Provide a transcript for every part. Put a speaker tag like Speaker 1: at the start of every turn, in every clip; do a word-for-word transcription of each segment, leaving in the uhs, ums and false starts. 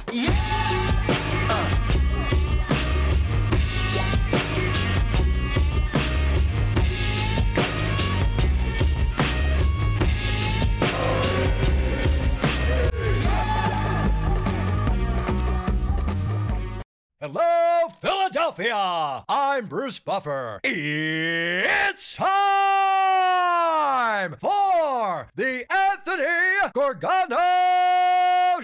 Speaker 1: Hello, Philadelphia! I'm Bruce Buffer. It's time for the Anthony Gorgano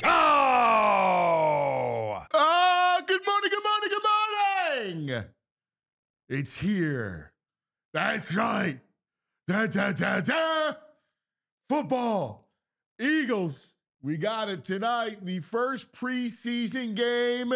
Speaker 1: Show!
Speaker 2: Ah, good morning, good morning, good morning! It's here. That's right. Da, da, da, da. Football. Eagles. We got it tonight. The first preseason game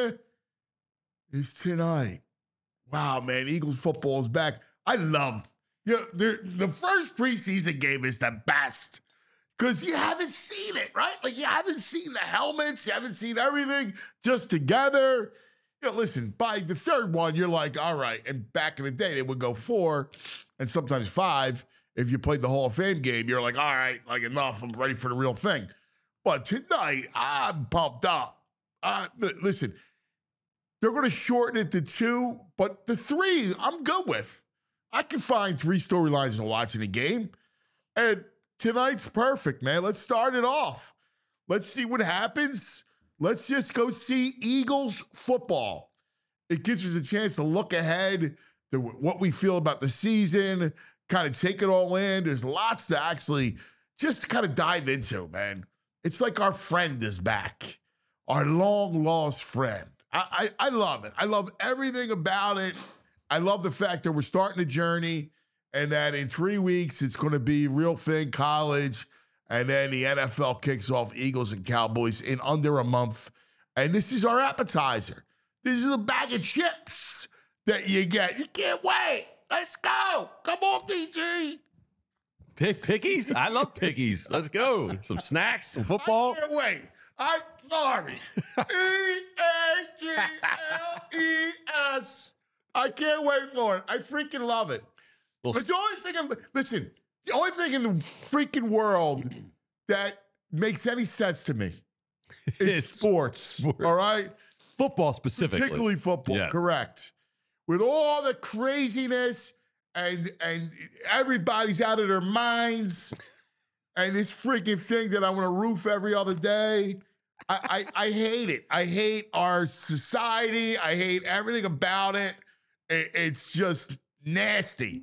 Speaker 2: is tonight. Wow, man, Eagles football is back. I love, you know, the, the first preseason game is the best because you haven't seen it, right? Like, you haven't seen the helmets, you haven't seen everything just together. You know, listen, by the third one, you're like, all right. And back in the day, they would go four and sometimes five. If you played the Hall of Fame game, you're like, all right, like, enough, I'm ready for the real thing. But tonight, I'm pumped up. Uh, listen, they're going to shorten it to two, but the three, I'm good with. I can find three storylines in watching the game. And tonight's perfect, man. Let's start it off. Let's see what happens. Let's just go see Eagles football. It gives us a chance to look ahead to what we feel about the season, kind of take it all in. There's lots to actually just kind of dive into, man. It's like our friend is back, our long-lost friend. I, I, I love it. I love everything about it. I love the fact that we're starting a journey and that in three weeks it's going to be real thing, college, and then the N F L kicks off Eagles and Cowboys in under a month. And this is our appetizer. This is a bag of chips that you get. You can't wait. Let's go. Come on, P G.
Speaker 3: Pick pickies? I love pickies. Let's go. Some snacks, some football.
Speaker 2: I can't wait. I'm sorry. E A G L E S. I can't wait for it. I freaking love it.
Speaker 3: Well,
Speaker 2: but the only thing, I'm, listen, the only thing in the freaking world that makes any sense to me is sports,
Speaker 3: sports.
Speaker 2: All right?
Speaker 3: Football specifically.
Speaker 2: Particularly football,
Speaker 3: yes.
Speaker 2: Correct. With all the craziness and and everybody's out of their minds and this freaking thing that I want to roof every other day. I, I, I hate it. I hate our society. I hate everything about it. it it's just nasty.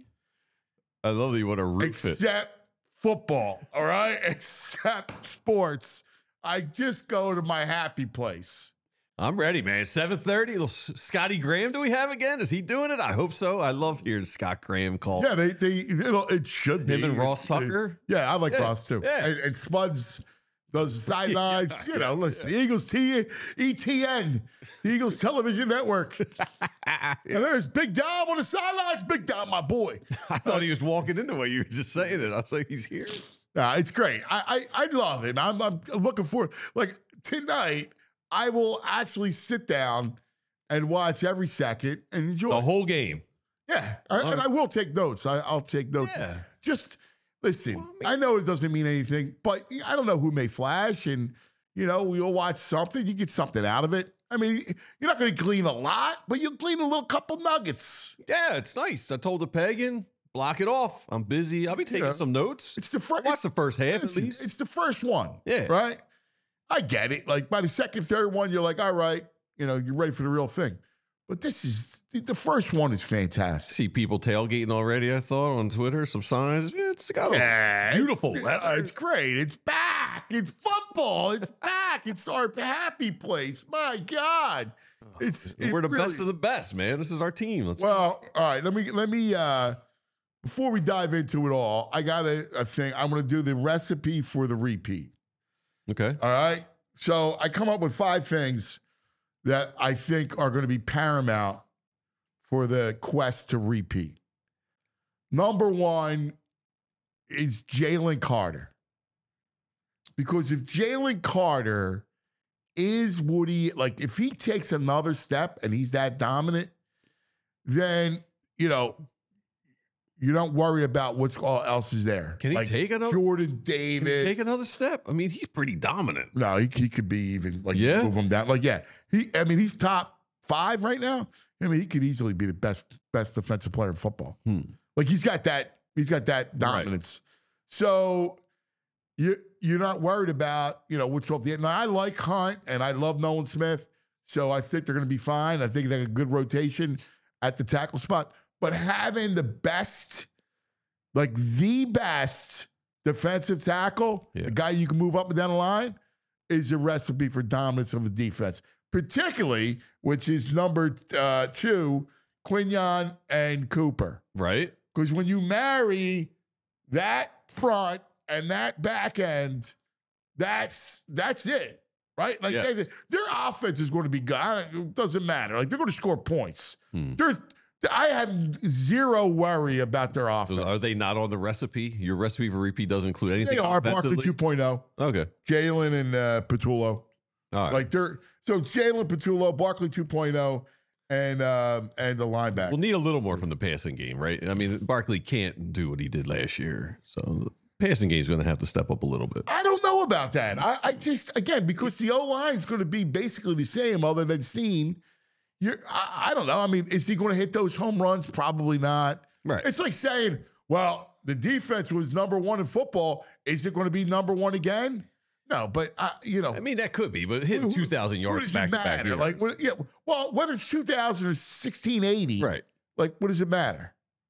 Speaker 3: I love that you want to roof
Speaker 2: Except
Speaker 3: it.
Speaker 2: Except football, all right? Except sports. I just go to my happy place.
Speaker 3: I'm ready, man. seven thirty. Scotty Graham, do we have again? Is he doing it? I hope so. I love hearing Scott Graham call.
Speaker 2: Yeah, they, they it'll, it should be.
Speaker 3: Him and Ross Tucker?
Speaker 2: It, yeah, I like
Speaker 3: yeah.
Speaker 2: Ross too.
Speaker 3: Yeah.
Speaker 2: And, and Spuds does sidelines.
Speaker 3: yeah,
Speaker 2: you know,
Speaker 3: yeah,
Speaker 2: listen,
Speaker 3: yeah.
Speaker 2: Eagles T, E T N, the Eagles Television Network. yeah. And there's Big Dom on the sidelines. Big Dom, my boy.
Speaker 3: I thought he was walking into what you were just saying it. I was like, he's here.
Speaker 2: Yeah, it's great. I, I, I love it. I'm, I'm looking forward. Like tonight, I will actually sit down and watch every second and enjoy
Speaker 3: The whole game.
Speaker 2: Yeah, I, and I will take notes. I, I'll take notes.
Speaker 3: Yeah.
Speaker 2: Just listen.
Speaker 3: Well, I
Speaker 2: I know it doesn't mean anything, but I don't know who may flash, and you know we'll watch something. You get something out of it. I mean, you're not going to glean a lot, but you'll glean a little couple nuggets.
Speaker 3: Yeah, it's nice. I told the pagan, block it off. I'm busy. I'll be taking
Speaker 2: Yeah.
Speaker 3: some notes.
Speaker 2: It's the first.
Speaker 3: Watch the first half
Speaker 2: listen,
Speaker 3: at least.
Speaker 2: It's the first one.
Speaker 3: Yeah.
Speaker 2: Right. I get it. Like by the second, third one, you're like, all right, you know, you're ready for the real thing. But this is the first one is fantastic.
Speaker 3: See people tailgating already, I thought, on Twitter. Some signs. Yeah, it's got
Speaker 2: Yeah,
Speaker 3: it's beautiful.
Speaker 2: It's,
Speaker 3: weather.
Speaker 2: uh, it's great. It's back. It's football. It's back. It's our happy place. My God. It's it
Speaker 3: We're the
Speaker 2: really,
Speaker 3: best of the best, man. This is our team. Let's
Speaker 2: Well, all right. Let me let me uh before we dive into it all, I got a, a thing. I'm gonna do the recipe for the repeat.
Speaker 3: Okay.
Speaker 2: All right. So I come up with five things that I think are going to be paramount for the quest to repeat. Number one is Jalen Carter. Because if Jalen Carter is Woody, like if he takes another step and he's that dominant, then, you know, you don't worry about what's all else is there.
Speaker 3: Can he
Speaker 2: like
Speaker 3: take another
Speaker 2: Jordan
Speaker 3: can he
Speaker 2: Davis?
Speaker 3: take another step? I mean, he's pretty dominant.
Speaker 2: No, he, he could be even like
Speaker 3: Yeah?
Speaker 2: move him down. Like yeah, he. I mean, he's top five right now. I mean, he could easily be the best best defensive player in football.
Speaker 3: Hmm.
Speaker 2: Like he's got that. He's got that dominance. So you you're not worried about you know what's off the end. Now I like Hunt and I love Nolan Smith, so I think they're going to be fine. I think they have a good rotation at the tackle spot. But having the best, like the best defensive tackle,
Speaker 3: Yeah.
Speaker 2: the guy you can move up and down the line, is a recipe for dominance of the defense, particularly which is number uh, two, Quinyon and Cooper.
Speaker 3: Right?
Speaker 2: Because when you marry that front and that back end, that's that's it, right? Like
Speaker 3: Yes.
Speaker 2: they, their offense is going to be good. I don't- It doesn't matter. Like they're going to score points.
Speaker 3: Hmm.
Speaker 2: There's, I have zero worry about their
Speaker 3: So
Speaker 2: offense.
Speaker 3: are they not on the recipe? Your recipe for repeat doesn't include anything.
Speaker 2: They are Barkley
Speaker 3: offensively?
Speaker 2: two point oh,
Speaker 3: Okay.
Speaker 2: Jalen and uh, Patullo.
Speaker 3: All right.
Speaker 2: Like they're so Jalen Patullo, Barkley two point oh, and um, and the linebacker.
Speaker 3: We'll need a little more from the passing game, right? I mean, Barkley can't do what he did last year. So the passing game's going to have to step up a little bit.
Speaker 2: I don't know about that. I, I just again because the O line's going to be basically the same, other than Steen. You're, I, I don't know. I mean, is he going to hit those home runs? Probably not.
Speaker 3: Right.
Speaker 2: It's like saying, well, the defense was number one in football. Is it going to be number one again? No, but uh, you know,
Speaker 3: I mean, that could be, but hitting
Speaker 2: who-
Speaker 3: two thousand
Speaker 2: what
Speaker 3: yards
Speaker 2: does
Speaker 3: back
Speaker 2: it
Speaker 3: to back
Speaker 2: matter?
Speaker 3: years.
Speaker 2: Like, what, yeah, well, whether it's two thousand or sixteen eighty,
Speaker 3: Right.
Speaker 2: Like, what does it matter?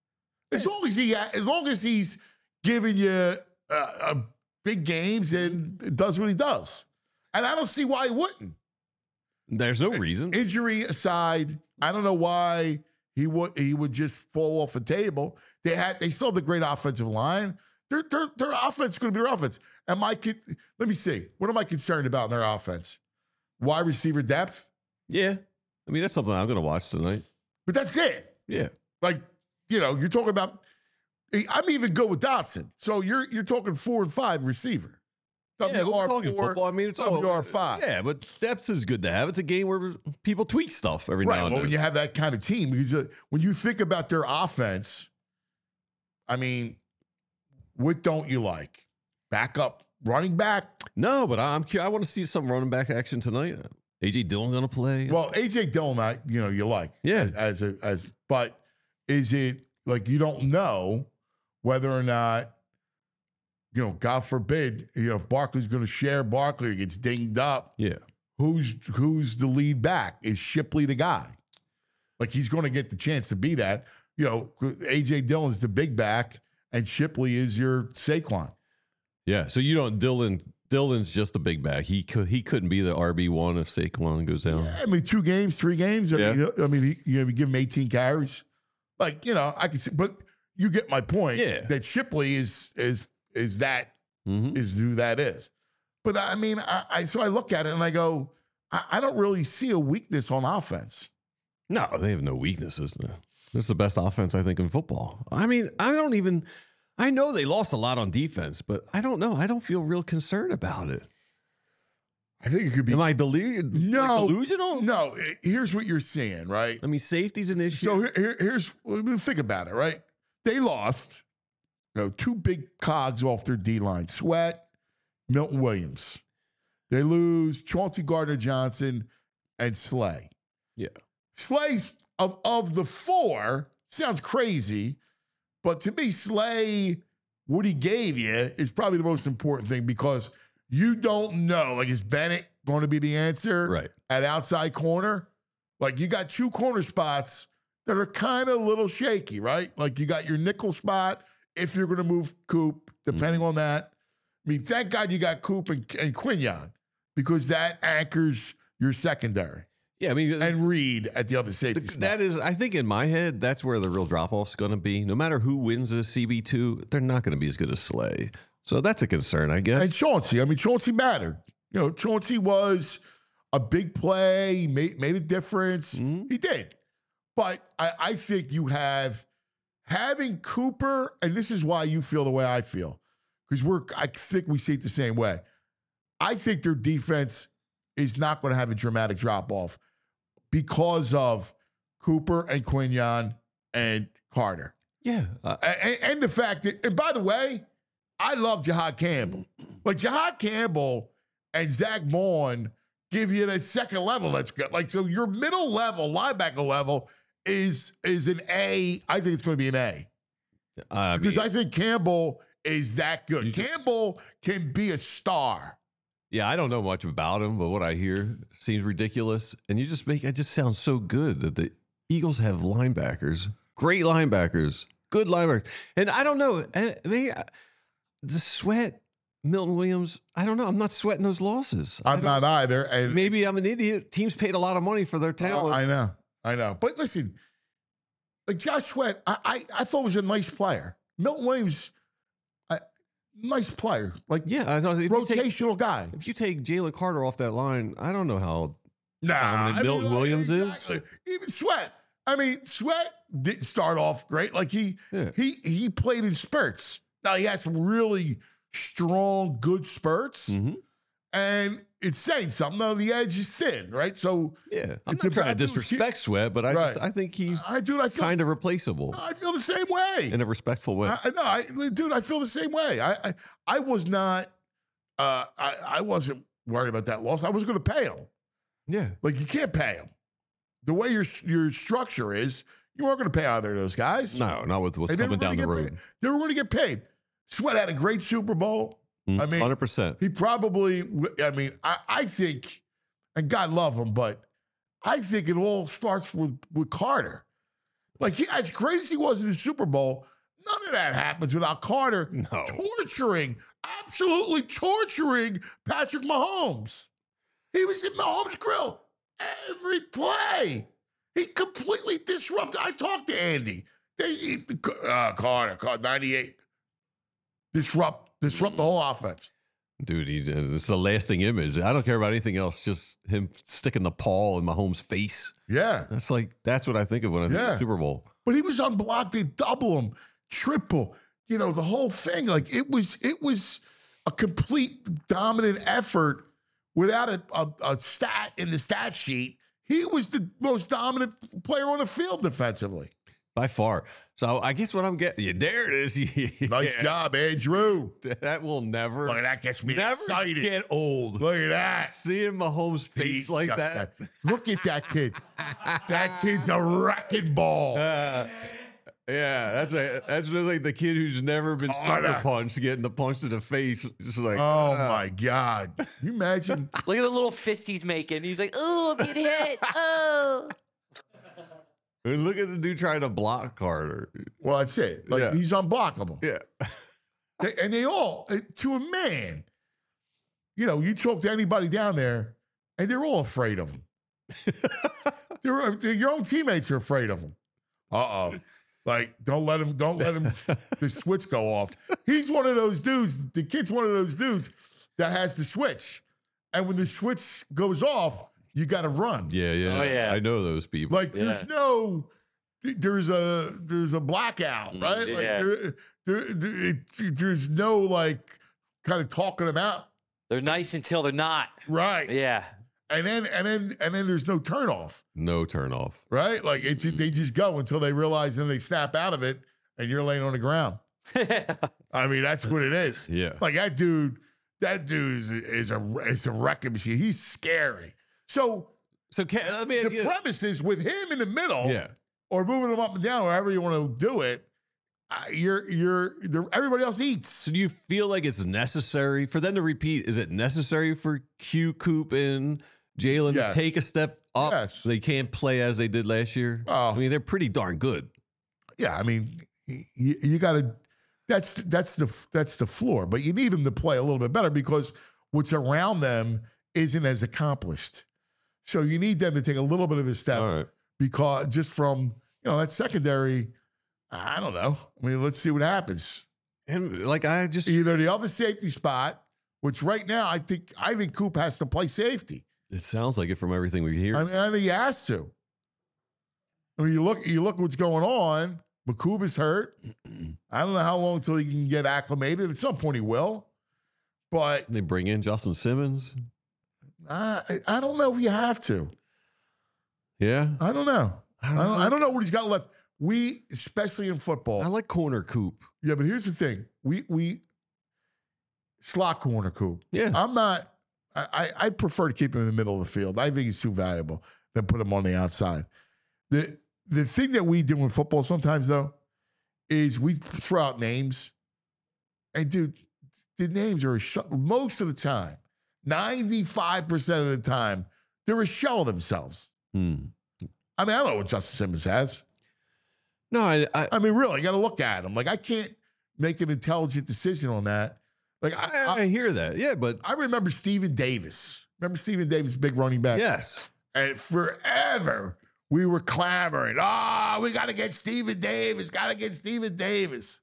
Speaker 2: As long as he, as long as he's giving you uh, uh, big games and does what he does, and I don't see why he wouldn't.
Speaker 3: There's no reason.
Speaker 2: Injury aside, I don't know why he would he would just fall off the table. They had they still have the great offensive line. Their their their offense is going to be their offense. Am I? con- Let me see. What am I concerned about in their offense? Wide receiver depth,
Speaker 3: Yeah. I mean, that's something I'm going to watch tonight.
Speaker 2: but that's it.
Speaker 3: Yeah.
Speaker 2: Like you know, you're talking about. I'm even good with Dotson. So you're you're talking four and five receiver. Some
Speaker 3: Yeah,
Speaker 2: of you
Speaker 3: we're
Speaker 2: are
Speaker 3: talking
Speaker 2: four,
Speaker 3: football. I mean, it's
Speaker 2: some
Speaker 3: all
Speaker 2: of you are five.
Speaker 3: Yeah, but depth is good to have. It's a game where people tweak stuff every
Speaker 2: Right.
Speaker 3: now and
Speaker 2: Well,
Speaker 3: then.
Speaker 2: when you have that kind of team, because uh, when you think about their offense, I mean, what don't you like? Backup running back.
Speaker 3: No, but I'm cu- I want to see some running back action tonight. A J Dillon going to play?
Speaker 2: Well, A J Dillon, I, you know, you like.
Speaker 3: Yeah.
Speaker 2: As a as, but is it like you don't know whether or not, you know, God forbid, you know, if Barkley's going to share Barkley or gets dinged up,
Speaker 3: yeah.
Speaker 2: who's who's the lead back? Is Shipley the guy? Like he's going to get the chance to be that. You know, A J Dillon's the big back, and Shipley is your Saquon.
Speaker 3: Yeah. So you don't Dillon Dillon's just a big back. He could he couldn't be the R B one if Saquon goes down.
Speaker 2: Yeah, I mean, two games, three games. I
Speaker 3: Yeah.
Speaker 2: mean, I mean, you, you know, give him eighteen carries. Like you know, I can see, but you get my point.
Speaker 3: Yeah.
Speaker 2: That Shipley is is is that
Speaker 3: Mm-hmm.
Speaker 2: is who that is. But I mean, I, I so I look at it and I go, I, I don't really see a weakness on offense.
Speaker 3: No, they have no weaknesses. No. It's the best offense, I think, in football. I mean, I don't even, I know they lost a lot on defense, but I don't know. I don't feel real concerned about it.
Speaker 2: I think it could be.
Speaker 3: Am I delu-
Speaker 2: No.
Speaker 3: like delusional?
Speaker 2: No, i- here's what you're seeing, right?
Speaker 3: I mean, safety's an issue.
Speaker 2: So here, here- here's think about it, right? They lost, you know, two big cogs off their D line: Sweat, Milton Williams. They lose Chauncey Gardner Johnson and Slay.
Speaker 3: Yeah.
Speaker 2: Slay's of of the four sounds crazy, but to me, Slay, what he gave you is probably the most important thing because you don't know. Like, is Bennett going to be the answer
Speaker 3: Right.
Speaker 2: at outside corner? Like, you got two corner spots that are kind of a little shaky, right? Like, you got your nickel spot if you're going to move Coop, depending on that. I mean, thank God you got Coop and, and Quinyon because that anchors your secondary.
Speaker 3: Yeah, I mean,
Speaker 2: And Reed at the other safety
Speaker 3: th-
Speaker 2: spot.
Speaker 3: that is, I think in my head, that's where the real drop off's going to be. No matter who wins a C B two, they're not going to be as good as Slay. So that's a concern, I guess.
Speaker 2: And Chauncey, I mean, Chauncey mattered. You know, Chauncey was a big play. He made, made a difference.
Speaker 3: Mhm.
Speaker 2: He did. But I, I think you have having Cooper, and this is why you feel the way I feel, because we're I think we see it the same way. I think their defense is not going to have a dramatic drop off because of Cooper and Quinyon and Carter.
Speaker 3: Yeah. Uh,
Speaker 2: And, and the fact that, and by the way, I love Jahad Campbell. Like Jahad Campbell and Zach Vaughn give you that second level that's good. Like, so your middle level, linebacker level is is an A. I think it's going to be an A.
Speaker 3: I
Speaker 2: Because
Speaker 3: mean,
Speaker 2: I think Campbell is that good.
Speaker 3: You just-
Speaker 2: Campbell can be a star.
Speaker 3: yeah, I don't know much about him, but what I hear seems ridiculous. And you just make it just sounds so good that the Eagles have linebackers, great linebackers, good linebackers. And I don't know, I mean, the Sweat, Milton Williams, I don't know. I'm not sweating those losses. I
Speaker 2: I'm
Speaker 3: don't-
Speaker 2: not either. And
Speaker 3: Maybe I'm an idiot. Teams paid a lot of money for their
Speaker 2: Uh,
Speaker 3: talent.
Speaker 2: I know, I know. But listen, like Josh Sweat, I, I, I thought was a nice player. Milton Williams, I, nice player, like
Speaker 3: yeah, I know. If you take,
Speaker 2: rotational guy.
Speaker 3: if you take Jalen Carter off that line, I don't know how.
Speaker 2: Nah,
Speaker 3: dominant Milton Williams is.
Speaker 2: Even Sweat. I mean, Sweat didn't start off great. Like he,
Speaker 3: Yeah.
Speaker 2: he, he played in spurts. Now he has some really strong, good spurts,
Speaker 3: Mm-hmm.
Speaker 2: and it's saying something. Now the edge is thin, right? So
Speaker 3: Yeah, I'm
Speaker 2: It's
Speaker 3: not
Speaker 2: a
Speaker 3: trying to
Speaker 2: bad news.
Speaker 3: disrespect Sweat, but I
Speaker 2: Right.
Speaker 3: just, I think he's
Speaker 2: I, dude, I feel
Speaker 3: kind of replaceable
Speaker 2: I feel the same way.
Speaker 3: in a respectful way.
Speaker 2: I, I- no, I, dude, I feel the same way. I, I, I was not, uh, I, I wasn't worried about that loss. I was going to pay him.
Speaker 3: yeah,
Speaker 2: Like you can't pay him. The way your your structure is, you weren't going to pay either of those guys.
Speaker 3: no, not with what's
Speaker 2: And they
Speaker 3: coming
Speaker 2: were gonna
Speaker 3: down the
Speaker 2: get
Speaker 3: road.
Speaker 2: paid. They were going to get paid. Sweat had a great Super Bowl. I mean,
Speaker 3: hundred percent.
Speaker 2: he probably, I mean, I, I think, and God love him, but I think it all starts with, with Carter. Like, he, as great as he was in the Super Bowl, none of that happens without Carter
Speaker 3: No.
Speaker 2: torturing, absolutely torturing Patrick Mahomes. He was in Mahomes' grill every play. He completely disrupted. I talked to Andy. They, uh, Carter, Carter, ninety-eight. Disrupt, disrupt the whole offense.
Speaker 3: Dude, he, it's the lasting image. I don't care about anything else. Just him sticking the paw in Mahomes' face.
Speaker 2: Yeah.
Speaker 3: That's like that's what I think of when I think
Speaker 2: Yeah.
Speaker 3: of Super Bowl.
Speaker 2: But he was unblocked. They double him, triple, you know, the whole thing. Like it was, it was a complete dominant effort without a, a, a stat in the stat sheet. He was the most dominant player on the field defensively.
Speaker 3: By far. So I guess what I'm getting, yeah, there it is.
Speaker 2: Nice
Speaker 3: Yeah.
Speaker 2: job, Andrew.
Speaker 3: That will never,
Speaker 2: Look at that, gets me
Speaker 3: never
Speaker 2: excited.
Speaker 3: get old.
Speaker 2: Look at that.
Speaker 3: Seeing Mahomes' face
Speaker 2: He's
Speaker 3: like
Speaker 2: just
Speaker 3: that.
Speaker 2: a- Look at that kid. That kid's a wrecking ball.
Speaker 3: Uh, yeah, that's a, that's just like the kid who's never been
Speaker 2: Oh,
Speaker 3: sucker
Speaker 2: that-
Speaker 3: punched, getting the punch to the face. Just like,
Speaker 2: Oh
Speaker 3: uh,
Speaker 2: my God. Can you imagine?
Speaker 4: Look at the little fist he's making. He's like, oh, I'm getting hit. Oh.
Speaker 3: And look at the dude trying to block Carter.
Speaker 2: Well, that's it. Like
Speaker 3: Yeah.
Speaker 2: he's unblockable.
Speaker 3: Yeah.
Speaker 2: They- and they all, uh, to a man, you know, you talk to anybody down there, and they're all afraid of him. they're, they're- your own teammates are afraid of him. Uh oh, like don't let him, don't let him, the switch go off. He's one of those dudes. The kid's one of those dudes that has the switch, and when the switch goes off, you got to run.
Speaker 3: Yeah, yeah.
Speaker 4: Oh, yeah.
Speaker 3: I know those people.
Speaker 2: Like there's
Speaker 4: Yeah.
Speaker 2: no, there's a there's a blackout, right? Like
Speaker 4: yeah.
Speaker 2: there, there, there- it- there's no like kind of talking them out,
Speaker 4: They're nice until they're not.
Speaker 2: right?
Speaker 4: Yeah.
Speaker 2: And then and then and then there's no turnoff,
Speaker 3: No turn off.
Speaker 2: right? Like it, ju- they just go until they realize, and they snap out of it, and you're laying on the ground. I mean, that's what it is.
Speaker 3: Yeah.
Speaker 2: Like that dude, that dude is, is a is a wrecking machine. He's scary. So
Speaker 3: So can, let me ask
Speaker 2: the
Speaker 3: you.
Speaker 2: premise is with him in the middle,
Speaker 3: Yeah.
Speaker 2: or moving them up and down, wherever you want to do it. Uh, you're you're the, everybody else eats.
Speaker 3: So do you feel like it's necessary for them to repeat? Is it necessary for Q, Coop, and Jalen
Speaker 2: Yes.
Speaker 3: to take a step up?
Speaker 2: Yes.
Speaker 3: They can't play as they did last year.
Speaker 2: Oh.
Speaker 3: I mean, they're pretty darn good.
Speaker 2: Yeah, I mean, you, you got to. That's that's the that's the floor, but you need them to play a little bit better because what's around them isn't as accomplished. So you need them to take a little bit of a step
Speaker 3: All right.
Speaker 2: because just from you know that secondary, I don't know. I mean, let's see what happens.
Speaker 3: And like I just,
Speaker 2: Either the other safety spot, which right now I think I think Coop has to play safety.
Speaker 3: it sounds like it from everything we hear.
Speaker 2: I mean, I think he has to. I mean, you look, you look what's going on. McCoob is hurt. I don't know how long until he can get acclimated. At some point, he will. But
Speaker 3: They bring in Justin Simmons.
Speaker 2: I, I don't know if you have to.
Speaker 3: Yeah.
Speaker 2: I don't know.
Speaker 3: I
Speaker 2: I don't, I don't know what he's got left. we, especially in football.
Speaker 3: I like corner coop.
Speaker 2: Yeah, but here's the thing. We we slot corner coop.
Speaker 3: Yeah.
Speaker 2: I'm not I, I I prefer to keep him in the middle of the field. I think he's too valuable than put him on the outside. The the thing that we do in football sometimes though is we throw out names. And dude, the names are a sh- most of the time, ninety-five percent of the time, they're a shell of themselves.
Speaker 3: Hmm.
Speaker 2: I mean, I don't know what Justin Simmons has.
Speaker 3: No, I, I,
Speaker 2: I mean, really, you got to look at him. Like, I can't make an intelligent decision on that. Like, I,
Speaker 3: I,
Speaker 2: I,
Speaker 3: I hear that. Yeah, but
Speaker 2: I remember Stephen Davis. Remember Stephen Davis, big running back?
Speaker 3: yes.
Speaker 2: And forever we were clamoring, oh, we got to get Stephen Davis, got to get Stephen Davis.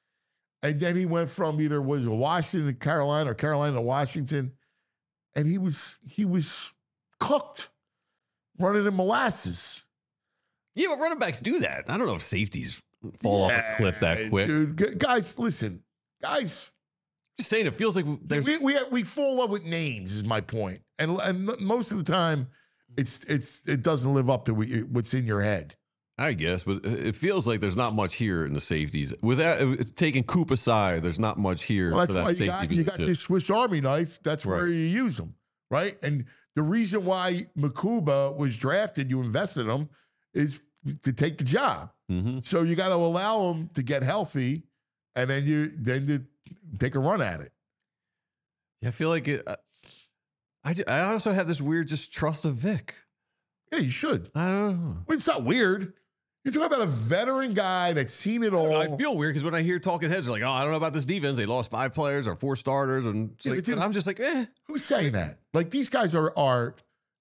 Speaker 2: And then he went from either was Washington to Carolina or Carolina to Washington, and he was he was cooked, running in molasses.
Speaker 3: Yeah, but running backs do that. I don't know if safeties fall
Speaker 2: Yeah,
Speaker 3: off a cliff that quick.
Speaker 2: Dude, Gu- guys, listen, guys.
Speaker 3: Just saying, it feels like there's.
Speaker 2: We, we we fall in love with names is my point, and and most of the time, it's it's it doesn't live up to what's in your head.
Speaker 3: I guess, but it feels like there's not much here in the safeties. Without taking Coop aside, there's not much here
Speaker 2: Well,
Speaker 3: for
Speaker 2: that's
Speaker 3: that
Speaker 2: why you
Speaker 3: safety
Speaker 2: got you got
Speaker 3: position.
Speaker 2: this Swiss Army knife. That's where
Speaker 3: Right.
Speaker 2: you use them, right? And the reason why Makuba was drafted, you invested in him, is to take the job.
Speaker 3: Mhm.
Speaker 2: So you got to allow him to get healthy, and then you then you take a run at it.
Speaker 3: Yeah, I feel like it. I, I, ju- I also have this weird just trust of Vic.
Speaker 2: Yeah, you should.
Speaker 3: I don't know.
Speaker 2: Well, it's not weird. You're talking about a veteran guy that's seen it all.
Speaker 3: I feel weird because when I hear talking heads, they're like, "Oh, I don't know about this defense. They lost five players or four starters," and, it's
Speaker 2: Yeah,
Speaker 3: like,
Speaker 2: but dude-
Speaker 3: and I'm just like, "Eh."
Speaker 2: Who's saying that? Like these guys are are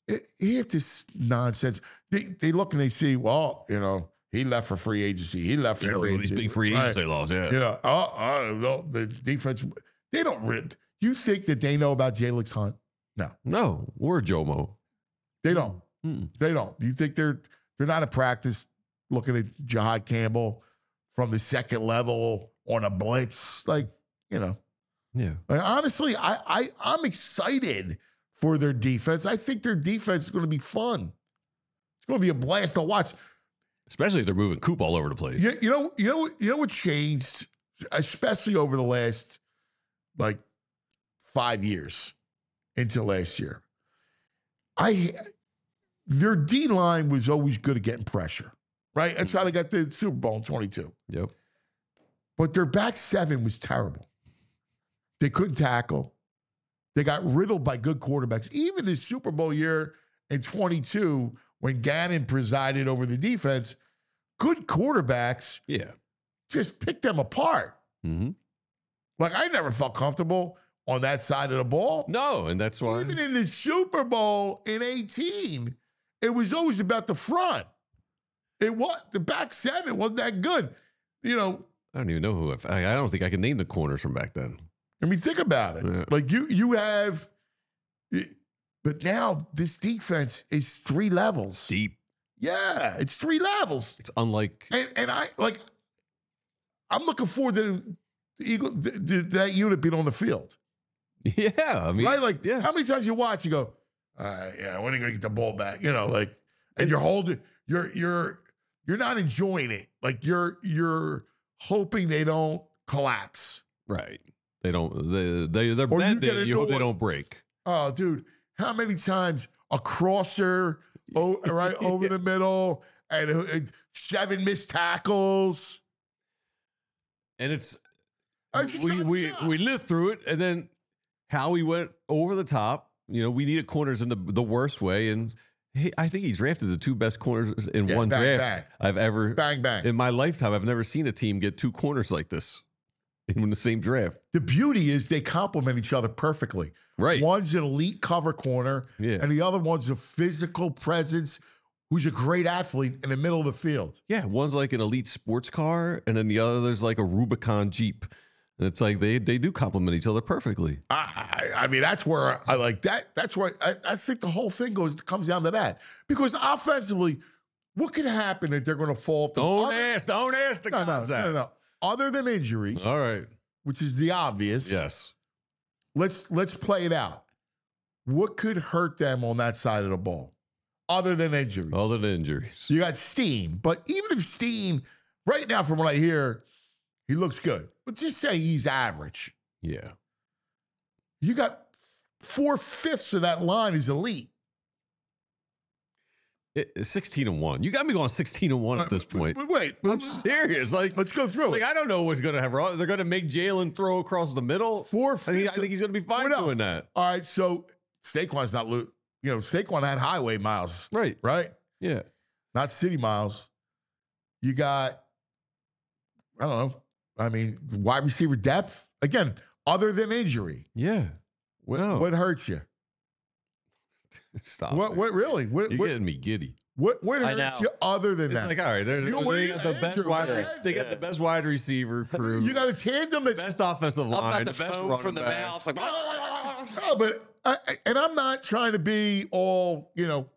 Speaker 2: he have this nonsense. They they look and they see, well, you know, he left for free agency. He left for
Speaker 3: You know,
Speaker 2: free
Speaker 3: these
Speaker 2: agency.
Speaker 3: big free agents they lost. Yeah,
Speaker 2: You know, oh, oh no, the defense. They don't. re- You think that they know about Jalix Hunt? No,
Speaker 3: no, we're Jomo.
Speaker 2: they don't.
Speaker 3: Mm.
Speaker 2: They don't. You think they're they're not in practice looking at Jahad Campbell from the second level on a blitz? Like, you know.
Speaker 3: Yeah,
Speaker 2: Like, honestly, I, I I'm excited for their defense. I think their defense is going to be fun. It's going to be a blast to watch.
Speaker 3: especially if they're moving Coop all over the place.
Speaker 2: You, you know, you know, you know what changed, especially over the last like five years into last year. I their D line was always good at getting pressure, right? That's how they got the Super Bowl in twenty-two.
Speaker 3: Yep.
Speaker 2: But their back seven was terrible. They couldn't tackle. They got riddled by good quarterbacks. Even the Super Bowl year in twenty-two, when Gannon presided over the defense, good quarterbacks
Speaker 3: Yeah.
Speaker 2: just picked them apart.
Speaker 3: Mm-hmm.
Speaker 2: Like, I never felt comfortable on that side of the ball.
Speaker 3: No, and that's why.
Speaker 2: Even in the Super Bowl in eighteen, it was always about the front. It was the back seven wasn't that good. You know,
Speaker 3: I don't even know who. I've, I I don't think I can name the corners from back then.
Speaker 2: I mean, think about it.
Speaker 3: Yeah.
Speaker 2: Like you, you have, but now this defense is three levels.
Speaker 3: Deep.
Speaker 2: Yeah, it's three levels,
Speaker 3: It's unlike.
Speaker 2: and and I like. I'm looking forward to the Eagle th- th- that unit being on the field,
Speaker 3: Yeah, I mean,
Speaker 2: right? Like,
Speaker 3: yeah.
Speaker 2: how many times you watch, you go, uh, yeah, when are you gonna get the ball back? You know, like, and you're holding, you're you're you're not enjoying it. Like you're you're hoping they don't collapse.
Speaker 3: Right. They don't. They they they're
Speaker 2: Or you
Speaker 3: bending.
Speaker 2: get
Speaker 3: You, hope they
Speaker 2: annoyed.
Speaker 3: don't break.
Speaker 2: Oh, dude, how many times a crosser oh, right over the middle and uh, seven missed tackles?
Speaker 3: And it's
Speaker 2: I just
Speaker 3: we
Speaker 2: drive me
Speaker 3: we
Speaker 2: nuts.
Speaker 3: we lived through it, and then how he went over the top. You know, we needed corners in the the worst way, and he, I think he drafted the two best corners in
Speaker 2: Yeah,
Speaker 3: one
Speaker 2: bang,
Speaker 3: draft
Speaker 2: bang.
Speaker 3: I've ever
Speaker 2: Bang, bang.
Speaker 3: in my lifetime. I've never seen a team get two corners like this in the same draft.
Speaker 2: The beauty is they complement each other perfectly.
Speaker 3: Right.
Speaker 2: One's an elite cover corner,
Speaker 3: Yeah.
Speaker 2: and the other one's a physical presence who's a great athlete in the middle of the field.
Speaker 3: Yeah, one's like an elite sports car, and then the other there's like a Rubicon Jeep. And it's like they they do complement each other perfectly.
Speaker 2: I, I I mean, that's where I like that. That's where I, I think the whole thing goes comes down to that. Because offensively, what could happen that they're going to fall? off the-
Speaker 3: Don't
Speaker 2: other-
Speaker 3: ask, don't ask the
Speaker 2: No, no,
Speaker 3: concept.
Speaker 2: no, no, no. Other than injuries,
Speaker 3: All right.
Speaker 2: which is the obvious.
Speaker 3: Yes.
Speaker 2: Let's let's play it out. What could hurt them on that side of the ball, other than injuries.
Speaker 3: Other than injuries.
Speaker 2: You got Steen, but even if Steen, right now, from what I hear, he looks good. But just say he's average.
Speaker 3: Yeah.
Speaker 2: You got four-fifths of that line is elite.
Speaker 3: It, it's sixteen and one. You got me going sixteen and one at this point.
Speaker 2: Wait, wait,
Speaker 3: I'm
Speaker 2: let's,
Speaker 3: serious. Like,
Speaker 2: let's go through
Speaker 3: like
Speaker 2: it.
Speaker 3: I don't know what's going to happen. They're going to make Jalen throw across the middle.
Speaker 2: Four
Speaker 3: I, mean, I think he's going to be fine
Speaker 2: What else?
Speaker 3: doing that.
Speaker 2: All right, so Saquon's not, lo- you know, Saquon had highway miles,
Speaker 3: Right.
Speaker 2: right?
Speaker 3: Yeah.
Speaker 2: Not city miles. You got, I don't know, I mean, wide receiver depth. Again, other than injury.
Speaker 3: Yeah.
Speaker 2: What,
Speaker 3: No.
Speaker 2: what hurts you?
Speaker 3: Stop.
Speaker 2: What,
Speaker 3: it.
Speaker 2: what really? What,
Speaker 3: You're
Speaker 2: what,
Speaker 3: getting me giddy.
Speaker 2: what, what
Speaker 4: I
Speaker 2: hurts
Speaker 4: know.
Speaker 2: you other than
Speaker 3: It's
Speaker 2: that?
Speaker 3: like, all right, they're,
Speaker 2: You know,
Speaker 3: they
Speaker 2: what do
Speaker 3: got
Speaker 2: you
Speaker 3: the best
Speaker 2: answer,
Speaker 3: wide
Speaker 2: man?
Speaker 3: receiver. They got the
Speaker 4: Yeah.
Speaker 3: best wide receiver crew.
Speaker 2: you got a tandem that's
Speaker 3: best offensive
Speaker 4: I'm
Speaker 3: line.
Speaker 4: about
Speaker 3: The
Speaker 4: to
Speaker 3: best
Speaker 4: foam
Speaker 3: running
Speaker 4: from the
Speaker 3: back.
Speaker 4: mouth. Like,
Speaker 2: Oh, but I, I- and I'm not trying to be all, you know,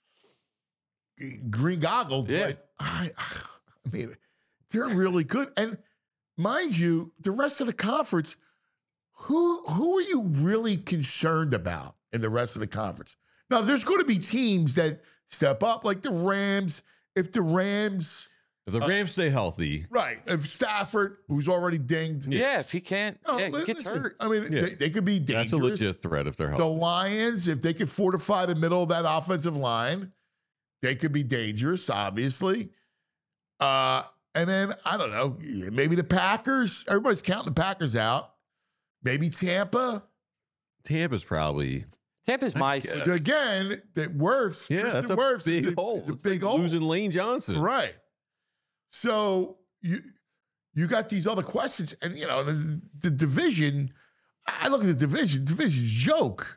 Speaker 2: green goggled,
Speaker 3: Yeah.
Speaker 2: but I, I mean, they're really good. And mind you, the rest of the conference, who who are you really concerned about in the rest of the conference? Now, there's going to be teams that step up, like the Rams. If the Rams,
Speaker 3: If the Rams stay healthy,
Speaker 2: right, if Stafford, who's already dinged,
Speaker 4: yeah, if he can't,
Speaker 2: no,
Speaker 4: yeah, he
Speaker 2: li-
Speaker 4: gets
Speaker 2: listen,
Speaker 4: hurt.
Speaker 2: I mean,
Speaker 3: Yeah.
Speaker 2: they, they could be dangerous.
Speaker 3: that's a legit threat if they're
Speaker 2: The
Speaker 3: healthy.
Speaker 2: Lions, if they could fortify the middle of that offensive line, they could be dangerous, obviously. Uh, and then, I don't know, maybe the Packers. Everybody's counting the Packers out. Maybe Tampa.
Speaker 3: Tampa's probably
Speaker 4: Tampa's my.
Speaker 3: guess.
Speaker 2: Again, that Wirfs.
Speaker 3: yeah.
Speaker 2: Tristan
Speaker 3: That's a
Speaker 2: Wirfs is
Speaker 3: big
Speaker 2: a-
Speaker 3: hole.
Speaker 2: is a
Speaker 3: It's
Speaker 2: big
Speaker 3: like
Speaker 2: hole.
Speaker 3: losing Lane Johnson.
Speaker 2: Right. So you you got these other questions, and you know the, the division. I look at the division. Division's a joke.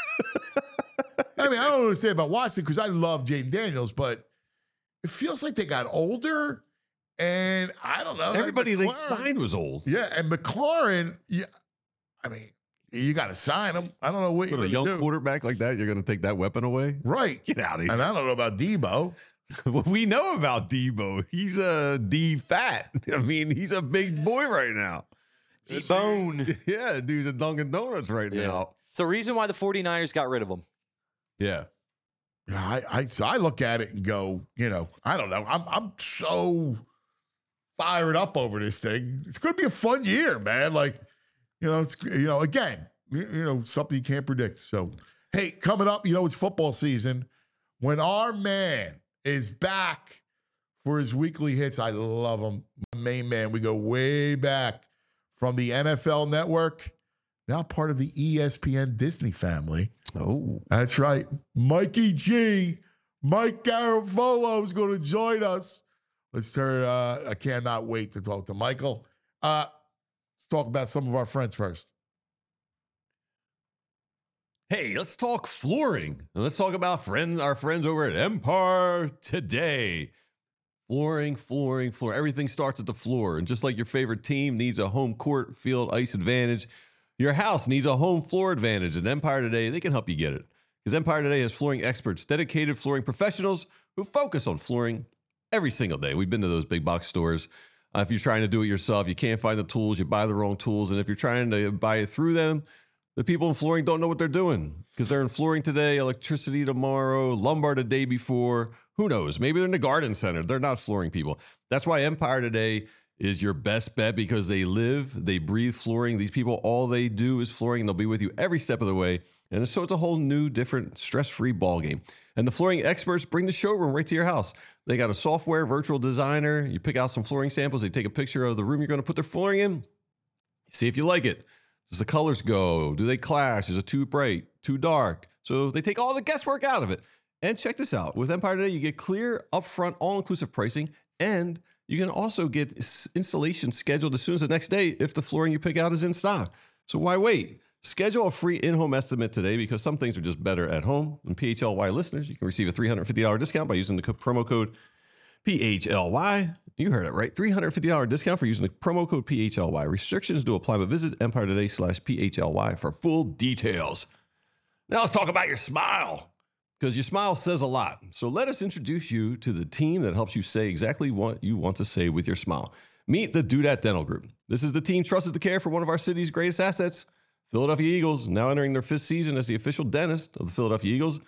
Speaker 2: I mean, I don't understand about Washington because I love Jaden Daniels, but it feels like they got older, and I don't know.
Speaker 3: Everybody they
Speaker 2: McLaurin-
Speaker 3: signed was old.
Speaker 2: yeah, and McLaurin. Yeah, I mean, you got to sign him. I don't know what
Speaker 3: With
Speaker 2: you're
Speaker 3: a
Speaker 2: going
Speaker 3: young
Speaker 2: to do.
Speaker 3: quarterback like that, you're going to take that weapon away?
Speaker 2: Right.
Speaker 3: Get out of here.
Speaker 2: And I don't know about Debo.
Speaker 3: Well, we know about Debo. He's a D fat. I mean, he's a big boy right now.
Speaker 4: Bone.
Speaker 3: Yeah, dude's at Dunkin' Donuts right
Speaker 4: Yeah.
Speaker 3: now.
Speaker 4: It's the reason why the 49ers got rid of him.
Speaker 3: Yeah.
Speaker 2: Yeah, I, I so I look at it and go, you know, I don't know. I'm I'm so fired up over this thing. It's going to be a fun year, man. Like, you know, it's you know, again, you, you know, something you can't predict. So, hey, coming up, you know, it's football season. When our man is back for his weekly hits, I love him. My main man. We go way back from the N F L Network, now part of the E S P N Disney family.
Speaker 3: Oh.
Speaker 2: That's right. Mikey G, Mike Garafolo is going to join us. Let's turn, uh, I cannot wait to talk to Michael. Uh, let's talk about some of our friends first.
Speaker 3: Hey, let's talk flooring. And let's talk about friends, our friends over at Empire Today. Flooring, flooring, floor. Everything starts at the floor. And just like your favorite team needs a home court, field, ice advantage, your house needs a home floor advantage. And Empire Today, they can help you get it. Because Empire Today has flooring experts, dedicated flooring professionals who focus on flooring every single day. We've been to those big box stores. Uh, if you're trying to do it yourself, you can't find the tools, you buy the wrong tools. And if you're trying to buy it through them, the people in flooring don't know what they're doing because they're in flooring today, electricity tomorrow, lumbar the day before. Who knows? Maybe they're in the garden center. They're not flooring people. That's why Empire Today is your best bet because they live, they breathe flooring. These people, all they do is flooring, and they'll be with you every step of the way. And so it's a whole new, different, stress-free ball game. And the flooring experts bring the showroom right to your house. They got a software virtual designer. You pick out some flooring samples. They take a picture of the room you're going to put their flooring in. See if you like it. Does the colors go? Do they clash? Is it too bright, too dark? So they take all the guesswork out of it. And check this out. With Empire Today, you get clear, upfront, all-inclusive pricing, and you can also get installation scheduled as soon as the next day if the flooring you pick out is in stock. So why wait? Schedule a free in-home estimate today because some things are just better at home. And P H L Y listeners, you can receive a three hundred fifty dollars discount by using the co- promo code P H L Y. You heard it right. three hundred fifty dollars discount for using the promo code P H L Y. Restrictions do apply, but visit Empire Today slash P H L Y for full details. Now let's talk about your smile because your smile says a lot. So let us introduce you to the team that helps you say exactly what you want to say with your smile. Meet the Do That Dental Group. This is the team trusted to care for one of our city's greatest assets, Philadelphia Eagles, now entering their fifth season as the official dentist of the Philadelphia Eagles.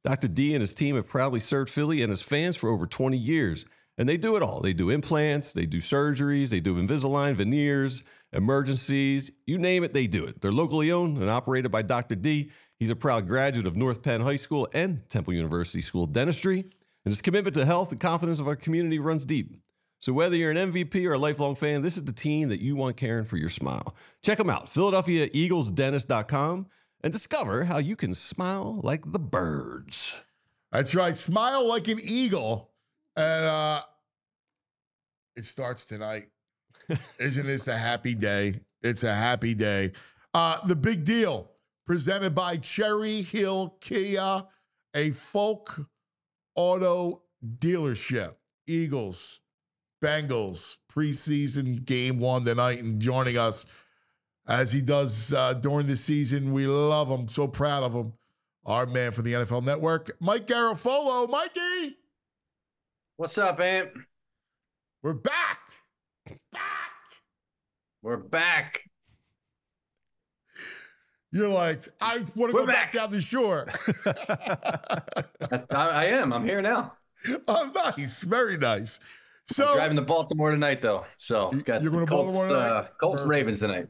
Speaker 3: Doctor D and his team have proudly served Philly and his fans for over twenty years. And they do it all. They do implants, they do surgeries, they do Invisalign, veneers, emergencies, you name it, they do it. They're locally owned and operated by Doctor D. He's a proud graduate of North Penn High School and Temple University School of Dentistry. And his commitment to health and confidence of our community runs deep. So whether you're an M V P or a lifelong fan, this is the team that you want caring for your smile. Check them out, Philadelphia Eagles Dentist dot com, and discover how you can smile like the birds.
Speaker 2: That's right. Smile like an eagle. And uh, it starts tonight. Isn't this a happy day? It's a happy day. Uh, the big deal, presented by Cherry Hill Kia, a folk auto dealership. Eagles, Bengals, preseason game one tonight, and joining us as he does uh, during the season. We love him. So proud of him. Our man for the N F L Network, Mike Garafolo. Mikey!
Speaker 5: What's up, Ant?
Speaker 2: We're back. Back.
Speaker 5: We're back.
Speaker 2: You're like, I want to go back. back down the shore.
Speaker 5: That's, I, I am. I'm here now.
Speaker 2: Oh, nice. Very nice. So
Speaker 5: I'm driving to Baltimore tonight, though. So got
Speaker 2: you're going to
Speaker 5: Colts,
Speaker 2: Baltimore tonight?
Speaker 5: Uh, Colts Ravens tonight.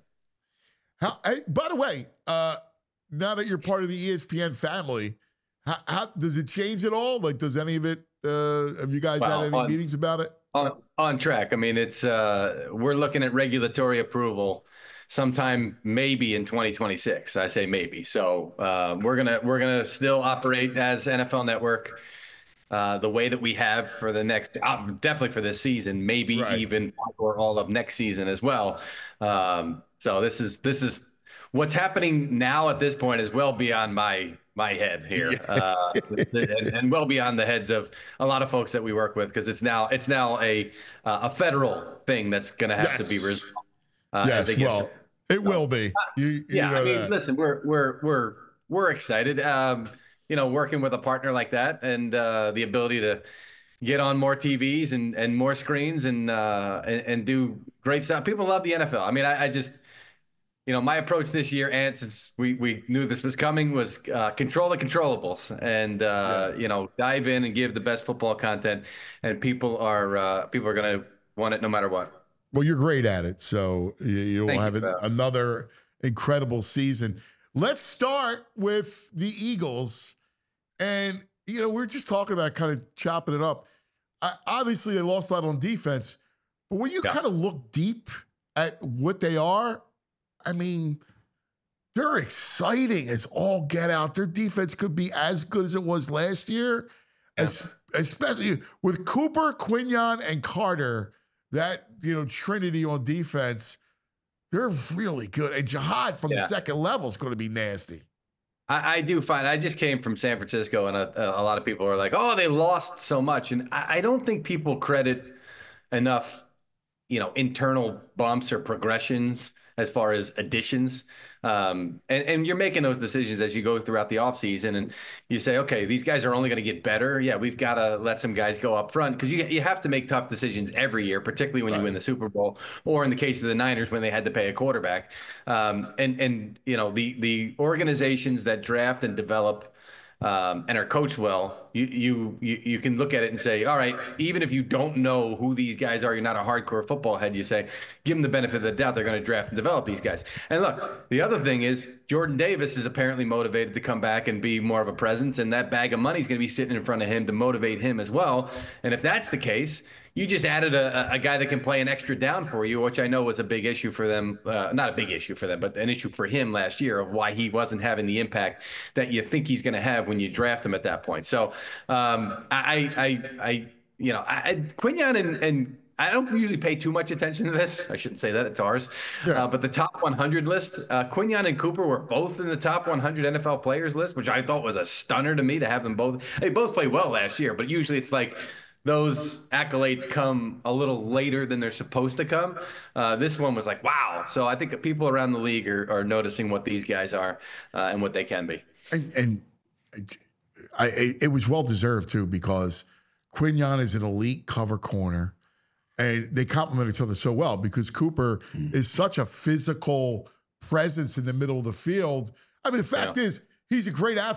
Speaker 2: How, hey, by the way, uh, now that you're part of the E S P N family, how, how does it change at all? Like, does any of it? Uh, have you guys
Speaker 5: Wow,
Speaker 2: had any
Speaker 5: on,
Speaker 2: meetings about it?
Speaker 5: On, on track. I mean, it's uh, we're looking at regulatory approval sometime maybe in twenty twenty-six. I say maybe. So uh, we're gonna we're gonna still operate as N F L Network uh, the way that we have for the next, uh, definitely for this season, maybe right. even or all of next season as well. Um, so this is this is what's happening now at this point is well beyond my. my head here yeah. uh, and, and well beyond the heads of a lot of folks that we work with, because it's now it's now a uh, a federal thing that's going to have yes. to be resolved. Uh,
Speaker 2: yes, well, it so, will be. You, you
Speaker 5: yeah,
Speaker 2: know
Speaker 5: I mean,
Speaker 2: that.
Speaker 5: listen, we're we're we're we're excited. Um, you know, working with a partner like that and uh, the ability to get on more T Vs and and more screens and uh, and, and do great stuff. People love the N F L. I mean, I, I just. You know, my approach this year, and since we, we knew this was coming, was uh, control the controllables and, uh, yeah. you know, dive in and give the best football content. And people are uh, people are going to want it no matter what.
Speaker 2: Well, you're great at it. So you, you'll
Speaker 5: Thank
Speaker 2: have
Speaker 5: you,
Speaker 2: an, another incredible season. Let's start with the Eagles. And, you know, we're just talking about kind of chopping it up. I, obviously, they lost a lot on defense. But when you yeah. kind of look deep at what they are, I mean, they're exciting as all get out. Their defense could be as good as it was last year, yeah. as, especially with Cooper, Quinyon, and Carter, that, you know, trinity on defense. They're really good. And Jihad from yeah. the second level is going to be nasty.
Speaker 5: I, I do find, I just came from San Francisco, and a, a lot of people are like, oh, they lost so much. And I, I don't think people credit enough, you know, internal bumps or progressions as far as additions. Um, and, and you're making those decisions as you go throughout the offseason, and you say, okay, these guys are only going to get better. Yeah, we've got to let some guys go up front, because you you have to make tough decisions every year, particularly when right. you win the Super Bowl, or in the case of the Niners when they had to pay a quarterback. Um, and, and you know, the the organizations that draft and develop Um, and are coached well, you, you you you can look at it and say, all right, even if you don't know who these guys are, you're not a hardcore football head, you say, give them the benefit of the doubt, they're going to draft and develop these guys. And look, the other thing is Jordan Davis is apparently motivated to come back and be more of a presence, and that bag of money is going to be sitting in front of him to motivate him as well. And if that's the case, you just added a, a guy that can play an extra down for you, which I know was a big issue for them. Uh, not a big issue for them, but an issue for him last year of why he wasn't having the impact that you think he's going to have when you draft him at that point. So um, I, I, I, you know, I, Quinyon and, and I don't usually pay too much attention to this. I shouldn't say that, it's ours. Yeah. Uh, but the top one hundred list, uh, Quinyon and Cooper were both in the top one hundred N F L players list, which I thought was a stunner to me to have them both. They both played well last year, but usually it's like, those accolades come a little later than they're supposed to come. Uh, this one was like, wow. So I think people around the league are, are noticing what these guys are uh, and what they can be.
Speaker 2: And, and I, it was well-deserved, too, because Quinyon is an elite cover corner, and they complement each other so well because Cooper mm. is such a physical presence in the middle of the field. I mean, the fact yeah. is, he's a great athlete.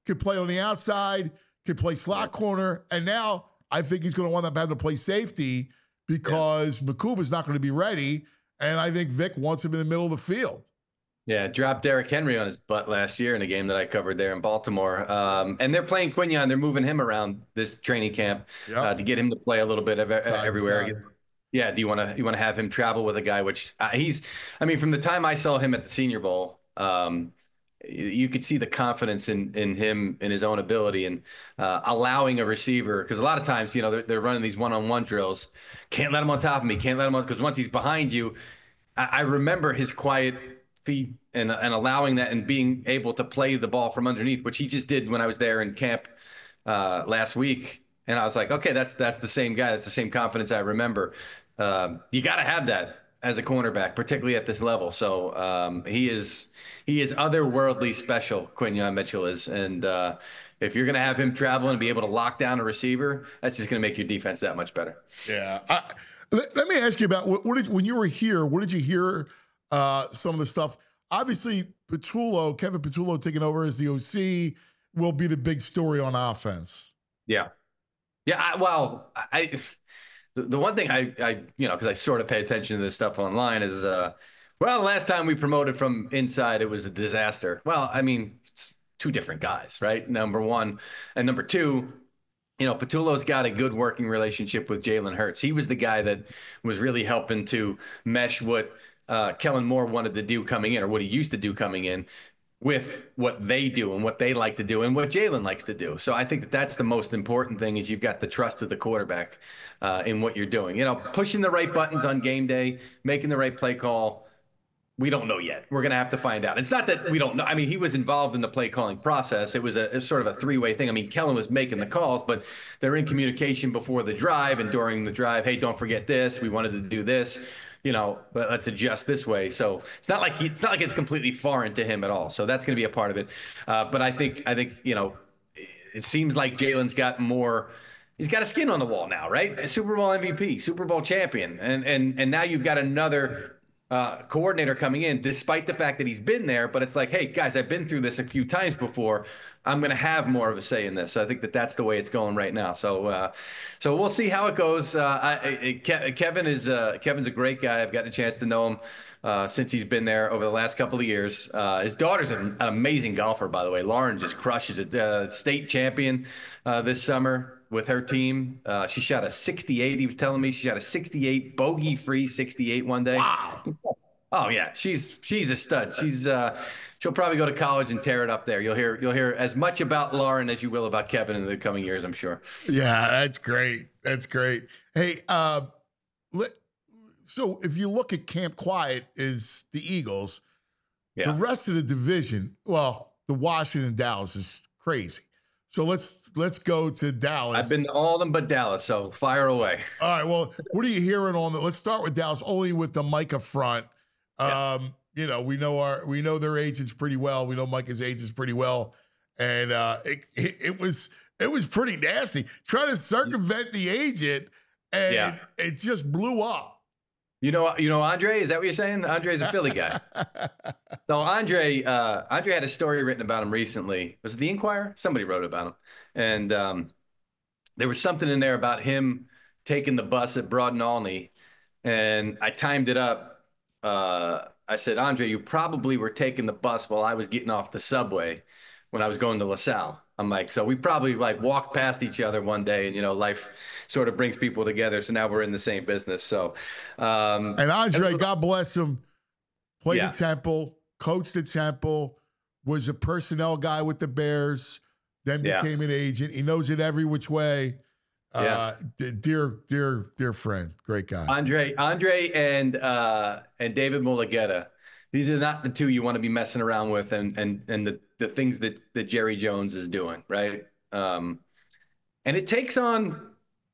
Speaker 2: could play on the outside, could play slot corner, and now I think he's going to wind up having to play safety because yeah. Mukuba's not going to be ready, and I think Vic wants him in the middle of the field.
Speaker 5: Yeah, dropped Derrick Henry on his butt last year in a game that I covered there in Baltimore. Um, and they're playing Quinyon. They're moving him around this training camp yep. uh, to get him to play a little bit of side everywhere. Yeah, do you want to you want to have him travel with a guy? Which uh, he's, I mean, from the time I saw him at the Senior Bowl, um, you could see the confidence in in him, in his own ability, and uh, allowing a receiver. Because a lot of times, you know, they're, they're running these one-on-one drills. Can't let him on top of me. Can't let him on, because once he's behind you, I, I remember his quiet feet and and allowing that and being able to play the ball from underneath, which he just did when I was there in camp uh, last week. And I was like, okay, that's that's the same guy. That's the same confidence I remember. Um, you got to have that as a cornerback, particularly at this level. So um, he is he is otherworldly special. Quinyon Mitchell is, and uh, if you're going to have him travel and be able to lock down a receiver, that's just going to make your defense that much better.
Speaker 2: Yeah. I, let, let me ask you about what, what did when you were here. What did you hear? Uh, some of the stuff. Obviously, Petrullo, Kevin Petrullo taking over as the O C will be the big story on offense.
Speaker 5: Yeah, yeah. I, well, I the, the one thing I I you know because I sort of pay attention to this stuff online is uh well, last time we promoted from inside, it was a disaster. Well, I mean, it's two different guys, right? Number one, and number two. You know, Petullo's got a good working relationship with Jalen Hurts. He was the guy that was really helping to mesh what uh, Kellen Moore wanted to do coming in, or what he used to do coming in, with what they do and what they like to do and what Jalen likes to do. So I think that that's the most important thing, is you've got the trust of the quarterback uh, in what you're doing. You know, pushing the right buttons on game day, making the right play call. We don't know yet. We're going to have to find out. It's not that we don't know. I mean, he was involved in the play calling process. It was a, it was sort of a three-way thing. I mean, Kellen was making the calls, but they're in communication before the drive and during the drive. Hey, don't forget this. We wanted to do this. You know, but let's adjust this way. So it's not like he, it's not like it's completely foreign to him at all. So that's going to be a part of it. Uh, but I think I think you know, it seems like Jalen's got more. He's got a skin on the wall now, right? A Super Bowl M V P, Super Bowl champion, and and and now you've got another uh, coordinator coming in, despite the fact that he's been there. But it's like, hey, guys, I've been through this a few times before. I'm going to have more of a say in this. So I think that that's the way it's going right now. So, uh, so we'll see how it goes. Uh, I, I, Ke- Kevin is uh, Kevin's a great guy. I've gotten a chance to know him uh, since he's been there over the last couple of years. Uh, his daughter's an, an amazing golfer, by the way. Lauren just crushes it. Uh, state champion uh, this summer with her team. Uh, she shot a sixty-eight. He was telling me she shot a sixty-eight, bogey-free sixty-eight one day.
Speaker 2: Wow.
Speaker 5: Oh yeah, she's she's a stud. She's uh, she'll probably go to college and tear it up there. You'll hear you'll hear as much about Lauren as you will about Kevin in the coming years, I'm sure.
Speaker 2: Yeah, that's great. That's great. Hey, uh, let, so if you look at Camp Quiet is the Eagles. Yeah. The rest of the division, well, the Washington Dallas is crazy. So let's let's go to Dallas.
Speaker 5: I've been to all of them but Dallas, so fire away.
Speaker 2: All right. Well, what are you hearing on the? Let's start with Dallas, only with the Micah front. Yeah. Um, you know, we know our we know their agents pretty well. We know Micah's agents pretty well, and uh, it, it it was it was pretty nasty trying to circumvent the agent, and yeah. it just blew up.
Speaker 5: You know, you know, Andre, is that what you're saying? Andre's a Philly guy. So Andre, uh, Andre had a story written about him recently. Was it the Inquirer? Somebody wrote about him, and um, there was something in there about him taking the bus at Broad and Olney, and I timed it up. Uh, I said, Andre, you probably were taking the bus while I was getting off the subway when I was going to LaSalle. I'm like, so we probably like walked past each other one day, and, you know, life sort of brings people together. So now we're in the same business. So, um,
Speaker 2: and Andre, and, God bless him, played
Speaker 5: yeah.
Speaker 2: at Temple, coached at Temple, was a personnel guy with the Bears, then became yeah. an agent. He knows it every which way. Yeah. Uh, dear, dear, dear friend, great guy.
Speaker 5: Andre, Andre, and uh, and David Mulugeta. These are not the two you want to be messing around with, and and and the the things that that Jerry Jones is doing, right? Um, and it takes on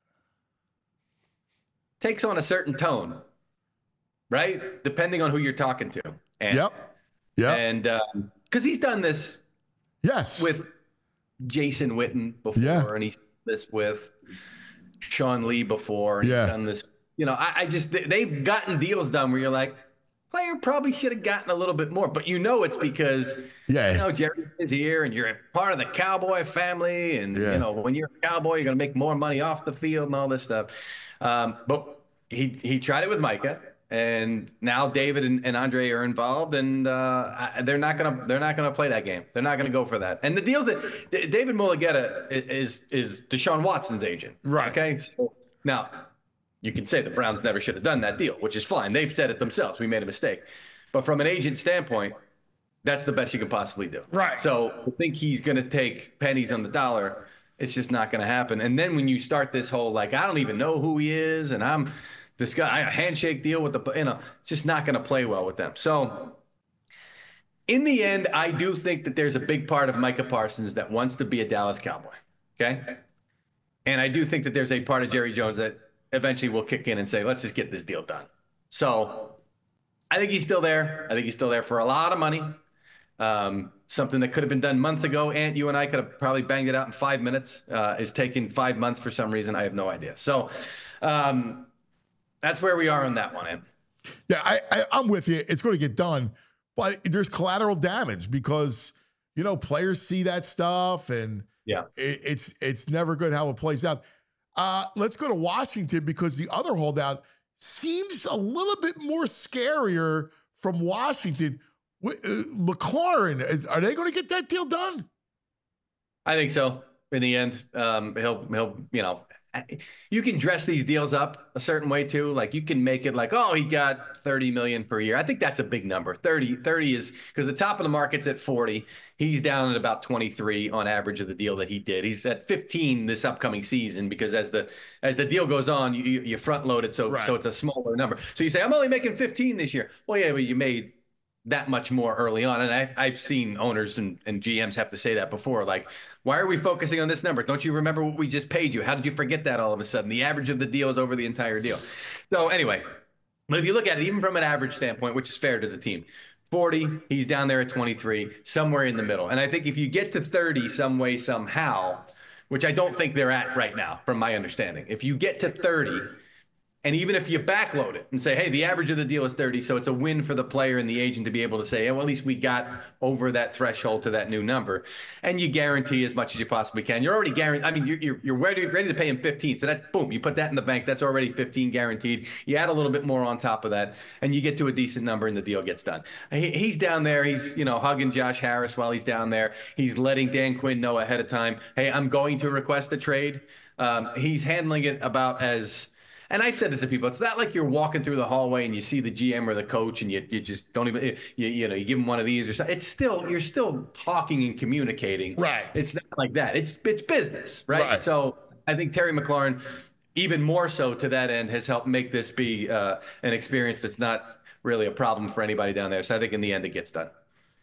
Speaker 5: takes on a certain tone, right? Depending on who you're talking to. And,
Speaker 2: yep. Yeah.
Speaker 5: And because um, he's done this,
Speaker 2: yes,
Speaker 5: with Jason Witten before,
Speaker 2: yeah.
Speaker 5: and he's done this with Sean Lee before. He's
Speaker 2: yeah.
Speaker 5: done this. You know, I, I just, they've gotten deals done where you're like, player probably should have gotten a little bit more. But you know it's because
Speaker 2: Yeah.
Speaker 5: you know Jerry is here, and you're a part of the Cowboy family, and
Speaker 2: Yeah.
Speaker 5: you know when you're a Cowboy, you're gonna make more money off the field and all this stuff. Um, but he he tried it with Micah. And now David and, and Andre are involved, and uh, I- they're not gonna they're not gonna play that game. They're not gonna go for that. And the deals that D- David Mulugeta is is Deshaun Watson's agent,
Speaker 2: Right.
Speaker 5: Okay, so now you can say the Browns never should have done that deal, which is fine. They've said it themselves. We made a mistake, but from an agent standpoint, that's the best you can possibly do.
Speaker 2: Right.
Speaker 5: So I think he's gonna take pennies on the dollar. It's just not gonna happen. And then when you start this whole like I don't even know who he is, and I'm this guy, a handshake deal with the, you know, it's just not going to play well with them. So in the end, I do think that there's a big part of Micah Parsons that wants to be a Dallas Cowboy. Okay. And I do think that there's a part of Jerry Jones that eventually will kick in and say, let's just get this deal done. So I think he's still there. I think he's still there for a lot of money. Um, something that could have been done months ago. Ant, you and I could have probably banged it out in five minutes. Uh, is taking five months for some reason. I have no idea. So, um, that's where we are on that one, Em.
Speaker 2: Yeah, I, I, I'm with you. It's going to get done, but there's collateral damage because you know players see that stuff, and
Speaker 5: Yeah.
Speaker 2: it, it's it's never good how it plays out. Uh, let's go to Washington because the other holdout seems a little bit more scarier from Washington. Wh- uh, McLaurin, is, are they going to get that deal done?
Speaker 5: I think so. In the end, um, he'll he'll you know, you can dress these deals up a certain way too. Like you can make it like, oh, he got thirty million per year. I think that's a big number. thirty, thirty is because the top of the market's at forty. He's down at about twenty-three on average of the deal that he did. He's at fifteen this upcoming season because as the as the deal goes on, you you front load it so
Speaker 2: Right.
Speaker 5: so it's a smaller number. So you say I'm only making fifteen this year. Well, yeah, but you made that much more early on. And I've, I've seen owners and, and G Ms have to say that before. Like, why are we focusing on this number? Don't you remember what we just paid you? How did you forget that all of a sudden? The average of the deal is over the entire deal. So anyway, but if you look at it, even from an average standpoint, which is fair to the team, forty, he's down there at twenty-three, somewhere in the middle. And I think if you get to thirty some way, somehow, which I don't think they're at right now, from my understanding, if you get to thirty, and even if you backload it and say, hey, the average of the deal is thirty, so it's a win for the player and the agent to be able to say, hey, well, at least we got over that threshold to that new number. And you guarantee as much as you possibly can. You're already guaranteed. I mean, you're, you're, you're ready, ready to pay him fifteen. So that's boom, you put that in the bank. That's already fifteen guaranteed. You add a little bit more on top of that, and you get to a decent number and the deal gets done. He, he's down there. He's, you know, hugging Josh Harris while he's down there. He's letting Dan Quinn know ahead of time, hey, I'm going to request a trade. Um, he's handling it about as... And I've said this to people. It's not like you're walking through the hallway and you see the G M or the coach and you, you just don't even, you, you know, you give them one of these or something. It's still, you're still talking and communicating.
Speaker 2: Right.
Speaker 5: It's not like that. It's, it's business, right?
Speaker 2: Right.
Speaker 5: So I think Terry McLaurin, even more so to that end, has helped make this be uh, an experience that's not really a problem for anybody down there. So I think in the end it gets done.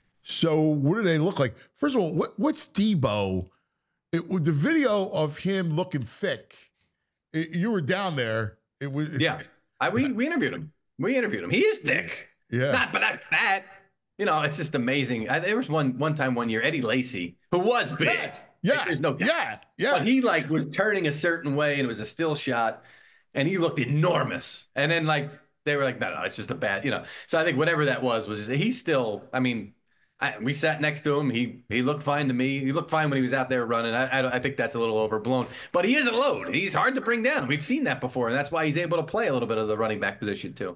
Speaker 2: So what do they look like? First of all, what, what's Debo? It, with the video of him looking thick, it, you were down there. It was
Speaker 5: Yeah. I, we, we interviewed him. We interviewed him. He is thick.
Speaker 2: Yeah.
Speaker 5: Not, but not fat. You know, it's just amazing. I, there was one one time one year, Eddie Lacy, who was big.
Speaker 2: Yes. Yeah.
Speaker 5: Like, there's no doubt.
Speaker 2: Yeah. Yeah.
Speaker 5: But he like was turning a certain way and it was a still shot and he looked enormous. And then like they were like, no, no, it's just a bad, you know. So I think whatever that was was just, he's still, I mean, I, we sat next to him. He he looked fine to me. He looked fine when he was out there running. I, I, I think that's a little overblown. But he is a load. He's hard to bring down. We've seen that before, and that's why he's able to play a little bit of the running back position too.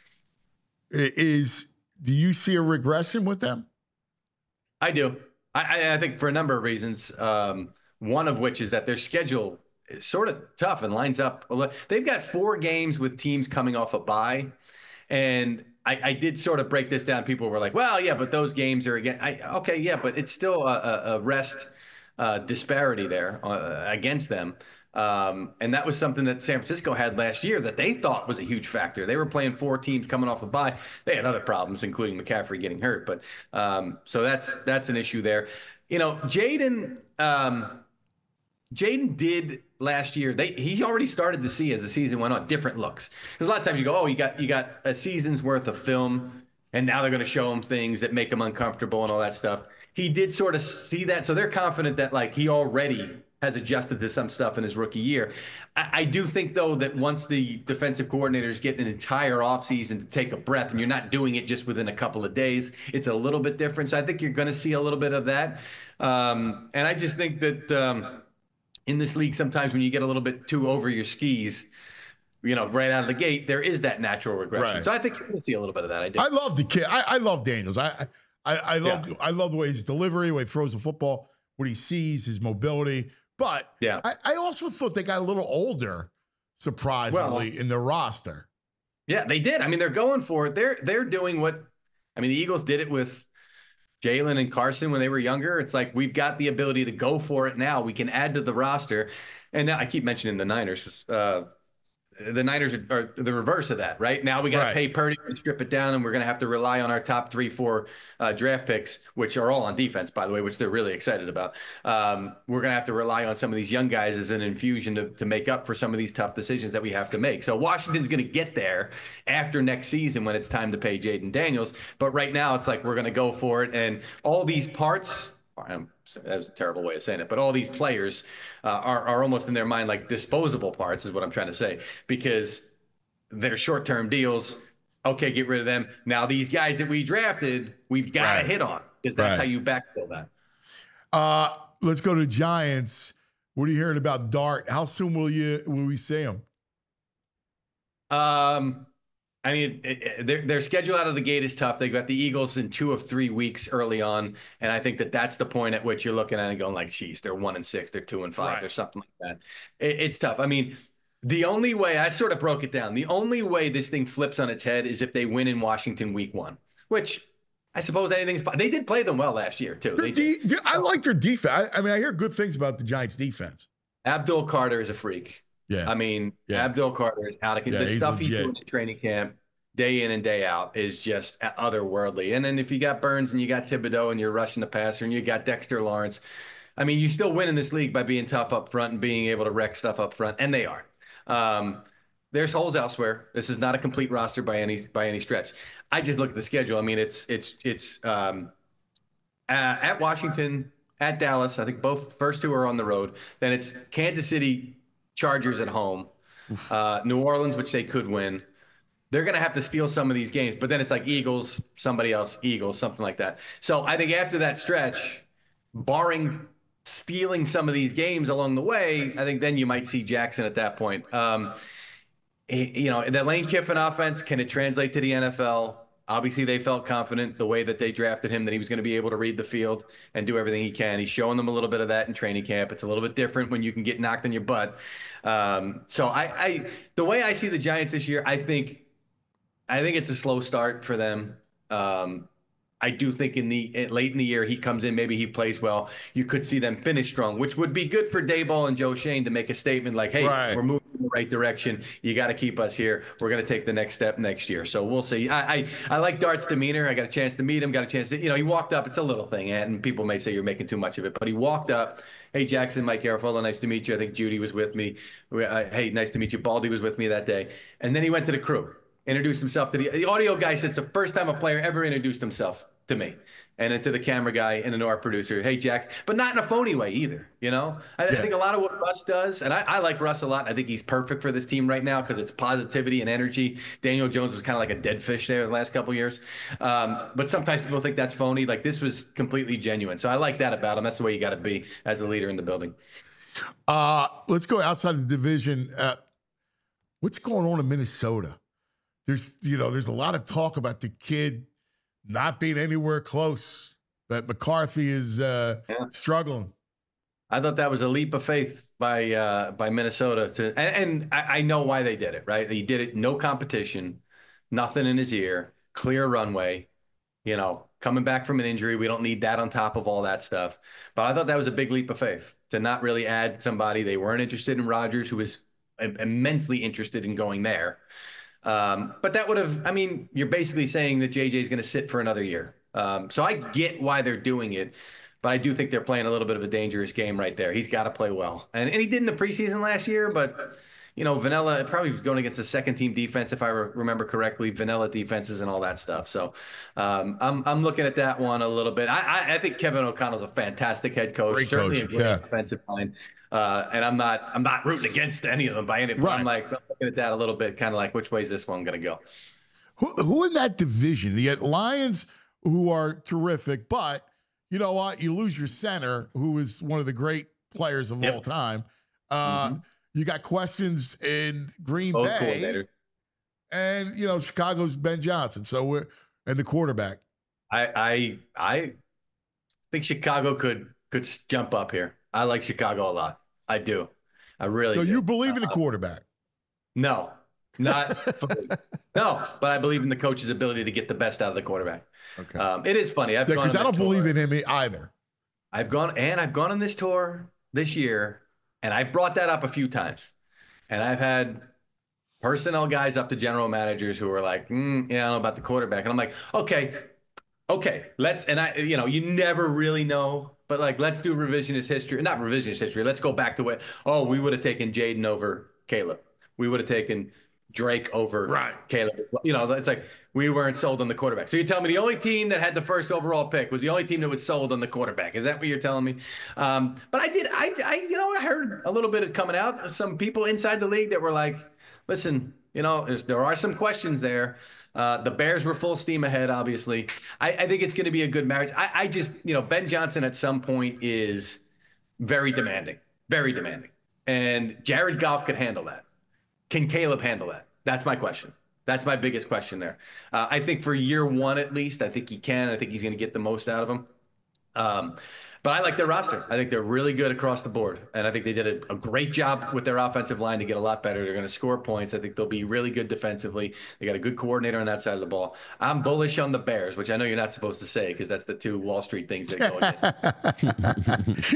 Speaker 2: Is do you see a regression with them?
Speaker 5: I do. I, I, I think for a number of reasons. Um, one of which is that their schedule is sort of tough and lines up. They've got four games with teams coming off a bye, and I, I did sort of break this down. People were like, well, yeah, but those games are again. I, okay, yeah, but it's still a, a rest uh, disparity there uh, against them. Um, and that was something that San Francisco had last year that they thought was a huge factor. They were playing four teams coming off a bye. They had other problems, including McCaffrey getting hurt. But um, so that's that's an issue there. You know, Jaden um, Jaden did last year. They he already started to see as the season went on different looks. Because a lot of times you go, oh, you got you got a season's worth of film, and now they're going to show him things that make him uncomfortable and all that stuff. He did sort of see that, so they're confident that like he already has adjusted to some stuff in his rookie year. I, I do think, though, that once the defensive coordinators get an entire offseason to take a breath, and you're not doing it just within a couple of days, it's a little bit different. So I think you're going to see a little bit of that. Um, and I just think that um, in this league, sometimes when you get a little bit too over your skis, you know, right out of the gate, there is that natural regression.
Speaker 2: Right.
Speaker 5: So I think you're going to see a little bit of that. I do.
Speaker 2: I love the kid. I, I love Daniels. I I, I love
Speaker 5: Yeah.
Speaker 2: I love the way his delivery, the way he throws the football, what he sees, his mobility. But
Speaker 5: Yeah.
Speaker 2: I, I also thought they got a little older, surprisingly,
Speaker 5: Well,
Speaker 2: in their roster.
Speaker 5: Yeah, they did. I mean, they're going for it. They're they're doing what I mean, the Eagles did it with Jalen and Carson when they were younger. It's like we've got the ability to go for it now. We can add to the roster. And now I keep mentioning the Niners. Uh, the Niners are, are the reverse of that, right? Now we got to
Speaker 2: Right.
Speaker 5: pay Purdy and strip it down, and we're going to have to rely on our top three, four uh, draft picks, which are all on defense, by the way, which they're really excited about. Um, we're going to have to rely on some of these young guys as an infusion to, to make up for some of these tough decisions that we have to make. So Washington's going to get there after next season when it's time to pay Jaden Daniels. But right now it's like we're going to go for it. And all these parts – that was a terrible way of saying it, but all these players uh, are, are almost in their mind like disposable parts is what I'm trying to say, because they're short-term deals. Okay, get rid of them. Now these guys that we drafted, we've got to
Speaker 2: Right.
Speaker 5: hit on, because that's
Speaker 2: Right.
Speaker 5: how you backfill that.
Speaker 2: Uh, let's go to Giants. What are you hearing about Dart? How soon will you will we see him?
Speaker 5: Um, I mean, it, it, their, their schedule out of the gate is tough. They've got the Eagles in two of three weeks early on. And I think that that's the point at which you're looking at it and going like, geez, they're one and six, they're two and five,
Speaker 2: Right.
Speaker 5: they're something like that. It, it's tough. I mean, the only way, I sort of broke it down, the only way this thing flips on its head is if they win in Washington week one, which I suppose anything's, they did play them well last year too.
Speaker 2: Their
Speaker 5: They
Speaker 2: de-
Speaker 5: did.
Speaker 2: I like their defense. I, I mean, I hear good things about the Giants' defense.
Speaker 5: Abdul Carter is a freak.
Speaker 2: Yeah.
Speaker 5: I mean,
Speaker 2: Yeah.
Speaker 5: Abdul Carter is out of
Speaker 2: Yeah,
Speaker 5: the
Speaker 2: he's
Speaker 5: stuff he's
Speaker 2: legit.
Speaker 5: doing in training camp, day in and day out, is just otherworldly. And then if you got Burns and you got Thibodeau and you're rushing the passer and you got Dexter Lawrence, I mean, you still win in this league by being tough up front and being able to wreck stuff up front, and they are. Um, there's holes elsewhere. This is not a complete roster by any by any stretch. I just look at the schedule. I mean, it's it's it's um, uh, at Washington, at Dallas. I think both first two are on the road. Then it's Kansas City Chargers at home, uh, New Orleans, which they could win. They're going to have to steal some of these games, but then it's like Eagles, somebody else, Eagles, something like that. So I think after that stretch, barring stealing some of these games along the way, I think then you might see Jackson at that point. Um, you know, the Lane Kiffin offense, can it translate to the N F L? Obviously, they felt confident the way that they drafted him that he was going to be able to read the field and do everything he can. He's showing them a little bit of that in training camp. It's a little bit different when you can get knocked on your butt. Um, so I, I, the way I see the Giants this year, I think, I think it's a slow start for them. Um, I do think in the late in the year he comes in, maybe he plays well. You could see them finish strong, which would be good for Daboll and Joe Shane to make a statement like, "Hey,
Speaker 2: Right.
Speaker 5: we're moving in the right direction. You got to keep us here. We're going to take the next step next year." So we'll see. I, I I like Dart's demeanor. I got a chance to meet him. Got a chance to, you know, he walked up. It's a little thing, and people may say you're making too much of it, but he walked up. Hey, Jackson, Mike Garafolo, nice to meet you. I think Judy was with me. Uh, hey, nice to meet you. Baldy was with me that day, and then he went to the crew. Introduced himself to the, the audio guy. Said it's the first time a player ever introduced himself to me, and then to the camera guy and then to our producer. Hey, Jack, but not in a phony way either. You know, I,
Speaker 2: Yeah.
Speaker 5: I think a lot of what Russ does, and I, I like Russ a lot. I think he's perfect for this team right now because it's positivity and energy. Daniel Jones was kind of like a dead fish there the last couple of years, um, but sometimes people think that's phony. Like this was completely genuine. So I like that about him. That's the way you got to be as a leader in the building.
Speaker 2: Uh, let's go outside the division. Uh, what's going on in Minnesota? There's, you know, there's a lot of talk about the kid not being anywhere close. That McCarthy is uh,
Speaker 5: Yeah.
Speaker 2: struggling.
Speaker 5: I thought that was a leap of faith by uh, by Minnesota to, and, and I, I know why they did it. Right, he did it, no competition, nothing in his ear, clear runway. You know, coming back from an injury, we don't need that on top of all that stuff. But I thought that was a big leap of faith to not really add somebody. They weren't interested in Rodgers, who was immensely interested in going there. Um, but that would have, I mean, you're basically saying that J J is going to sit for another year. Um, so I get why they're doing it, but I do think they're playing a little bit of a dangerous game right there. He's got to play well. And, and he did in the preseason last year, but you know, vanilla, probably going against the second team defense, if I re- remember correctly, vanilla defenses and all that stuff. So um, I'm I'm looking at that one a little bit. I I, I think Kevin O'Connell's a fantastic head coach,
Speaker 2: Great
Speaker 5: certainly
Speaker 2: coach,
Speaker 5: a great
Speaker 2: yeah.
Speaker 5: offensive line. Uh, and I'm not I'm not rooting against any of them by any. But
Speaker 2: Right.
Speaker 5: I'm like I'm looking at that a little bit, kind of like which way is this one going to go?
Speaker 2: Who, who in that division? The Lions, who are terrific, but you know what? You lose your center, who is one of the great players of
Speaker 5: Yep.
Speaker 2: all time. Uh,
Speaker 5: Mhm.
Speaker 2: You got questions in Green
Speaker 5: Both
Speaker 2: Bay,
Speaker 5: coordinators.
Speaker 2: and you know Chicago's Ben Johnson. So we're and the quarterback.
Speaker 5: I I I think Chicago could could jump up here. I like Chicago a lot. I do. I really
Speaker 2: So
Speaker 5: do.
Speaker 2: you believe in the
Speaker 5: Uh,
Speaker 2: quarterback?
Speaker 5: No, not fully. No, but I believe in the coach's ability to get the best out of the quarterback.
Speaker 2: Okay.
Speaker 5: Um, it is funny. I've gone
Speaker 2: Because
Speaker 5: on
Speaker 2: I
Speaker 5: this
Speaker 2: don't
Speaker 5: tour.
Speaker 2: believe in him either.
Speaker 5: I've gone and I've gone on this tour this year, and I brought that up a few times, and I've had personnel guys up to general managers who are like, mm, yeah, I don't know about the quarterback, and I'm like, okay, okay, let's, and I, you know, you never really know, but like, let's do revisionist history, not revisionist history. Let's go back to what, oh, we would have taken Jaden over Caleb. We would have taken Drake over
Speaker 2: Right.
Speaker 5: Caleb. You know, it's like we weren't sold on the quarterback. So you're telling me the only team that had the first overall pick was the only team that was sold on the quarterback. Is that what you're telling me? Um, but I did, I, I, you know, I heard a little bit of coming out, some people inside the league that were like, listen, you know, there's, there are some questions there. Uh, the Bears were full steam ahead, obviously. I, I think it's going to be a good marriage. I, I just, you know, Ben Johnson at some point is very demanding, very demanding. And Jared Goff could handle that. Can Caleb handle that? That's my question. That's my biggest question there. Uh, I think for year one, at least, I think he can. I think he's going to get the most out of him. Um, but I like their roster. I think they're really good across the board. And I think they did a, a great job with their offensive line to get a lot better. They're going to score points. I think they'll be really good defensively. They got a good coordinator on that side of the ball. I'm bullish on the Bears, which I know you're not supposed to say because that's the two Wall Street things that go against.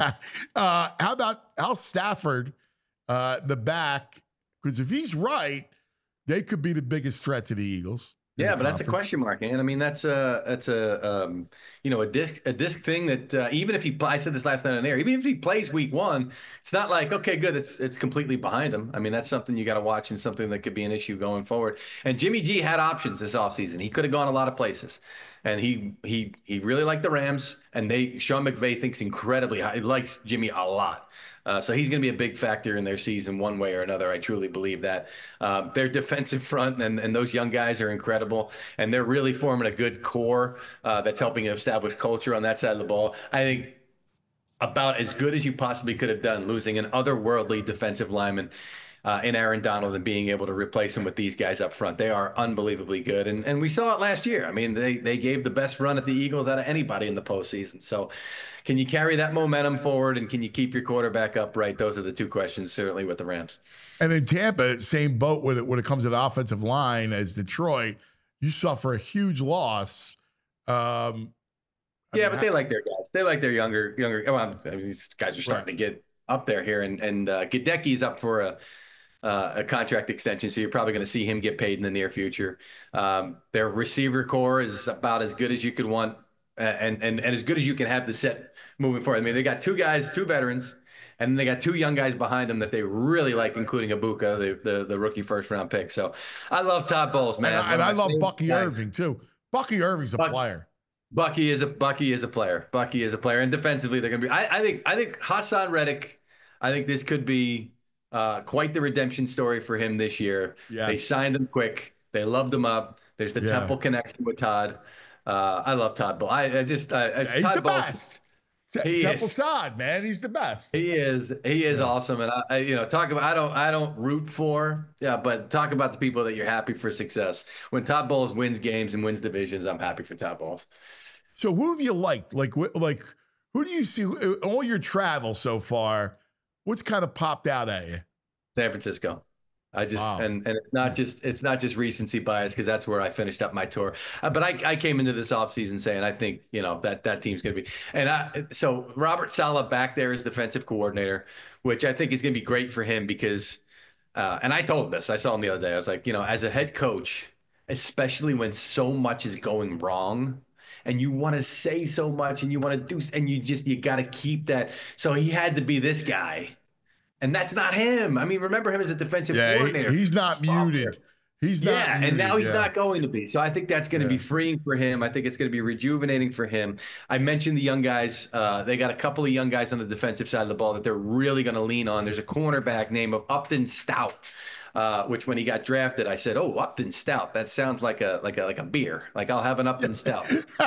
Speaker 2: uh, how about Al Stafford, uh, the back? Because if he's right, they could be the biggest threat to the Eagles. in
Speaker 5: Yeah,
Speaker 2: the
Speaker 5: but that's a
Speaker 2: conference.
Speaker 5: question mark, man. I mean, that's a that's a um, you know a disc a disc thing that uh, even if he I said this last night on air, even if he plays week one, it's not like okay, good, it's it's completely behind him. I mean, that's something you got to watch and something that could be an issue going forward. And Jimmy G had options this offseason. He could have gone a lot of places, and he he he really liked the Rams. And they Sean McVay thinks incredibly high. He likes Jimmy a lot. Uh, so he's going to be a big factor in their season one way or another. I truly believe that. Um, their defensive front and, and those young guys are incredible, and they're really forming a good core uh, that's helping establish culture on that side of the ball. I think about as good as you possibly could have done, losing an otherworldly defensive lineman uh, in Aaron Donald and being able to replace him with these guys up front. They are unbelievably good, and and we saw it last year. I mean, they they gave the best run at the Eagles out of anybody in the postseason. So can you carry that momentum forward, and can you keep your quarterback upright? Those are the two questions, certainly, with the Rams.
Speaker 2: And in Tampa, same boat when it, when it comes to the offensive line as Detroit. You suffer a huge loss. Um, I
Speaker 5: Yeah,
Speaker 2: mean,
Speaker 5: but they like their guys. They like their younger, younger. Well, I mean, these guys are starting
Speaker 2: Right.
Speaker 5: to get up there here, and and uh, Gadecki's up for a uh, a contract extension, so you're probably going to see him get paid in the near future. Um, their receiver core is about as good as you could want, uh, and and and as good as you can have the set moving forward. I mean, they got two guys, two veterans, and they got two young guys behind them that they really like, including Ibuka, the the, the rookie first round pick. So I love Todd Bowles, man.
Speaker 2: and I, and
Speaker 5: One of
Speaker 2: I
Speaker 5: my
Speaker 2: love
Speaker 5: favorite
Speaker 2: Bucky
Speaker 5: guys.
Speaker 2: Irving too. Bucky Irving's a
Speaker 5: Buck-
Speaker 2: player.
Speaker 5: Bucky is a Bucky is a player. Bucky is a player, and defensively they're going to be. I, I think I think Hassan Reddick. I think this could be uh, quite the redemption story for him this year.
Speaker 2: Yes.
Speaker 5: They signed him quick. They loved him up. There's the
Speaker 2: Yeah.
Speaker 5: Temple connection with Todd. Uh, I love Todd Bowles. I, I just I, I-
Speaker 2: Yeah, he's
Speaker 5: Todd
Speaker 2: the
Speaker 5: Bowles,
Speaker 2: best. Te-
Speaker 5: He
Speaker 2: Temple
Speaker 5: is.
Speaker 2: Todd, man, he's the best.
Speaker 5: He is he is
Speaker 2: Yeah.
Speaker 5: awesome, and I, I you know talk about I don't I don't root for yeah, but talk about the people that you're happy for success. When Todd Bowles wins games and wins divisions, I'm happy for Todd Bowles.
Speaker 2: So who have you liked? Like, wh- like who do you see all your travel so far? What's kind of popped out at you?
Speaker 5: San Francisco. I just
Speaker 2: Wow.
Speaker 5: and and it's not just it's not just recency bias because that's where I finished up my tour. Uh, but I, I came into this offseason saying I think you know that that team's going to be and I so Robert Saleh back there as defensive coordinator, which I think is going to be great for him because uh, and I told him this I saw him the other day. I was like, you know, as a head coach, especially when so much is going wrong. And you want to say so much and you want to do and you just you got to keep that. So he had to be this guy. And that's not him. I mean, remember him as a defensive
Speaker 2: Yeah,
Speaker 5: coordinator.
Speaker 2: he, he's not muted. He's not
Speaker 5: yeah,
Speaker 2: muted,
Speaker 5: and now he's
Speaker 2: yeah.
Speaker 5: not going to be. So I think that's going to
Speaker 2: Yeah.
Speaker 5: be freeing for him. I think it's going to be rejuvenating for him. I mentioned the young guys. Uh, they got a couple of young guys on the defensive side of the ball that they're really going to lean on. There's a cornerback named of Upton Stout, uh, which when he got drafted, I said, "Oh, Upton Stout. That sounds like a like a like a beer. Like I'll have an Upton Stout."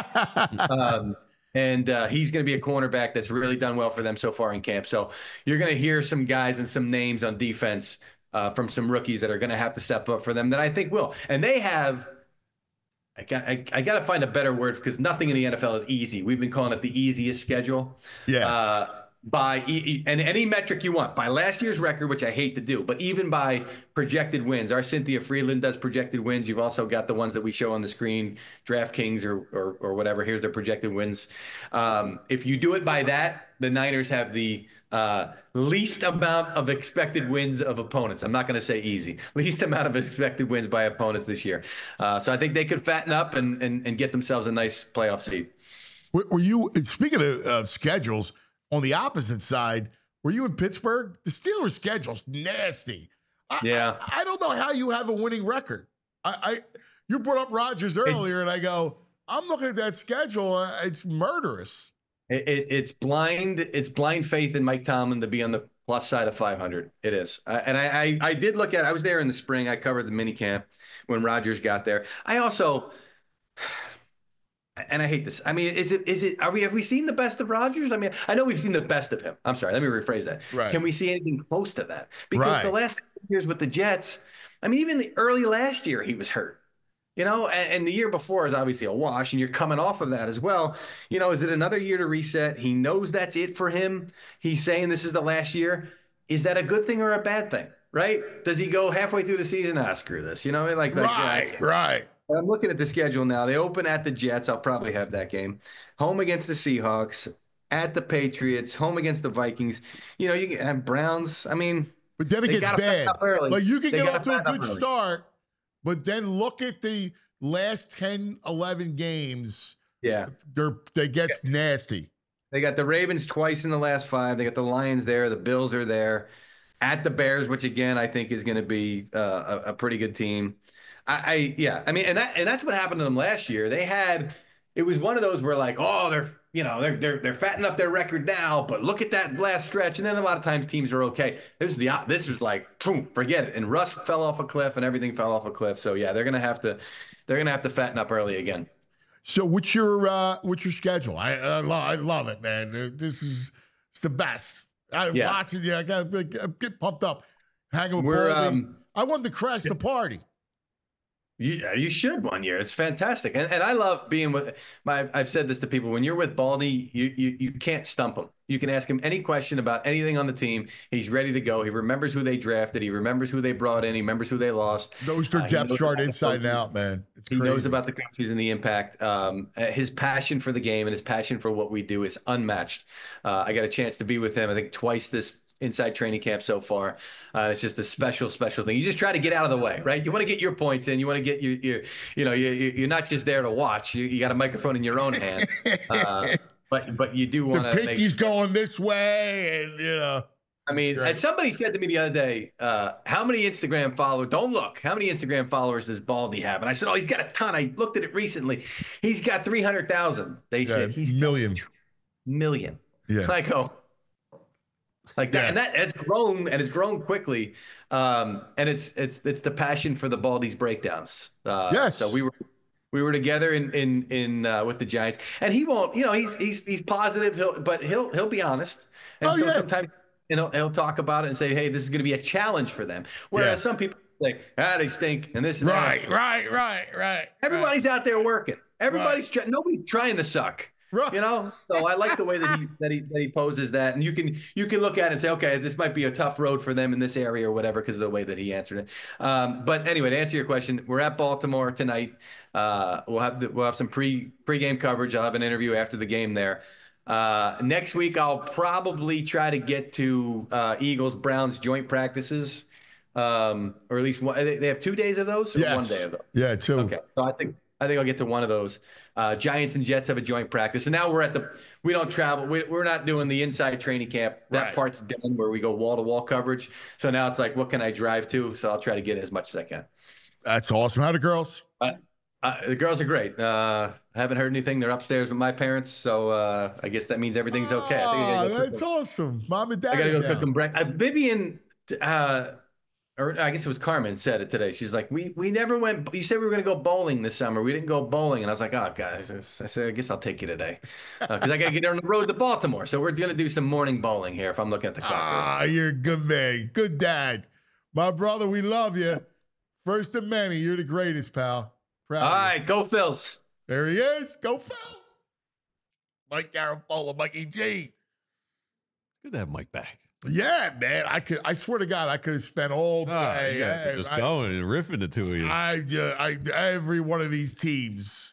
Speaker 5: um, And uh, he's going to be a cornerback that's really done well for them so far in camp. So you're going to hear some guys and some names on defense uh, from some rookies that are going to have to step up for them that I think will. And they have, I got, I, I got to find a better word because nothing in the N F L is easy. We've been calling it the easiest schedule.
Speaker 2: Yeah.
Speaker 5: Uh, by e- and any metric you want, by last year's record, which I hate to do, but even by projected wins. Our Cynthia Freeland does projected wins. You've also got the ones that we show on the screen, DraftKings or or, or whatever. Here's their projected wins. Um, if you do it by that, the Niners have the uh, least amount of expected wins of opponents. I'm not going to say easy. Least amount of expected wins by opponents this year. Uh, so I think they could fatten up and and, and get themselves a nice playoff seed.
Speaker 2: Were, were you, speaking of uh, schedules, on the opposite side, were you in Pittsburgh? The Steelers' schedule's nasty. I,
Speaker 5: Yeah.
Speaker 2: I, I don't know how you have a winning record. I, I you brought up Rodgers earlier, and I go, I'm looking at that schedule. uh, It's murderous.
Speaker 5: It, it, it's blind. It's blind faith in Mike Tomlin to be on the plus side of five hundred. It is, uh, and I, I I did look at. I was there in the spring. I covered the mini camp when Rodgers got there. I also. And I hate this. I mean, is it, is it, are we, have we seen the best of Rodgers? I mean, I know we've seen the best of him. I'm sorry. Let me rephrase that.
Speaker 2: Right.
Speaker 5: Can we see anything close to that? Because
Speaker 2: Right.
Speaker 5: the last couple of years with the Jets, I mean, even the early last year, he was hurt, you know, and, and the year before is obviously a wash, and you're coming off of that as well. You know, is it another year to reset? He knows that's it for him. He's saying this is the last year. Is that a good thing or a bad thing? Right? Does he go halfway through the season? Ah, screw this. You know, like, like
Speaker 2: Right,
Speaker 5: yeah,
Speaker 2: right.
Speaker 5: I'm looking at the schedule now. They open at the Jets. I'll probably have that game. Home against the Seahawks, at the Patriots, home against the Vikings. You know, you can have Browns. I mean,
Speaker 2: But then it
Speaker 5: They
Speaker 2: gets
Speaker 5: gotta
Speaker 2: bad.
Speaker 5: fatten up early.
Speaker 2: Like you can
Speaker 5: They
Speaker 2: get
Speaker 5: gotta
Speaker 2: off to a
Speaker 5: fatten up
Speaker 2: good
Speaker 5: early.
Speaker 2: start, but then look at the last ten, eleven games.
Speaker 5: yeah.
Speaker 2: They're they get nasty.
Speaker 5: They got the Ravens twice in the last five. They got the Lions there. The Bills are there. At the Bears, which again I think is going to be uh, a, a pretty good team. I, I yeah, I mean, and that and that's what happened to them last year. They had it was one of those where like, oh, they're you know they're they're they're fattening up their record now, but look at that last stretch. And then a lot of times teams are okay. This was the this was like, boom, forget it. And Russ fell off a cliff, and everything fell off a cliff. So yeah, they're gonna have to they're gonna have to fatten up early again.
Speaker 2: So what's your uh, what's your schedule? I I, lo- I love it, man. Uh, This is it's the best. I'm
Speaker 5: Yeah.
Speaker 2: watching you. I got to get pumped up. Hanging with
Speaker 5: We're,
Speaker 2: Baldy.
Speaker 5: um,
Speaker 2: I wanted to crash the party.
Speaker 5: You, you should one year. It's fantastic. And and I love being with my, I've said this to people, when you're with Baldy, you, you, you can't stump him. You can ask him any question about anything on the team. He's ready to go. He remembers who they drafted. He remembers who they brought in. He remembers who they lost.
Speaker 2: Those are
Speaker 5: Uh, he
Speaker 2: depth
Speaker 5: knows
Speaker 2: chart
Speaker 5: about the
Speaker 2: inside and
Speaker 5: coaches.
Speaker 2: out, man. It's
Speaker 5: He
Speaker 2: crazy.
Speaker 5: knows about the coaches and the impact. Um, uh, his passion for the game and his passion for what we do is unmatched. Uh, I got a chance to be with him, I think, twice this inside training camp so far. Uh, it's just a special, special thing. You just try to get out of the way, right? You want to get your points in. You want to get your, your you know, you, you- you're not just there to watch. You, you got a microphone in your own hand. Uh, but but you do
Speaker 2: the
Speaker 5: want to make
Speaker 2: pinky's going this way, and you know.
Speaker 5: I mean,
Speaker 2: Right.
Speaker 5: and somebody said to me the other day, uh, how many Instagram followers, don't look, how many Instagram followers does Baldy have? And I said, oh, he's got a ton. I looked at it recently. He's got three hundred thousand. They
Speaker 2: Yeah,
Speaker 5: said he's got
Speaker 2: million.
Speaker 5: million.
Speaker 2: Yeah.
Speaker 5: And I go, like that,
Speaker 2: Yeah.
Speaker 5: and that it's grown and it's grown quickly. Um, and it's it's it's the passion for the Baldy's breakdowns. Uh,
Speaker 2: Yes.
Speaker 5: So we were we were together in in in uh, with the Giants, and he won't. You know, he's he's he's positive. He'll but he'll he'll be honest. And
Speaker 2: Oh,
Speaker 5: so
Speaker 2: yeah.
Speaker 5: sometimes you know he'll talk about it and say, hey, this is going to be a challenge for them. Whereas
Speaker 2: Yeah.
Speaker 5: some people say, ah, they stink, and this and
Speaker 2: Right,
Speaker 5: that.
Speaker 2: right, right, right.
Speaker 5: Everybody's out there working. Everybody's trying. Nobody's trying to suck.
Speaker 2: Right.
Speaker 5: You know, so I like the way that he that he that he poses that, and you can you can look at it and say, okay, this might be a tough road for them in this area or whatever because of the way that he answered it. Um, but anyway, to answer your question, we're at Baltimore tonight. Uh, we'll have the, we'll have some pre pregame coverage. I'll have an interview after the game there. Uh, next week, I'll probably try to get to uh, Eagles Browns joint practices, um, or at least one. They they have two days of those, or
Speaker 2: Yes.
Speaker 5: one day of those.
Speaker 2: Yeah, too.
Speaker 5: Okay, so I think I think I'll get to one of those. Uh, Giants and Jets have a joint practice, and now we're at the. We don't travel. We, we're not doing the inside training camp. That
Speaker 2: Right.
Speaker 5: part's done where we go wall to wall coverage. So now it's like, what can I drive to? So I'll try to get as much as I can.
Speaker 2: That's awesome. How the girls?
Speaker 5: Uh, uh, the girls are great. Uh, I haven't heard anything. They're upstairs with my parents, so uh, I guess that means everything's okay. I think I
Speaker 2: Ah,
Speaker 5: gotta go cook
Speaker 2: that's
Speaker 5: them-
Speaker 2: awesome. Mom and dad.
Speaker 5: I gotta go
Speaker 2: are
Speaker 5: cook
Speaker 2: down.
Speaker 5: them breakfast. Uh, Vivian, uh, or I guess it was Carmen said it today. She's like, we we never went. You said we were gonna go bowling this summer. We didn't go bowling, and I was like, oh guys, I said I guess I'll take you today because uh, I gotta get on the road to Baltimore. So we're gonna do some morning bowling here. If I'm looking at the clock.
Speaker 2: Ah, you're a good man. Good dad. My brother, we love you. First of many. You're the greatest, pal. Proud
Speaker 5: All
Speaker 2: of you.
Speaker 5: right, go Phils.
Speaker 2: There he is. Go Phil. Mike Garafolo, Mikey G.
Speaker 3: Good to have Mike back.
Speaker 2: Yeah, man. I could. I swear to God, I could have spent all day.
Speaker 3: Oh, you guys are just
Speaker 2: I,
Speaker 3: going and riffing the two of you.
Speaker 2: I, uh, I, every one of these teams.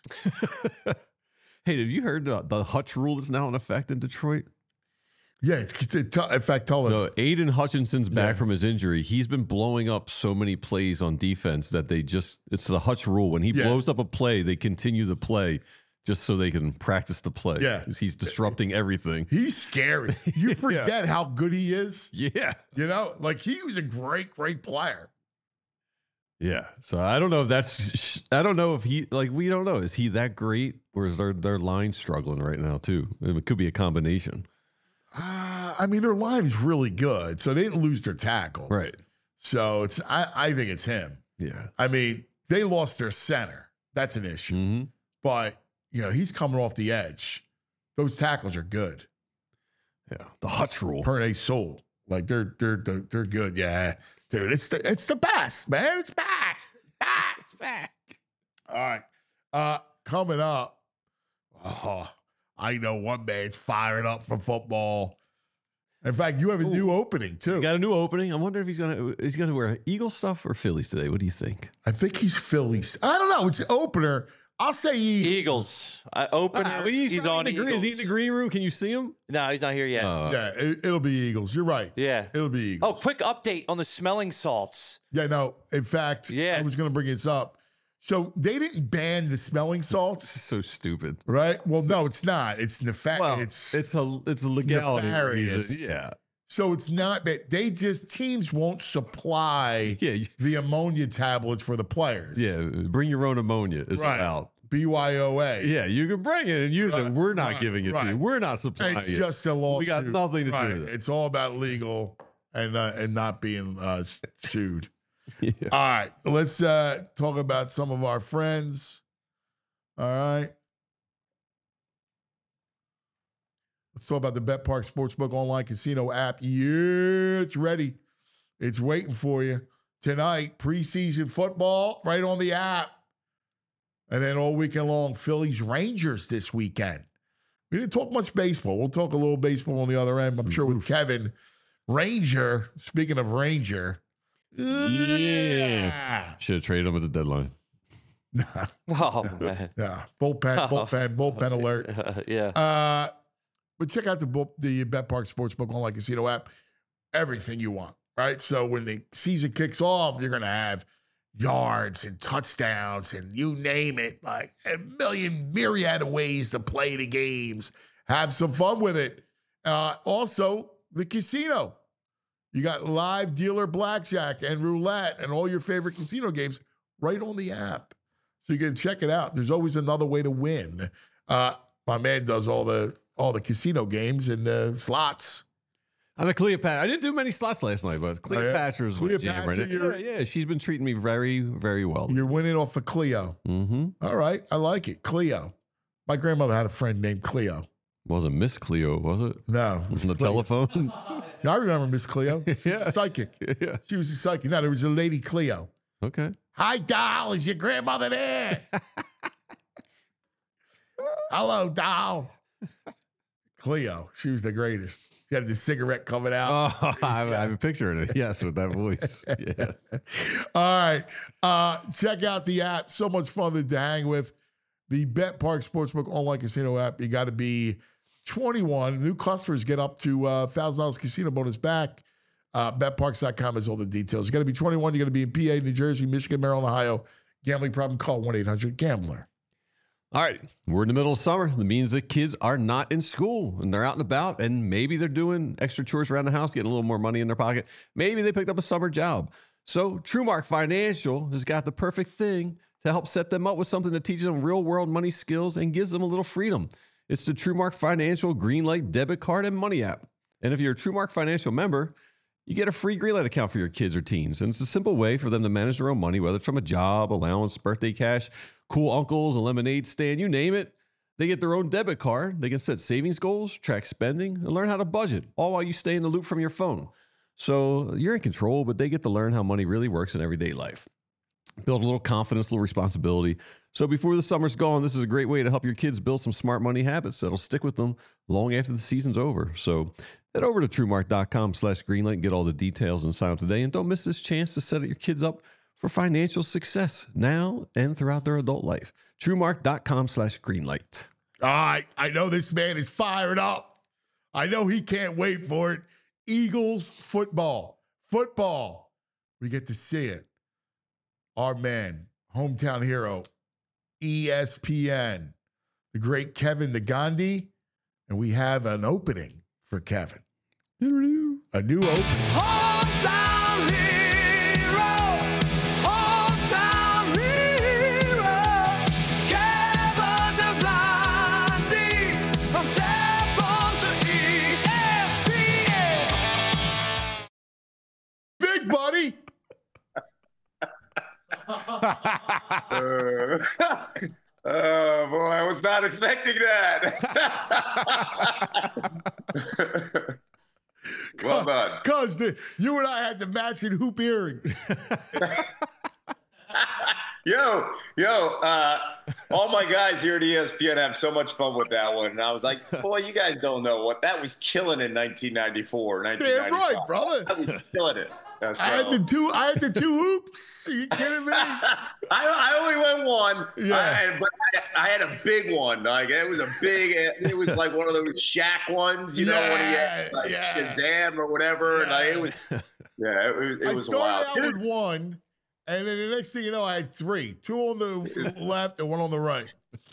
Speaker 3: Hey, have you heard the, the Hutch rule that's now in effect in Detroit?
Speaker 2: Yeah, it's, it's, in fact, tell him.
Speaker 3: So Aiden Hutchinson's back
Speaker 2: Yeah.
Speaker 3: from his injury. He's been blowing up so many plays on defense that they just, it's the Hutch rule. When he
Speaker 2: Yeah.
Speaker 3: blows up a play, they continue the play just so they can practice the play.
Speaker 2: Yeah.
Speaker 3: He's disrupting everything.
Speaker 2: He's scary. You forget how good he is.
Speaker 3: Yeah.
Speaker 2: You know, like he was a great, great player.
Speaker 3: Yeah. So I don't know if that's, I don't know if he, like, we don't know. Is he that great or is their, their line struggling right now too? It could be a combination.
Speaker 2: Uh, I mean, their line is really good, so they didn't lose their tackle.
Speaker 3: Right.
Speaker 2: So it's. I, I think it's him.
Speaker 3: Yeah.
Speaker 2: I mean, they lost their center. That's an issue.
Speaker 3: Mm-hmm.
Speaker 2: But you know, he's coming off the edge. Those tackles are good.
Speaker 3: Yeah. The Hutch rule.
Speaker 2: Per they soul. Like they're they're they're, they're good. Yeah, dude. It's the it's the best, man. It's back. Ah, it's back. All right. Uh, coming up. Oh, I know one man's firing up for football. In fact, you have a
Speaker 3: Ooh.
Speaker 2: new opening too.
Speaker 3: He's got a new opening. I wonder if he's gonna is he gonna wear Eagle stuff or Phillies today. What do you think?
Speaker 2: I think he's Phillies. I don't know. It's an opener. I'll say he.
Speaker 4: Eagles. Uh, opener.
Speaker 3: Ah,
Speaker 4: he's, on
Speaker 3: in the green. Is he in the
Speaker 4: Eagles.
Speaker 3: green room? Can you see him?
Speaker 4: No, he's not here yet.
Speaker 3: Uh,
Speaker 2: Yeah, it, it'll be Eagles. You're right.
Speaker 4: yeah.
Speaker 2: It'll be Eagles.
Speaker 4: Oh, quick update on the smelling salts.
Speaker 2: Yeah, no. In fact,
Speaker 4: Yeah.
Speaker 2: I was going to bring this up. So they didn't ban the smelling salts,
Speaker 3: so stupid.
Speaker 2: right? Well, no, it's not. It's nefarious.
Speaker 3: Well,
Speaker 2: it's,
Speaker 3: it's a it's a legality
Speaker 2: nefarious.
Speaker 3: reason. Yeah,
Speaker 2: so it's not that they just teams won't supply
Speaker 3: yeah, you-
Speaker 2: the ammonia tablets for the players.
Speaker 3: yeah. Bring your own ammonia. It's
Speaker 2: Right.
Speaker 3: out.
Speaker 2: B Y O A.
Speaker 3: Yeah, you can bring it and use
Speaker 2: Right,
Speaker 3: it. We're not
Speaker 2: right,
Speaker 3: giving it to
Speaker 2: right.
Speaker 3: you. We're not supplying
Speaker 2: It's
Speaker 3: it.
Speaker 2: just a lawsuit.
Speaker 3: We got nothing to
Speaker 2: Right.
Speaker 3: do with it.
Speaker 2: It's all about legal and uh, and not being uh, sued.
Speaker 3: Yeah.
Speaker 2: All right, let's uh, talk about some of our friends. All right. Let's talk about the Bet Park Sportsbook online casino app. Yeah, it's ready. It's waiting for you. Tonight, preseason football right on the app. And then all weekend long, Phillies Rangers this weekend. We didn't talk much baseball. We'll talk a little baseball on the other end, I'm sure, with Kevin. Ranger, speaking of Ranger.
Speaker 3: Yeah. Should have traded him at the deadline.
Speaker 4: Oh, man.
Speaker 2: Yeah, bullpen, bullpen, bullpen alert.
Speaker 4: yeah.
Speaker 2: Uh, but check out the bull- the Bet Park Sportsbook online casino app. Everything you want, right? So when the season kicks off, you're gonna have yards and touchdowns and you name it, like a million myriad of ways to play the games. Have some fun with it. Uh, also, the casino. You got live dealer blackjack and roulette and all your favorite casino games right on the app. So you can check it out. There's always another way to win. Uh, my man does all the all the casino games and uh, slots.
Speaker 3: I'm a Cleopatra. I didn't do many slots last night, but Cleopatra's my jam
Speaker 2: Cleopatra,
Speaker 3: right now. Yeah,
Speaker 2: you're-
Speaker 3: yeah, she's been treating me very, very well.
Speaker 2: You're winning off of Cleo.
Speaker 3: Mm-hmm.
Speaker 2: All right, I like it. Cleo. My grandmother had a friend named Cleo.
Speaker 3: Wasn't Miss Cleo, was it?
Speaker 2: No, it was
Speaker 3: On the
Speaker 2: Cleo.
Speaker 3: telephone?
Speaker 2: Yeah, I remember Miss Cleo. She was
Speaker 3: Yeah.
Speaker 2: a psychic.
Speaker 3: Yeah.
Speaker 2: She was a psychic. No, there was a lady Cleo.
Speaker 3: Okay.
Speaker 2: Hi, doll. Is your grandmother there? Hello, doll. Cleo. She was the greatest. She had the cigarette coming out.
Speaker 3: Oh, I have, I have a picture of it. Yes, with that voice. Yeah.
Speaker 2: All right. Uh, check out the app. So much fun to, to hang with. The Bet Park Sportsbook online casino app. You got to be twenty-one. New customers get up to uh, one thousand dollars casino bonus back. Uh, bet parks dot com has all the details. You got to be twenty-one. You got to be in P A, New Jersey, Michigan, Maryland, Ohio. Gambling problem? Call one eight hundred gambler.
Speaker 3: All right, we're in the middle of summer. That means that kids are not in school and they're out and about, and maybe they're doing extra chores around the house, getting a little more money in their pocket. Maybe they picked up a summer job. So TrueMark Financial has got the perfect thing to help set them up with something that teaches them real-world money skills and gives them a little freedom. It's the TrueMark Financial Greenlight debit card and money app. And if you're a TrueMark Financial member, you get a free Greenlight account for your kids or teens. And it's a simple way for them to manage their own money, whether it's from a job, allowance, birthday cash, cool uncles, a lemonade stand, you name it. They get their own debit card. They can set savings goals, track spending, and learn how to budget, all while you stay in the loop from your phone. So you're in control, but they get to learn how money really works in everyday life. Build a little confidence, a little responsibility. So before the summer's gone, this is a great way to help your kids build some smart money habits that'll stick with them long after the season's over. So head over to TrueMark.com slash Greenlight and get all the details and sign up today. And don't miss this chance to set your kids up for financial success now and throughout their adult life. TrueMark.com slash Greenlight.
Speaker 2: All right. I know this man is fired up. I know he can't wait for it. Eagles football. Football. We get to see it. Our man, hometown hero, E S P N, the great Kevin the Gandhi. And we have an opening for Kevin. A new opening.
Speaker 6: Hometown hero, hometown hero, Kevin the Gandhi, from Tampa to E S P N.
Speaker 2: Big buddy.
Speaker 7: uh, oh boy, I was not expecting that. Well done.
Speaker 2: Because you and I had the matching hoop earring.
Speaker 7: Yo, yo, uh, all my guys here at E S P N have so much fun with that one. And I was like, boy, you guys don't know what that was killing in nineteen ninety-four, nineteen ninety-five.
Speaker 2: Damn right, brother.
Speaker 7: I was killing it. Uh, so.
Speaker 2: I had the two. I had the two hoops. Are you kidding me?
Speaker 7: I, I only went one.
Speaker 2: Yeah.
Speaker 7: I, but I, I had a big one. Like it was a big. It was like one of those Shaq ones, you know,
Speaker 2: yeah,
Speaker 7: when he had like
Speaker 2: yeah.
Speaker 7: Shazam or whatever.
Speaker 2: Yeah.
Speaker 7: And like, it was. Yeah, it was. It
Speaker 2: I
Speaker 7: was
Speaker 2: started
Speaker 7: wild.
Speaker 2: out with one, and then the next thing you know, I had three: two on the left and one on the right.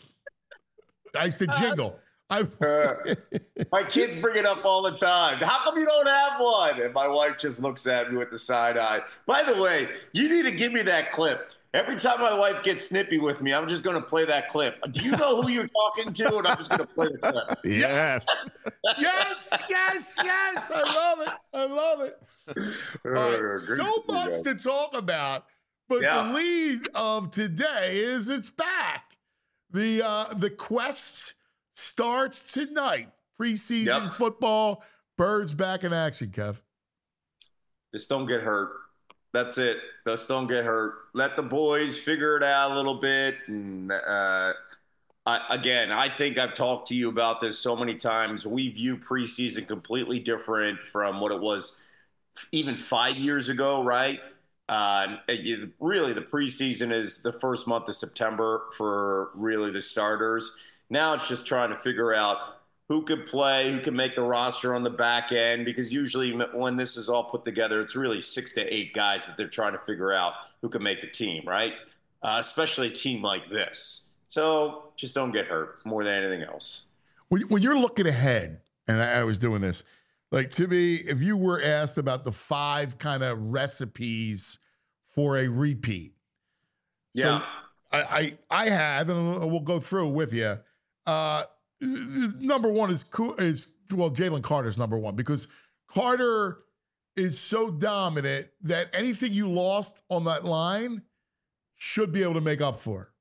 Speaker 2: I used to jingle. I,
Speaker 7: uh, my kids bring it up all the time. How come you don't have one? And my wife just looks at me with the side eye. By the way, you need to give me that clip. Every time my wife gets snippy with me, I'm just going to play that clip. Do you know who you're talking to? And I'm just going to play the clip.
Speaker 3: Yes.
Speaker 2: yes, yes, yes. I love it. I love it. All right, so much to talk about, but
Speaker 7: Yeah.
Speaker 2: the lead of today is it's back. The uh, the quest starts tonight. Preseason
Speaker 7: Yep.
Speaker 2: football. Birds back in action, Kev.
Speaker 7: Just don't get hurt. That's it. Just don't get hurt. Let the boys figure it out a little bit. And uh, I, again, I think I've talked to you about this so many times. We view preseason completely different from what it was even five years ago, right? Uh, it, really, the preseason is the first month of September for really the starters. Now it's just trying to figure out who could play, who can make the roster on the back end, because usually when this is all put together, it's really six to eight guys that they're trying to figure out who can make the team, right? Uh, especially a team like this. So just don't get hurt more than anything else.
Speaker 2: When, when you're looking ahead, and I, I was doing this, like to me, if you were asked about the five kind of recipes for a repeat.
Speaker 7: Yeah.
Speaker 2: So I, I, I have, and we'll go through with you. Uh, number one is, is well, Jalen Carter's number one, because Carter is so dominant that anything you lost on that line should be able to make up for.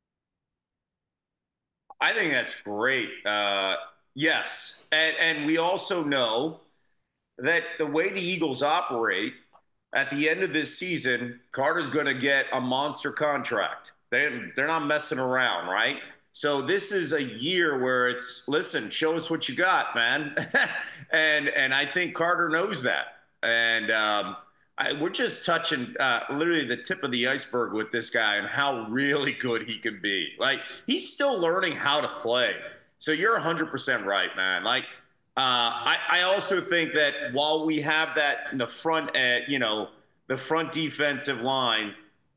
Speaker 7: I think that's great. Uh, yes. And, and we also know that the way the Eagles operate, at the end of this season, Carter's going to get a monster contract. They, they're not messing around, right? So this is a year where it's, listen, show us what you got, man. and and I think Carter knows that. And um, I, we're just touching uh, literally the tip of the iceberg with this guy and how really good he can be. Like, he's still learning how to play. So you're one hundred percent right, man. Like, uh, I, I also think that while we have that in the front, uh, you know, the front defensive line,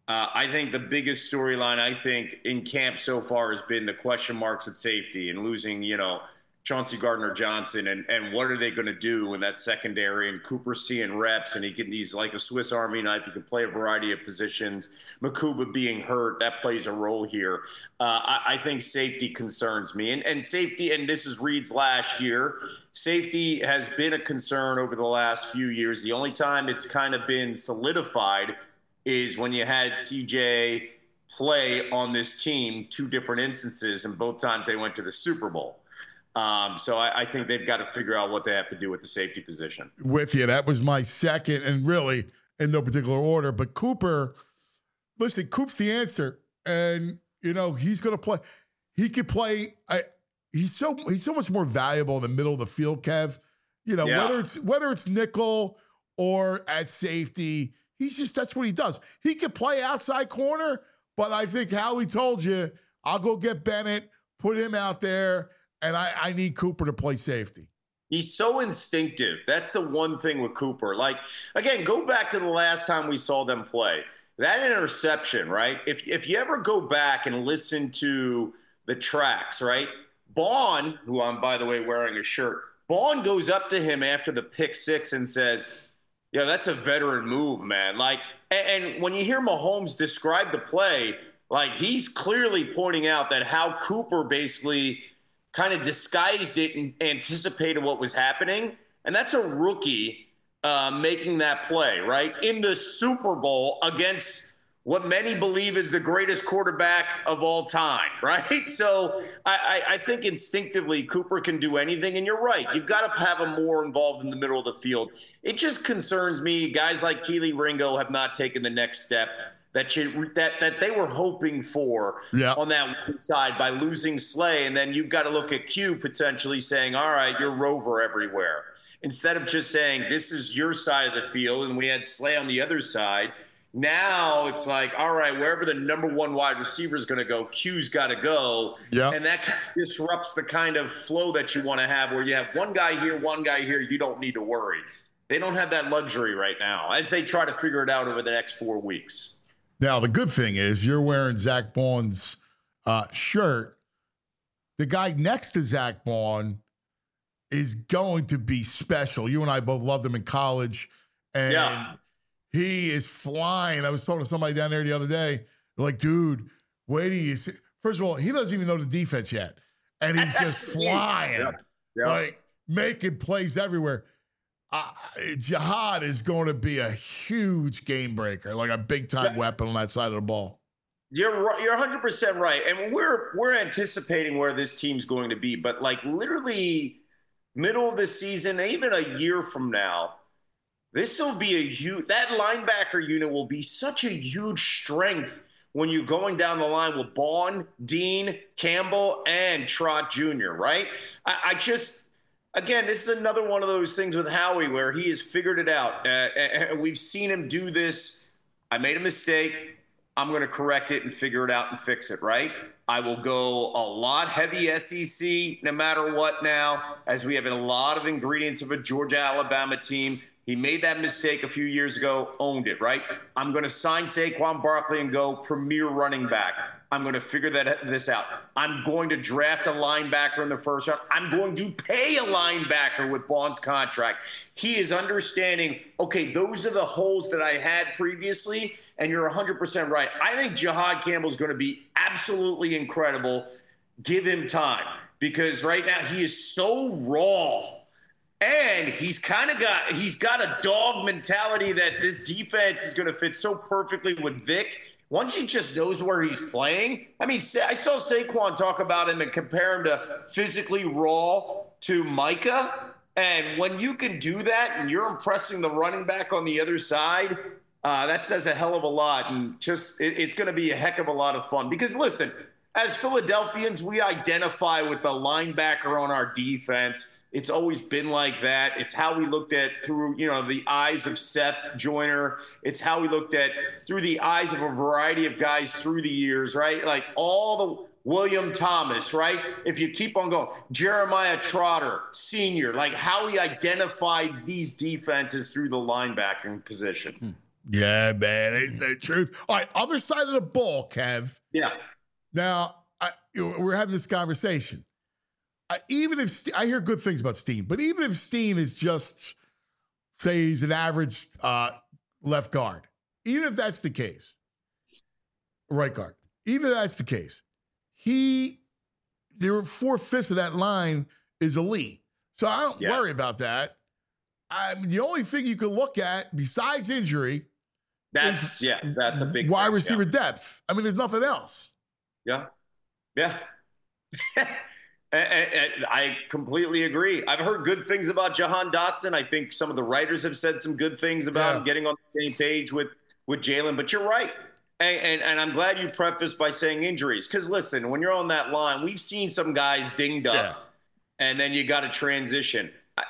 Speaker 7: Uh, I think the biggest storyline, I think, in camp so far has been the question marks at safety and losing, you know, Chauncey Gardner-Johnson and, and what are they going to do in that secondary, and Cooper seeing reps, and he can, he's like a Swiss Army knife. He can play a variety of positions. Makuba being hurt, that plays a role here. Uh, I, I think safety concerns me. And, and safety, and this is Reed's last year, safety has been a concern over the last few years. The only time it's kind of been solidified is when you had C J play on this team, two different instances, and both times they went to the Super Bowl. Um, so I, I think they've got to figure out what they have to do with the safety position.
Speaker 2: With you. That was my second, and really in no particular order. But Cooper, listen, Coop's the answer. And, you know, he's going to play. He could play. I, he's so he's so much more valuable in the middle of the field, Kev. You know,
Speaker 7: Yeah.
Speaker 2: whether it's whether it's nickel or at safety, he's just, that's what he does. He could play outside corner, but I think Howie told you, I'll go get Bennett, put him out there, and I, I need Cooper to play safety.
Speaker 7: He's so instinctive. That's the one thing with Cooper. Like, again, go back to the last time we saw them play. That interception, right? If if you ever go back and listen to the tracks, right? Bond, who I'm, by the way, wearing a shirt, Bond goes up to him after the pick six and says, yeah, that's a veteran move, man. Like, and, and when you hear Mahomes describe the play, like, he's clearly pointing out that how Cooper basically – kind of disguised it and anticipated what was happening. And that's a rookie uh, making that play, right? In the Super Bowl against what many believe is the greatest quarterback of all time, right? So I, I, I think instinctively Cooper can do anything. And you're right. You've got to have him more involved in the middle of the field. It just concerns me. Guys like Keely Ringo have not taken the next step that you, that that they were hoping for
Speaker 2: Yeah.
Speaker 7: on that one side by losing Slay. And then you've got to look at Q potentially saying, all right, you're Rover everywhere. Instead of just saying, this is your side of the field, and we had Slay on the other side. Now it's like, all right, wherever the number one wide receiver is going to go, Q's got to go.
Speaker 2: Yeah.
Speaker 7: And that disrupts the kind of flow that you want to have where you have one guy here, one guy here. You don't need to worry. They don't have that luxury right now as they try to figure it out over the next four weeks.
Speaker 2: Now, the good thing is you're wearing Zach Baun's uh, shirt. The guy next to Zach Baun is going to be special. You and I both loved him in college. And
Speaker 7: Yeah.
Speaker 2: he is flying. I was talking to somebody down there the other day. They're like, dude, wait till you see. First of all, he doesn't even know the defense yet. And he's just flying.
Speaker 7: Yeah. Yeah.
Speaker 2: Like, making plays everywhere. Uh, Jihad is going to be a huge game breaker, like a big time
Speaker 7: Yeah.
Speaker 2: weapon on that side of the ball.
Speaker 7: You're right- you're one hundred percent right, and we're we're anticipating where this team's going to be, but like literally middle of the season, even a year from now, this will be a huge. That linebacker unit will be such a huge strength when you're going down the line with Baun, Dean, Campbell, and Trott Junior Right? I, I just. Again, this is another one of those things with Howie where he has figured it out. Uh, and we've seen him do this. I made a mistake. I'm going to correct it and figure it out and fix it, right? I will go a lot heavy S E C no matter what now, as we have a lot of ingredients of a Georgia-Alabama team. He made that mistake a few years ago, owned it, right? I'm going to sign Saquon Barkley and go premier running back. I'm going to figure that this out. I'm going to draft a linebacker in the first round. I'm going to pay a linebacker with Baun's contract. He is understanding, okay, those are the holes that I had previously, and you're one hundred percent right. I think Jihad Campbell is going to be absolutely incredible. Give him time, because right now he is so raw. And he's kind of got he's got a dog mentality that this defense is going to fit so perfectly with Vic. Once he just knows where he's playing. I mean, I saw Saquon talk about him and compare him to physically raw to Micah. And when you can do that and you're impressing the running back on the other side, uh, that says a hell of a lot. And just it, it's going to be a heck of a lot of fun. Because, listen, as Philadelphians, we identify with the linebacker on our defense. It's always been like that. It's how we looked at through, you know, the eyes of Seth Joyner. It's how we looked at through the eyes of a variety of guys through the years, right? Like all the William Thomas, right? If you keep on going, Jeremiah Trotter, senior, like how we identified these defenses through the linebacking position.
Speaker 2: Yeah, man, it's the truth. All right, other side of the ball, Kev.
Speaker 7: Yeah.
Speaker 2: Now, I, you know, we're having this conversation. I, even if Ste- I hear good things about Steen, but even if Steen is just, say, he's an average uh, left guard, even if that's the case, right guard, even if that's the case, he, there were four fifths of that line is elite. So I don't
Speaker 7: Yeah.
Speaker 2: worry about that. I mean, the only thing you can look at besides injury,
Speaker 7: That's yeah, that's a big
Speaker 2: wide
Speaker 7: thing,
Speaker 2: receiver depth. I mean, there's nothing else.
Speaker 7: Yeah, yeah. yeah. And- and- and I completely agree. I've heard good things about Jahan Dotson. I think some of the writers have said some good things about
Speaker 2: Yeah.
Speaker 7: him getting on the same page with with Jalen. But you're right, and, and and I'm glad you prefaced by saying injuries, because listen, when you're on that line, we've seen some guys dinged up,
Speaker 2: Yeah.
Speaker 7: and then you got to transition. I,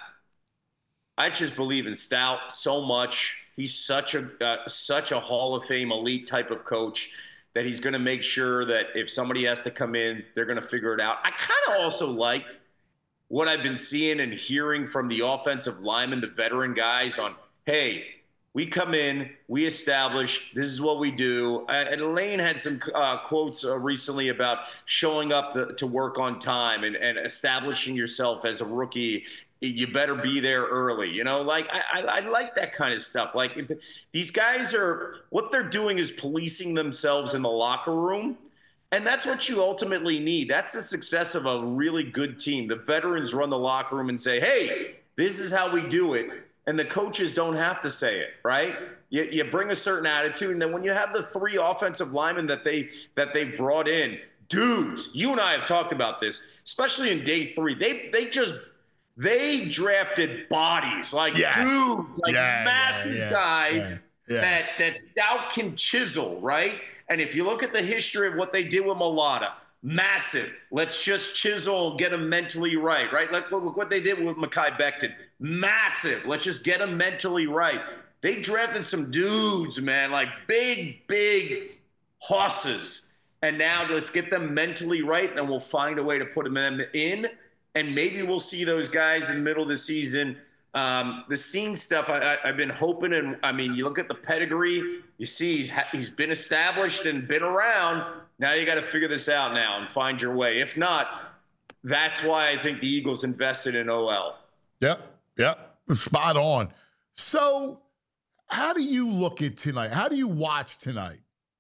Speaker 7: I just believe in Stout so much. He's such a uh, such a Hall of Fame elite type of coach that he's going to make sure that if somebody has to come in, they're going to figure it out. I kind of also like what I've been seeing and hearing from the offensive linemen, the veteran guys, on, hey, we come in, we establish, this is what we do. Uh, and Lane had some uh, quotes uh, recently about showing up the, to work on time and, and establishing yourself as a rookie. You better be there early, you know, like I, I, I like that kind of stuff. Like if these guys are, what they're doing is policing themselves in the locker room. And that's what you ultimately need. That's the success of a really good team. The veterans run the locker room and say, hey, this is how we do it. And the coaches don't have to say it, right? You, you bring a certain attitude. And then when you have the three offensive linemen that they that they brought in, dudes, you and I have talked about this, especially in day three. They they just They drafted bodies like
Speaker 2: Yeah.
Speaker 7: dudes, like
Speaker 2: Yeah,
Speaker 7: massive
Speaker 2: yeah, yeah,
Speaker 7: guys
Speaker 2: yeah, yeah.
Speaker 7: that that Stout can chisel, right? And if you look at the history of what they did with Mulata, massive. Let's just chisel and get him mentally right, right? Like look, look what they did with Mekhi Becton. Massive. Let's just get him mentally right. They drafted some dudes, man, like big, big horses. And now let's get them mentally right, and then we'll find a way to put them in. And maybe we'll see those guys in the middle of the season. Um, the Steen stuff, I, I, I've been hoping. And I mean, you look at the pedigree, you see he's, ha- he's been established and been around. Now you got to figure this out now and find your way. If not, that's why I think the Eagles invested in O L.
Speaker 2: Yep, yep, spot on. So how do you look at tonight? How do you watch tonight?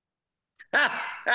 Speaker 7: uh,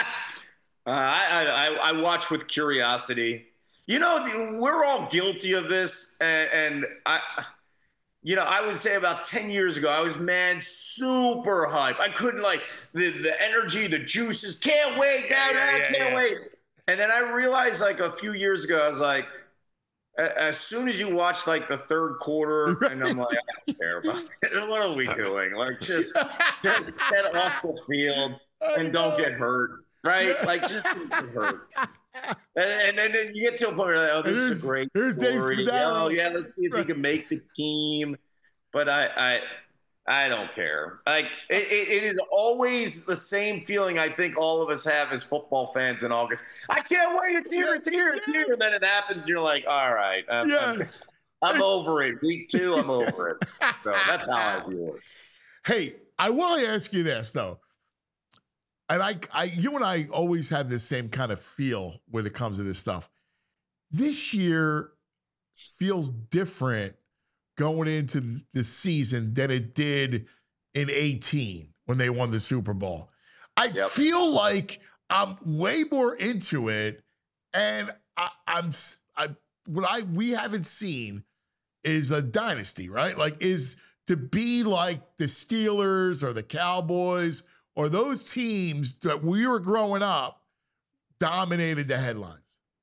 Speaker 7: I, I, I watch with curiosity. You know, we're all guilty of this, and, and I, you know, I would say about ten years ago, I was, man, super hype. I couldn't, like, the, the energy, the juices, can't wait,
Speaker 2: Yeah,
Speaker 7: yeah,
Speaker 2: yeah, yeah,
Speaker 7: can't
Speaker 2: yeah.
Speaker 7: wait. And then I realized, like, a few years ago, I was like, a- as soon as you watch, like, the third quarter, and I'm like, I don't care about it. What are we doing? Like, just, just get off the field and don't get hurt, right? Like, just don't get hurt. And, and, and then you get to a point where you're like, oh, this
Speaker 2: It
Speaker 7: is
Speaker 2: is-
Speaker 7: a great
Speaker 2: here's Dave
Speaker 7: story.
Speaker 2: Spadaro.
Speaker 7: Oh, yeah, let's see if he can make the team. But I, I, I don't care. Like it, it, it is always the same feeling I think all of us have as football fans in August. I can't wait. It's here. It's here. It's here. And then it happens. You're like, all right, I'm,
Speaker 2: Yeah.
Speaker 7: I'm, I'm over it. Week two, I'm over it. So that's how I view it.
Speaker 2: Hey, I want to ask you this though. And I, I, you and I always have this same kind of feel when it comes to this stuff. This year feels different going into the season than it did in eighteen when they won the Super Bowl. I
Speaker 7: Yep.
Speaker 2: feel like I'm way more into it, and I, I'm, I, what I we haven't seen is a dynasty, right? Like, is to be like the Steelers or the Cowboys or those teams that we were growing up dominated the headlines.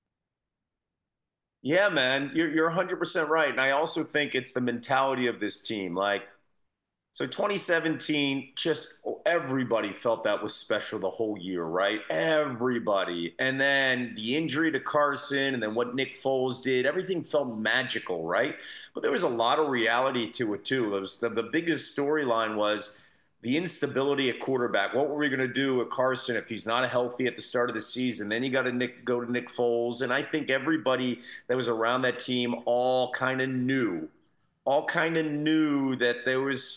Speaker 7: Yeah, man, you're you're one hundred percent right, and I also think it's the mentality of this team. Like, so twenty seventeen, just everybody felt that was special the whole year, right? Everybody, and then the injury to Carson, and then what Nick Foles did, everything felt magical, right? But there was a lot of reality to it too. It was the, the biggest storyline was the instability at quarterback. What were we going to do with Carson if he's not healthy at the start of the season? Then you got to Nick, go to Nick Foles. And I think everybody that was around that team all kind of knew, all kind of knew that there was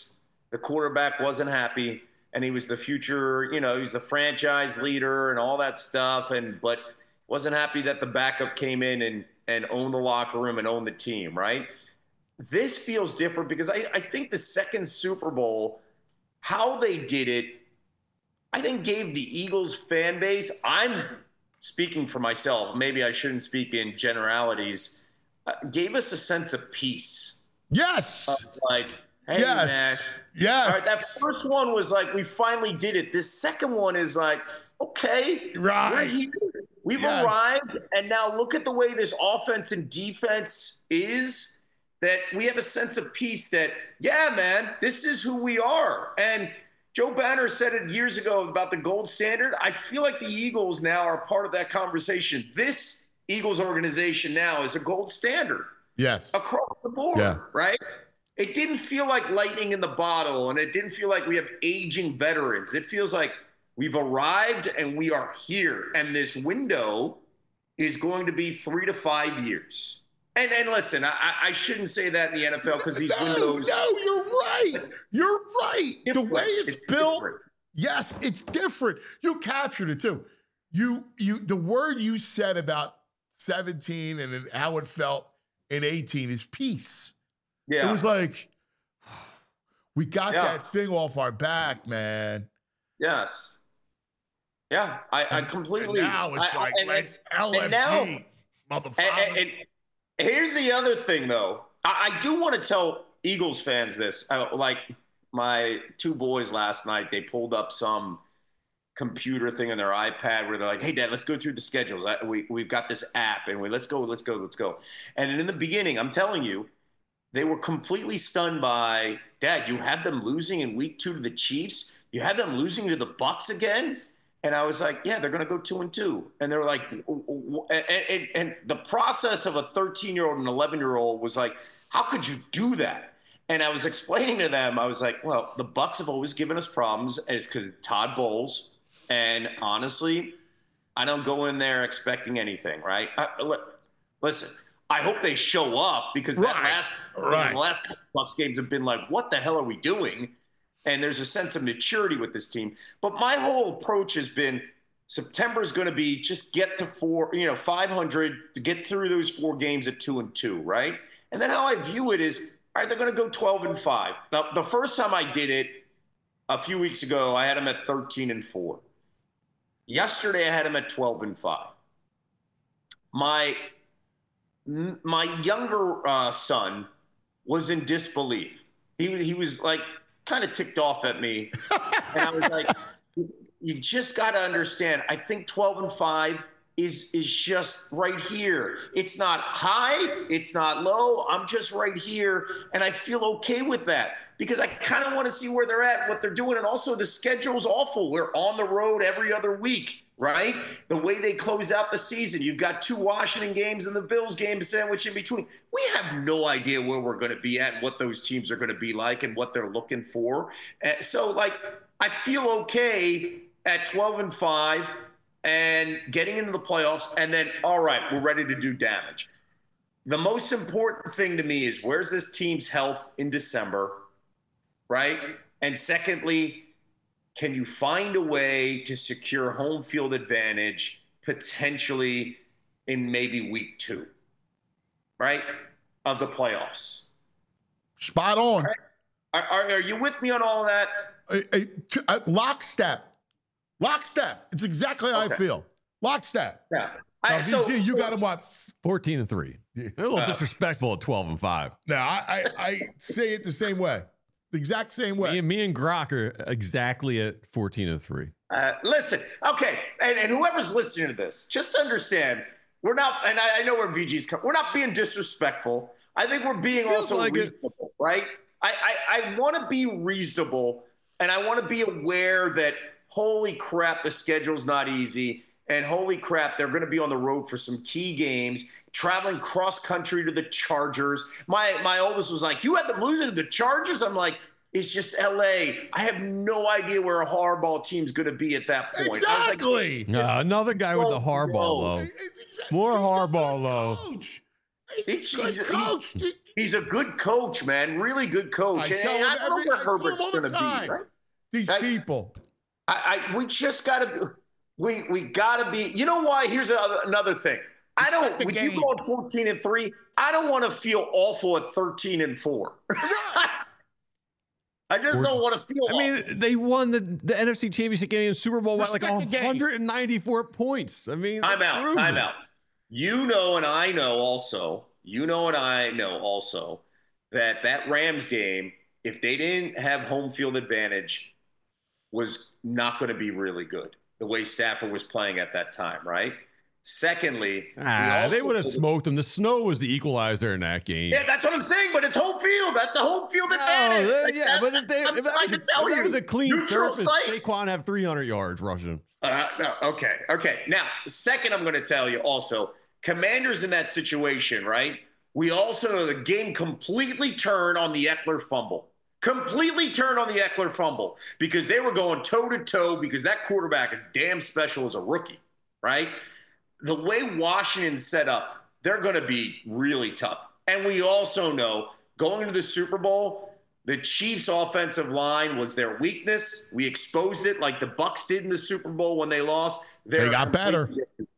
Speaker 7: The quarterback wasn't happy, and he was the future, you know, he was the franchise leader and all that stuff, and but wasn't happy that the backup came in and, and owned the locker room and owned the team, right? This feels different because I, I think the second Super Bowl, how they did it, I think gave the Eagles fan base, I'm speaking for myself, maybe I shouldn't speak in generalities, uh, gave us a sense of peace.
Speaker 2: Yes.
Speaker 7: Uh, like, hey,
Speaker 2: yes.
Speaker 7: man.
Speaker 2: Yes.
Speaker 7: All right, that first one was like, we finally did it. This second one is like, okay,
Speaker 2: right.
Speaker 7: we're here. We've
Speaker 2: yes.
Speaker 7: arrived, and now look at the way this offense and defense is, that we have a sense of peace that, yeah, man, this is who we are. And Joe Banner said it years ago about the gold standard. I feel like the Eagles now are part of that conversation. This Eagles organization now is a gold standard.
Speaker 2: Yes.
Speaker 7: Across the board,
Speaker 2: yeah.
Speaker 7: right? It didn't feel like lightning in the bottle, and it didn't feel like we have aging veterans. It feels like we've arrived and we are here. And this window is going to be three to five years. And and listen, I, I shouldn't say that in the N F L because these
Speaker 2: no,
Speaker 7: windows.
Speaker 2: No, you're right. You're right.
Speaker 7: Different.
Speaker 2: The way it's,
Speaker 7: it's
Speaker 2: built,
Speaker 7: different.
Speaker 2: Yes, it's different. You captured it too. You you the word you said about seventeen and how it felt in eighteen is peace.
Speaker 7: Yeah.
Speaker 2: It was like we got
Speaker 7: yeah.
Speaker 2: that thing off our back, man.
Speaker 7: Yes. Yeah, I, I completely.
Speaker 2: And now it's
Speaker 7: I,
Speaker 2: like
Speaker 7: and,
Speaker 2: let's
Speaker 7: and,
Speaker 2: L F G,
Speaker 7: and now,
Speaker 2: motherfucker.
Speaker 7: And, and, and here's the other thing, though. I, I do want to tell Eagles fans this. I, like my two boys last night, they pulled up some computer thing on their iPad where they're like, "Hey, Dad, let's go through the schedules. I, we we've got this app, and we let's go, let's go, let's go." And in the beginning, I'm telling you, they were completely stunned by, "Dad, you have them losing in week two to the Chiefs. You have them losing to the Bucs again." And I was like, yeah, they're going to go two and two. And they were like, and, and, and the process of a thirteen-year-old and eleven-year-old was like, how could you do that? And I was explaining to them, I was like, well, the Bucs have always given us problems, and it's because of Todd Bowles. And honestly, I don't go in there expecting anything, right? I, listen, I hope they show up because that
Speaker 2: right.
Speaker 7: last,
Speaker 2: right.
Speaker 7: the last Bucs games have been like, what the hell are we doing? And there's a sense of maturity with this team. But my whole approach has been September is going to be just get to four, you know, five hundred to get through those four games at two and two, right? And then how I view it is, all right, they're going to go twelve and five. Now, the first time I did it a few weeks ago, I had them at thirteen and four. Yesterday, I had them at twelve and five. My, my younger uh, son was in disbelief. He, he was like, kind of ticked off at me. And I was like, you just got to understand, I think twelve and five is is just right here. It's not high, it's not low. I'm just right here. And I feel okay with that because I kind of want to see where they're at, what they're doing. And also the schedule's awful. We're on the road every other week, right? The way they close out the season, you've got two Washington games and the Bills game sandwich in between. We have no idea where we're going to be at, what those teams are going to be like and what they're looking for. And so, like, I feel okay at twelve and five and getting into the playoffs. And then, all right, we're ready to do damage. The most important thing to me is where's this team's health in December, right? And secondly, can you find a way to secure home field advantage potentially in maybe week two, right, of the playoffs?
Speaker 2: Spot on.
Speaker 7: Right? Are, are, are you with me on all of that?
Speaker 2: A, a, t- a lockstep. Lockstep. It's exactly how
Speaker 7: Okay.
Speaker 2: I feel. Lockstep.
Speaker 7: Yeah.
Speaker 2: Now,
Speaker 7: I, so,
Speaker 2: V G, you
Speaker 7: so,
Speaker 2: got him what?
Speaker 3: fourteen and three. A little
Speaker 7: Uh,
Speaker 3: disrespectful at twelve and five.
Speaker 2: No, I, I, I say it the same way. The exact same way.
Speaker 3: Me and, me and Grok are exactly at fourteen and three.
Speaker 7: Uh, listen, okay, and, and whoever's listening to this, just understand, we're not, and I, I know where V G's come, we're not being disrespectful. I think we're being
Speaker 3: Feels
Speaker 7: also
Speaker 3: like it.
Speaker 7: reasonable, right? I, I, I want to be reasonable, and I want to be aware that, holy crap, the schedule's not easy, and holy crap, they're going to be on the road for some key games, traveling cross-country to the Chargers. My, my oldest was like, you had them losing to the Chargers? I'm like, it's just L A. I have no idea where a hardball team's going to be at that point.
Speaker 2: Exactly.
Speaker 3: Uh, another guy with the
Speaker 7: Oh,
Speaker 3: Harbaugh
Speaker 7: no.
Speaker 3: low.
Speaker 2: It's exactly-
Speaker 3: More
Speaker 2: he's the
Speaker 3: Harbaugh
Speaker 2: good
Speaker 3: low.
Speaker 2: coach.
Speaker 7: He's,
Speaker 2: Good
Speaker 7: he's,
Speaker 2: coach.
Speaker 7: he's, he's a good coach, man. Really good coach.
Speaker 2: I
Speaker 7: And
Speaker 2: tell him
Speaker 7: I don't know
Speaker 2: every-
Speaker 7: where
Speaker 2: I tell him
Speaker 7: Herbert's
Speaker 2: all the
Speaker 7: going to
Speaker 2: time.
Speaker 7: be. Right?
Speaker 2: These
Speaker 7: I-
Speaker 2: people.
Speaker 7: I, I we just got to we we got to be. You know why? Here's another, another thing. I don't.
Speaker 2: Respect the
Speaker 7: With
Speaker 2: game.
Speaker 7: you going fourteen and three, I don't want to feel awful at thirteen and four. I just don't want to feel.
Speaker 3: I mean, they won the, the N F C Championship game in Super Bowl by like
Speaker 2: Respect the game.
Speaker 3: one hundred ninety-four points. I mean,
Speaker 7: I'm
Speaker 3: that
Speaker 7: out.
Speaker 3: proves
Speaker 7: I'm
Speaker 3: it.
Speaker 7: out. You know, and I know also. You know, and I know also that that Rams game, if they didn't have home field advantage, was not going to be really good. The way Stafford was playing at that time, right? Secondly, we
Speaker 3: Ah, they
Speaker 7: also-
Speaker 3: would have smoked them. The snow was the equalizer in that game.
Speaker 7: Yeah, that's what I'm saying. But it's home field. That's a home field
Speaker 3: No,
Speaker 7: advantage.
Speaker 3: uh,
Speaker 7: Like,
Speaker 3: yeah,
Speaker 7: that-
Speaker 3: but if, they,
Speaker 7: I'm
Speaker 3: if, that
Speaker 7: trying
Speaker 3: was, a,
Speaker 7: to tell
Speaker 3: if that
Speaker 7: you,
Speaker 3: was a clean
Speaker 7: neutral
Speaker 3: surface,
Speaker 7: site.
Speaker 3: Saquon have three hundred yards rushing.
Speaker 7: Uh, no, okay, okay. Now, second, I'm going to tell you also, Commanders in that situation, right? We also know the game completely turned on the Eckler fumble. Completely turned on the Eckler fumble because they were going toe to toe because that quarterback is damn special as a rookie, right? The way Washington's set up, they're going to be really tough. And we also know going into the Super Bowl, the Chiefs' offensive line was their weakness. We exposed it like the Bucks did in the Super Bowl when they lost. They're
Speaker 2: They got better.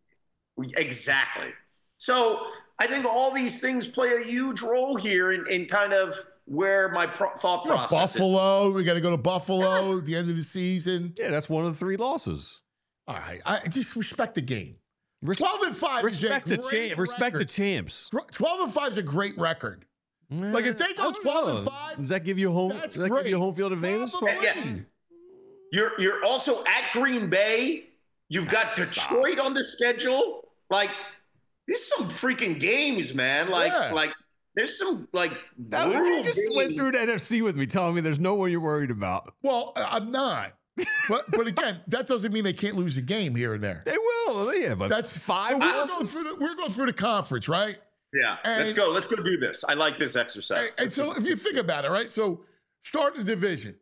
Speaker 7: Exactly. So I think all these things play a huge role here in, in kind of where my pro- thought
Speaker 2: You know,
Speaker 7: process is.
Speaker 2: Buffalo. We got to go to Buffalo at the end of the season.
Speaker 3: Yeah, that's one of the three losses.
Speaker 2: All right. I just respect the game.
Speaker 3: Res-
Speaker 2: twelve and five
Speaker 3: respect
Speaker 2: is a
Speaker 3: the
Speaker 2: great
Speaker 3: champ. Respect the
Speaker 2: record.
Speaker 3: champs.
Speaker 2: twelve and five is a great record. Like, if they
Speaker 3: I
Speaker 2: go
Speaker 3: don't
Speaker 2: twelve and
Speaker 3: know.
Speaker 2: five,
Speaker 3: does that give you home?
Speaker 2: that's
Speaker 3: Does that give
Speaker 2: great.
Speaker 3: you home field advantage?
Speaker 2: Probably.
Speaker 7: Yeah. You're you're also at Green Bay. You've got Detroit on the schedule. Like, these some freaking games, man. Like,
Speaker 2: Yeah.
Speaker 7: like there's some like
Speaker 3: That, you
Speaker 7: brutal
Speaker 3: just went
Speaker 7: games.
Speaker 3: through the N F C with me, telling me there's no one you're worried about.
Speaker 2: Well, I- I'm not. But but again, that doesn't mean they can't lose a game here and there.
Speaker 3: They will, yeah, but
Speaker 2: That's
Speaker 3: five
Speaker 2: We're going,
Speaker 3: losses.
Speaker 2: through the, we're going through the conference, right?
Speaker 7: Yeah,
Speaker 2: And-
Speaker 7: let's go. Let's go do this. I like this
Speaker 2: And,
Speaker 7: exercise.
Speaker 2: and so if you think about it, right? So start the division.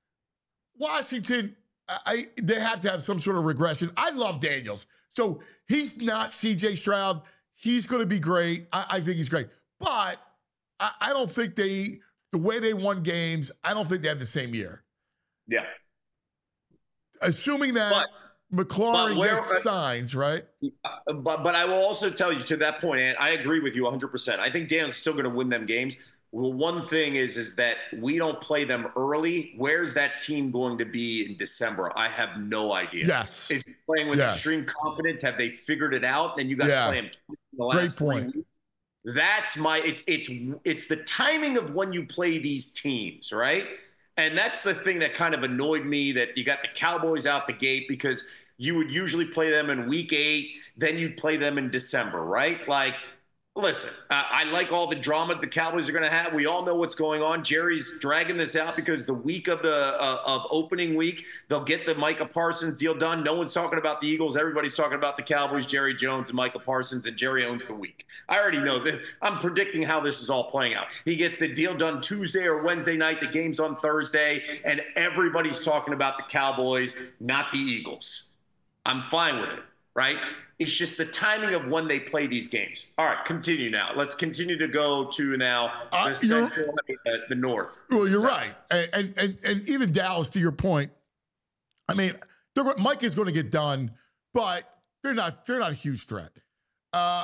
Speaker 2: Washington, I, I they have to have some sort of regression. I love Daniels. So he's not C J Stroud. He's going to be great. I, I think he's great. But I, I don't think they, the way they won games, I don't think they have the same year.
Speaker 7: yeah.
Speaker 2: Assuming that
Speaker 7: But-
Speaker 2: McLaurin
Speaker 7: but where-
Speaker 2: gets signs, right?
Speaker 7: But but I will also tell you to that point, and I agree with you one hundred percent. I think Dan's still going to win them games. Well, one thing is is that we don't play them early. Where's that team going to be in December? I have no idea.
Speaker 2: Yes.
Speaker 7: Is he playing with
Speaker 2: Yes.
Speaker 7: extreme confidence? Have they figured it out? Then you got to
Speaker 2: Yeah.
Speaker 7: play him in the
Speaker 2: Great
Speaker 7: last three
Speaker 2: point.
Speaker 7: weeks. That's my. It's it's it's the timing of when you play these teams, right? And that's the thing that kind of annoyed me, that you got the Cowboys out the gate because you would usually play them in week eight, then you'd play them in December, right? Like, listen, uh, I like all the drama the Cowboys are going to have. We all know what's going on. Jerry's dragging this out because the week of the uh, of opening week, they'll get the Micah Parsons deal done. No one's talking about the Eagles. Everybody's talking about the Cowboys, Jerry Jones, and Micah Parsons, and Jerry owns the week. I already know that. I'm predicting how this is all playing out. He gets the deal done Tuesday or Wednesday night. The game's on Thursday, and everybody's talking about the Cowboys, not the Eagles. I'm fine with it, right? It's just the timing of when they play these games. All right, continue now. Let's continue to go to now the
Speaker 2: Uh, you're-
Speaker 7: central, uh, the north.
Speaker 2: Well, you're
Speaker 7: So-
Speaker 2: right, and, and and and even Dallas, to your point. I mean, they're, go- Mike is going to get done, but they're not. They're not a huge threat. Uh,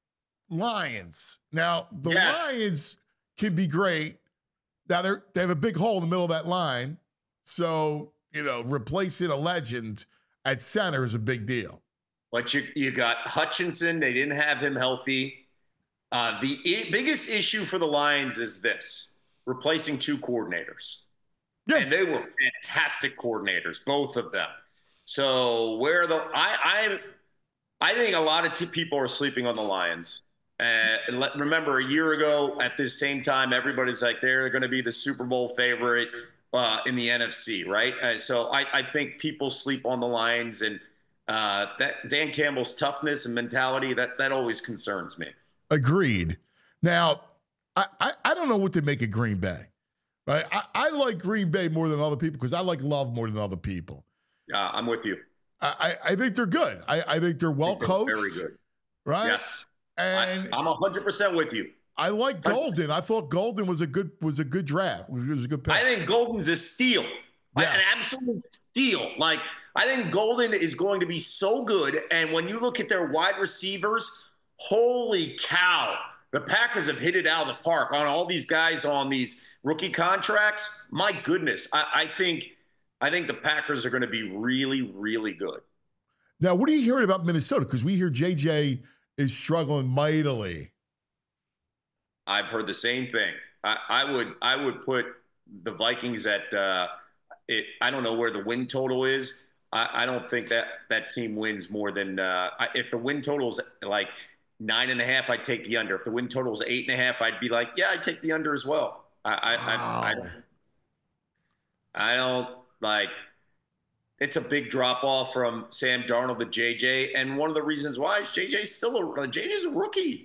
Speaker 2: Lions. Now the
Speaker 7: Yes.
Speaker 2: Lions can be great. Now they are they have a big hole in the middle of that line, so you know replacing a legend at center is a big deal.
Speaker 7: But you you got Hutchinson. They didn't have him healthy. Uh, the I- biggest issue for the Lions is this: replacing two coordinators.
Speaker 2: Yeah.
Speaker 7: And they were fantastic coordinators, both of them. So where the I I I think a lot of t- people are sleeping on the Lions. Uh, and let, remember, a year ago at this same time, everybody's like they're going to be the Super Bowl favorite uh, in the N F C, right? Uh, so I, I think people sleep on the Lions, and uh, that Dan Campbell's toughness and mentality that that always concerns me.
Speaker 2: Agreed. Now, I, I, I don't know what to make of Green Bay. Right? I, I like Green Bay more than other people because I like Love more than other people.
Speaker 7: Uh, I'm with you.
Speaker 2: I, I I think they're good. I, I think they're well
Speaker 7: They're
Speaker 2: coached.
Speaker 7: Very good.
Speaker 2: Right?
Speaker 7: Yes.
Speaker 2: And
Speaker 7: I, I'm one hundred percent with you.
Speaker 2: I like Golden. I thought Golden was a good was a good draft. It was a good pick.
Speaker 7: I think Golden's a steal, like
Speaker 2: Yeah.
Speaker 7: an absolute steal. Like I think Golden is going to be so good. And when you look at their wide receivers, holy cow, the Packers have hit it out of the park on all these guys on these rookie contracts. My goodness, I, I think I think the Packers are going to be really, really good.
Speaker 2: Now, what are you hearing about Minnesota? Because we hear J J is struggling mightily.
Speaker 7: I've heard the same thing. I, I would I would put the Vikings at uh, it. I don't know where the win total is. I, I don't think that that team wins more than uh, I, if the win total is like nine and a half. I'd take the under. If the win total is eight and a half, I'd be like, yeah, I'd take the under as well. I I,
Speaker 2: Wow.
Speaker 7: I, I, I don't like. It's a big drop off from Sam Darnold to J J, and one of the reasons why is J J's still a J J's a rookie.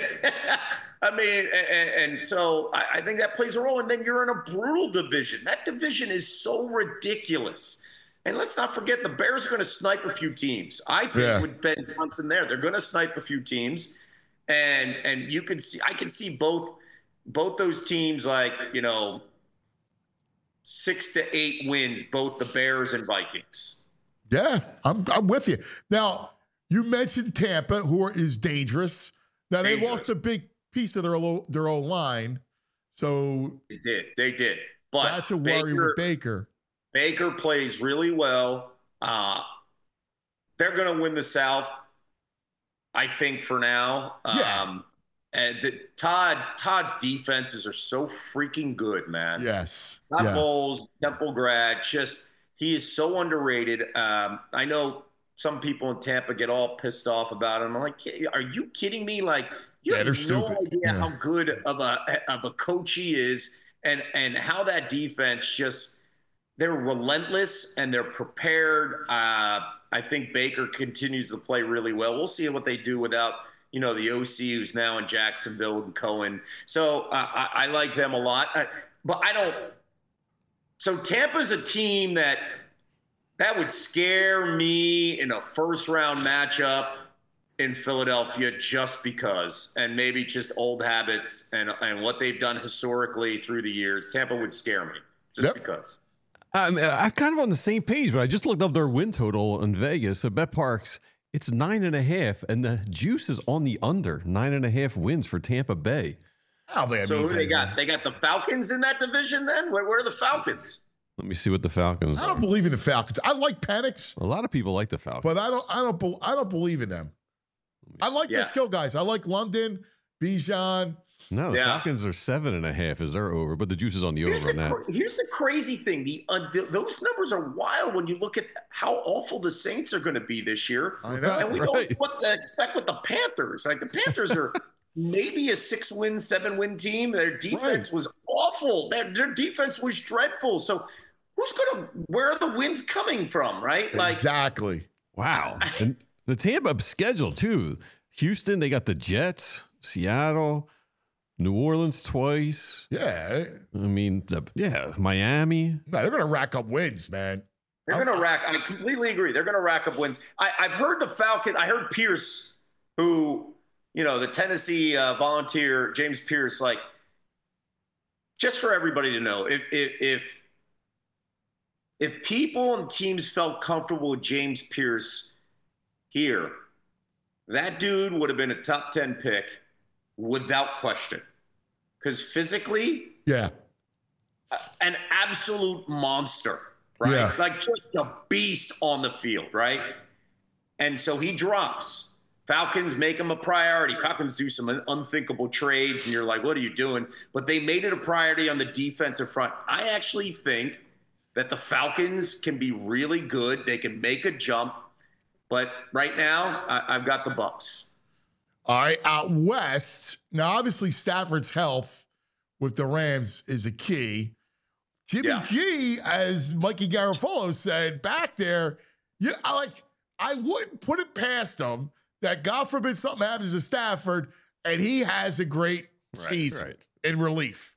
Speaker 7: I mean, and, and so I, I think that plays a role. And then you're in a brutal division. That division is so ridiculous. And let's not forget, the Bears are going to snipe a few teams. I think
Speaker 2: Yeah.
Speaker 7: with Ben Johnson there, they're going to snipe a few teams, and and you can see, I can see both both those teams like you know. Six to eight wins, both the Bears and Vikings.
Speaker 2: Yeah, I'm I'm with you. Now, you mentioned Tampa, who are, is dangerous. Now they
Speaker 7: Dangerous.
Speaker 2: lost a big piece of their lo- their old line, so
Speaker 7: They did. They did. But
Speaker 2: that's a worry
Speaker 7: Baker,
Speaker 2: with Baker.
Speaker 7: Baker plays really well. Uh, they're going to win the South, I think, for now.
Speaker 2: Yeah.
Speaker 7: Um, and the, Todd Todd's defenses are so freaking good, man.
Speaker 2: Yes,
Speaker 7: Todd
Speaker 2: yes.
Speaker 7: Bowles, Temple grad, just he is so underrated. Um, I know some people in Tampa get all pissed off about him. I'm like, are you kidding me? Like, you
Speaker 2: Yeah, they're
Speaker 7: have no
Speaker 2: stupid.
Speaker 7: idea
Speaker 2: Yeah.
Speaker 7: how good of a of a coach he is, and and how that defense just they're relentless and they're prepared. Uh, I think Baker continues to play really well. We'll see what they do without. You know, the O C who's now in Jacksonville and Cohen. So uh, I, I like them a lot. I, but I don't. So Tampa's a team that that would scare me in a first round matchup in Philadelphia just because, and maybe just old habits and, and what they've done historically through the years. Tampa would scare me just
Speaker 2: Yep.
Speaker 7: because.
Speaker 3: I'm, I'm kind of on the same page, but I just looked up their win total in Vegas. So Bet Parks, it's nine and a half, and the juice is on the under. Nine and a half wins for Tampa Bay.
Speaker 2: Oh, man,
Speaker 7: So who
Speaker 2: means
Speaker 7: they
Speaker 2: anything.
Speaker 7: got? They got the Falcons in that division then? Where, where are the Falcons?
Speaker 3: Let me see what the Falcons
Speaker 2: I don't
Speaker 3: are.
Speaker 2: believe in the Falcons. I like Penix,
Speaker 3: A lot of people like the Falcons.
Speaker 2: but I don't. I don't. be- I don't believe in them. I like their
Speaker 7: Yeah.
Speaker 2: skill guys. I like London, Bijan.
Speaker 3: No, the
Speaker 7: Yeah.
Speaker 3: Falcons are seven and a half is their over, but the juice is on the
Speaker 7: Here's
Speaker 3: over on
Speaker 7: the,
Speaker 3: that.
Speaker 7: cra- here's the crazy thing: the uh, th- those numbers are wild when you look at how awful the Saints are going to be this year,
Speaker 2: I know.
Speaker 7: and we
Speaker 3: Right.
Speaker 7: don't what to expect with the Panthers. Like the Panthers are maybe a six-win, seven-win team. Their defense
Speaker 2: Right.
Speaker 7: was awful. Their, their defense was dreadful. So who's going to? Where are the wins coming from? Right? Like
Speaker 2: Exactly.
Speaker 3: Wow. And the Tampa schedule, too. Houston, they got the Jets, Seattle, New Orleans twice.
Speaker 2: Yeah.
Speaker 3: I mean, the, yeah, Miami.
Speaker 2: No, they're gonna rack up wins, man.
Speaker 7: They're going to rack. I completely agree. They're going to rack up wins. I, I've heard the Falcon. I heard Pierce, who, you know, the Tennessee uh, volunteer, James Pierce, like, just for everybody to know, if if if, if people and teams felt comfortable with James Pierce here, that dude would have been a top ten pick without question. Because physically,
Speaker 2: Yeah.
Speaker 7: an absolute monster, right?
Speaker 2: Yeah.
Speaker 7: Like just a beast on the field, right? And so he drops. Falcons make him a priority. Falcons do some unthinkable trades, and you're like, what are you doing? But they made it a priority on the defensive front. I actually think that the Falcons can be really good. They can make a jump. But right now, I, I've got the Bucks.
Speaker 2: All right, out west. Now, obviously, Stafford's health with the Rams is a key. Jimmy
Speaker 7: Yeah.
Speaker 2: G, as Mikey Garofalo said back there, yeah, I like. I wouldn't put it past him that God forbid something happens to Stafford and he has a great season
Speaker 3: right.
Speaker 2: in relief.